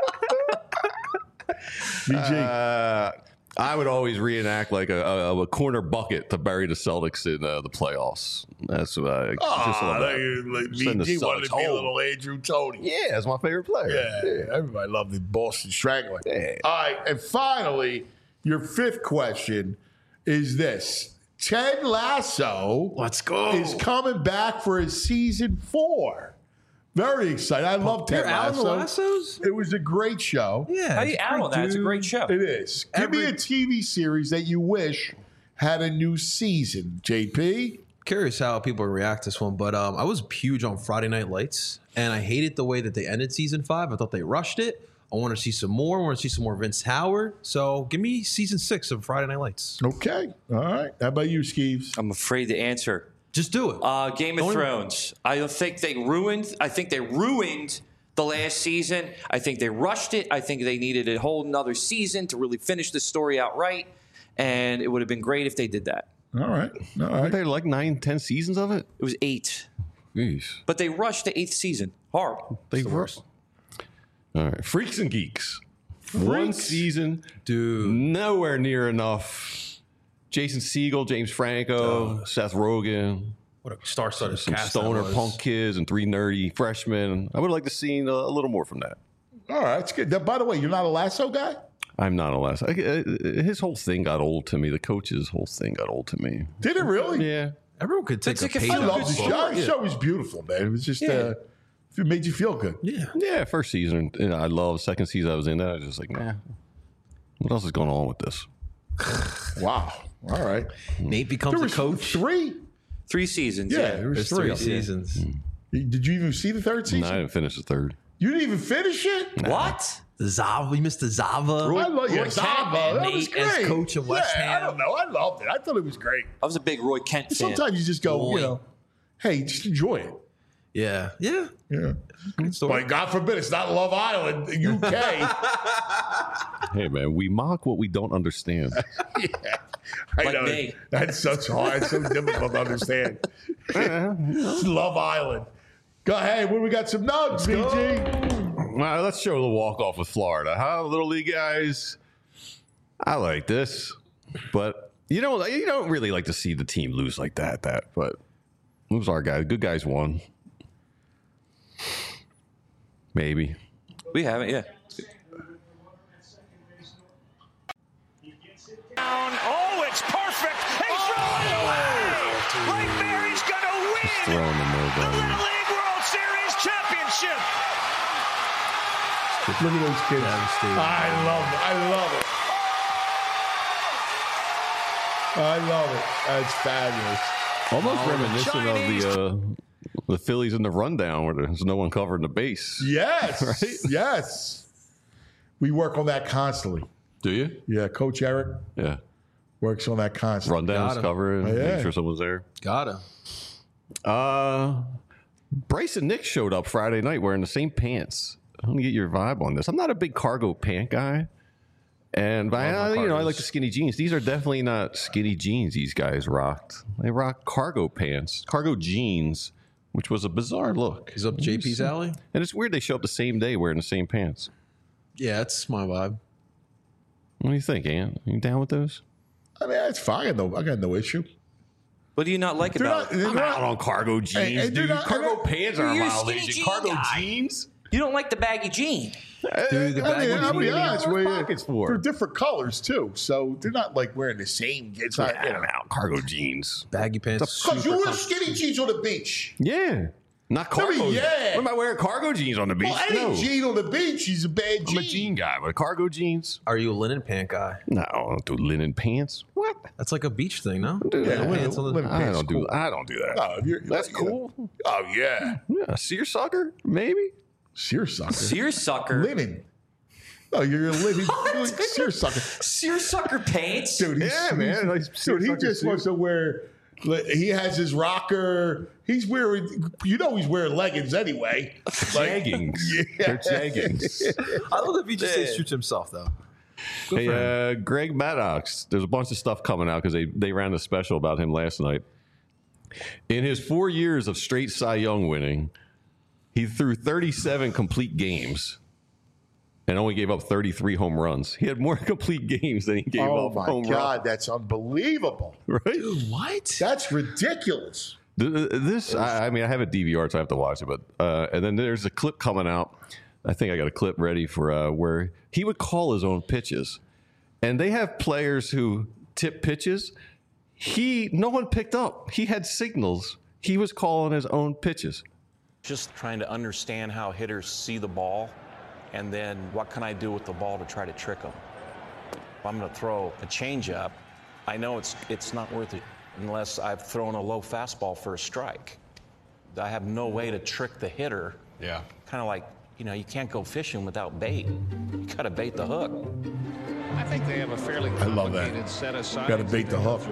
B G. Uh, I would always reenact like a, a, a corner bucket to bury the Celtics in uh, the playoffs. That's what I just Oh, love that. like, Send the B G wanted to Celtics be a home. little Andrew Tony. Yeah, that's my favorite player. Yeah, everybody loved the Boston Strangler. Yeah. All right, and finally, your fifth question is this. Ted Lasso Let's go. is coming back for his season four. Very excited. I love Ted You're out on Lasso. the Lassos? It was a great show. Yeah. How you out on that? It's a great show. It is. Give me Every- a T V series that you wish had a new season, J P. Curious how people react to this one, but um, I was huge on Friday Night Lights, and I hated the way that they ended season five. I thought they rushed it. I want to see some more. I want to see some more Vince Howard. So give me season six of Friday Night Lights. Okay. All right. How about you, Skeeves? I'm afraid to answer. Just do it. Uh, Game of Don't even- Thrones. I don't think they ruined. I think they ruined the last season. I think they rushed it. I think they needed a whole another season to really finish the story out right. And it would have been great if they did that. All right. All Aren't right. there like nine, ten seasons of it? It was eight, Jeez. but they rushed the eighth season. Horrible. They were. All right. Freaks and Geeks. One season, dude. Nowhere near enough. Jason Segel, James Franco, Seth Rogen, What a star-studded some cast that stoner was. punk kids, and three nerdy freshmen. I would like to see a, a little more from that. All right. That's good. Now, by the way, you're not a Lasso guy? I'm not a last. I, I, his whole thing got old to me. The coach's whole thing got old to me. Did it really? Yeah. Everyone could take It's a like a page I feel out love of the this show. book. The show was beautiful, man. It was just, uh, it made you feel good. Yeah. Yeah, first season. And I love second season I was in. I was just like, nah. What else is going on with this? Wow. All right. Nate becomes There a was coach. three. Three seasons. Yeah, Yeah. there was There's three. three seasons. Did you even see the third season? No, I didn't finish the third. You didn't even finish it? What? The Zava, we missed the Zava. I love yeah, Roy Zava. Kent, That was Nate as great. coach of West yeah, I Ham. don't know. I loved it. I thought it was great. I was a big Roy Kent fan. Sometimes you just go, Roy. you know, hey, just enjoy it. Yeah. Yeah. Yeah. Good story. But God forbid it's not Love Island, U K. Hey, man, we mock what we don't understand. yeah. I Like know. me. That's so hard. It's so difficult to understand. It's Love Island. Go ahead. When we got some nugs, B G. All right, let's show the walk-off with Florida. Huh, Little League guys? I like this. But you don't, you don't really like to see the team lose like that. That, But who's our guy? Good guys won. Maybe. We haven't, yeah. Oh, it's perfect. He's throwing it away. Right there, he's going to win Throwing the the nobody. Little League World Series championship. Look at those kids. I love it. I love it. I love it. That's fabulous. Almost Oh, reminiscent Chinese. of the uh, the Phillies in the rundown where there's no one covering the base. Yes. Right? Yes. We work on that constantly. Do you? Yeah. Coach Eric Yeah. works on that constantly. Rundowns, covering, Oh, yeah. make sure someone's there. Gotta. Uh, Bryce and Nick showed up Friday night wearing the same pants. I want to get your vibe on this. I'm not a big cargo pant guy. And by, uh, you know, I like the skinny jeans. These are definitely not skinny jeans these guys rocked. They rocked cargo pants, cargo jeans, which was a bizarre look. He's up J P's alley? And it's weird they show up the same day wearing the same pants. Yeah, that's my vibe. What do you think, Ant? You down with those? I mean, that's fine. No, I got no issue. What do you not like They're about not- they're I'm not- out on cargo jeans, Hey, hey, they're dude. not- cargo they're- pants are a You're a violation. skinny jean Cargo guy. jeans? You don't like the baggy jean. Dude, the I baggy mean, I'll be jeans. honest What with are you. pockets for? They're different colors too, so they're not like wearing the same. It's not. I'm out. Cargo jeans. Baggy pants. Because you super wear comfy. skinny jeans on the beach. Yeah. Not I mean, cargo. yeah. What am I wearing cargo jeans on the beach? Well, any no. jean on the beach, he's a bad jean. I'm a jean guy, but cargo jeans? Are you a linen pant guy? No, I don't do linen pants. What? That's like a beach thing, no? Do Yeah, that. linen- pants on the- linen I pants don't do. cool. I don't do that. No, if you're, That's you know. cool. Oh yeah, Yeah, seersucker, maybe. seersucker. Seersucker. Linen. No, you're a linen you're like seersucker. Seersucker pants. Dude, he's, Yeah, man, like Dude, he seersucker just suit. wants to wear. He has his rocker. He's wearing. You know, he's wearing leggings anyway. Like, Jeggings. Yeah. They're jeggings. I love that he just says shoots himself, though. Good Hey, for him. uh, Greg Maddox. There's a bunch of stuff coming out because they they ran a special about him last night. In his four years of straight Cy Young winning, he threw thirty-seven complete games and only gave up thirty-three home runs. He had more complete games than he gave Oh up my home God, that's unbelievable. runs. Right? What? That's ridiculous. Th- This, I, I mean, I have a D V R, so I have to watch it. But uh, and then there's a clip coming out. I think I got a clip ready for uh, where he would call his own pitches, and they have players who tip pitches. He, no one picked up. He had signals. He was calling his own pitches. Just trying to understand how hitters see the ball, and then what can I do with the ball to try to trick them. If I'm going to throw a changeup, I know it's it's not worth it unless I've thrown a low fastball for a strike. I have no way to trick the hitter. Yeah. Kind of like, you know, you can't go fishing without bait. You got to bait the hook. I think they have a fairly I love that. complicated set of signs. Got to bait the hook.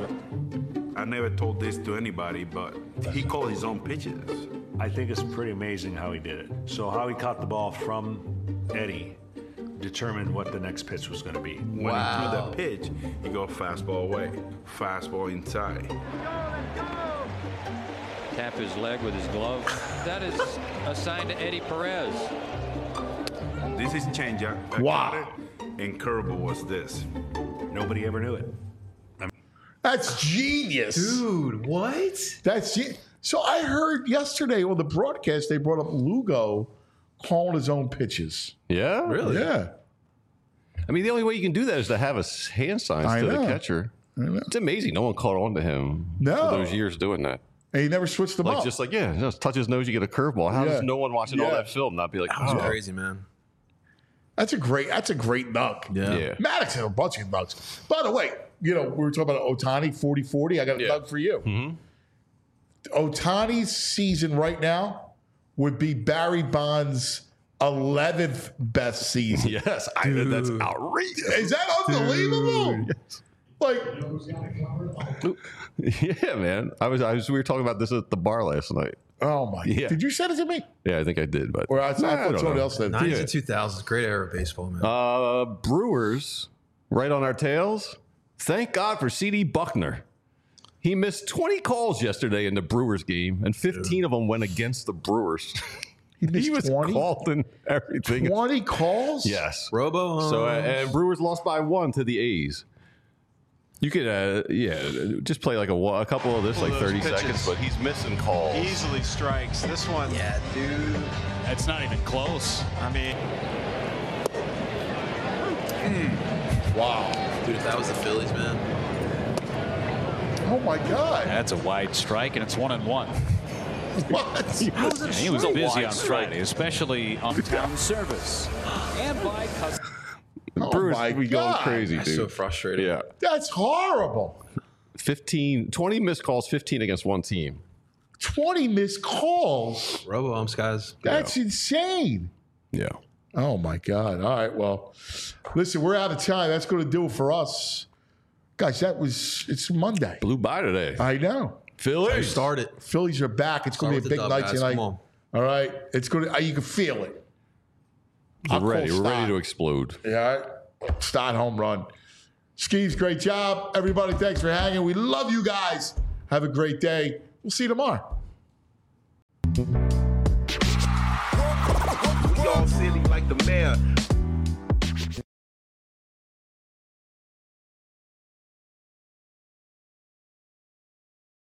I never told this to anybody, but he called his own pitches. I think it's pretty amazing how he did it. So how he caught the ball from Eddie determined what the next pitch was going to be. When he threw that pitch, he go fastball away, fastball inside. Tap his leg with his glove. That is assigned to Eddie Perez. This is changeup. I Wow. caught it, and curveball was this. Nobody ever knew it. That's genius, Dude, what? That's ge- so. I heard yesterday on the broadcast they brought up Lugo calling his own pitches. Yeah, Really? Yeah, I mean, the only way you can do that is to have a s- hand signs I to know. the catcher. It's amazing. No one caught on to him No. for those years doing that. and he never switched them Like up. just like yeah, just touch his nose, you get a curveball. How Yeah. does no one watching all Yeah. that film not be like, That's oh, crazy, man. That's a great. That's a great dunk. Yeah. yeah. Maddox had a bunch of dunks. By the way, you know, we were talking about Ohtani forty forty. I got a Yeah. dunk for you. Ohtani's season right now would be Barry Bonds' eleventh best season. Yes, I, that's outrageous. Is that unbelievable? Like, Yeah, man. I was, I was. We were talking about this at the bar last night. oh my! Yeah. Did you send it to me? Yeah, I think I did, but Or I, I Nah, thought don't someone know. else said it. nineties Yeah. and two thousands, great era of baseball, man. Uh, Brewers, right on our tails. Thank God for C D Buckner. He missed twenty calls yesterday in the Brewers game, and fifteen of them went against the Brewers. He missed he was twenty? called in everything. twenty calls? Yes. Robo. Uh, So uh, and Brewers lost by one to the A's. You could, uh, yeah, just play like a, wa- a couple of this, Couple like of those thirty pitches. seconds, but he's missing calls. Easily strikes. This one. yeah, dude. It's not even close. I mean, Wow. Dude, if that was the Phillies, man. Oh my God. That's a wide strike, and it's one and one. What? Yeah, he was a busy wide on strike. Friday, especially on town service. And by custom. Oh Bruce, my we going God. crazy, That's dude. so frustrating. Yeah. That's horrible. fifteen, twenty missed calls, fifteen against one team. twenty missed calls. Robo umps, guys. That's insane. Yeah. Oh my God. All right. Well, listen, we're out of time. That's going to do it for us. Guys, that was, it's Monday. Blew by today. I know. Phillies. Start it. Phillies are back. It's going to be a big Start with the dub, night guys. tonight. Come on. All right. It's going to, you can feel it. We're I'll call ready. We're ready Stott. to explode. Yeah. Stott home run. Skeeves, great job. Everybody, thanks for hanging. We love you guys. Have a great day. We'll see you tomorrow. We all silly like the mayor.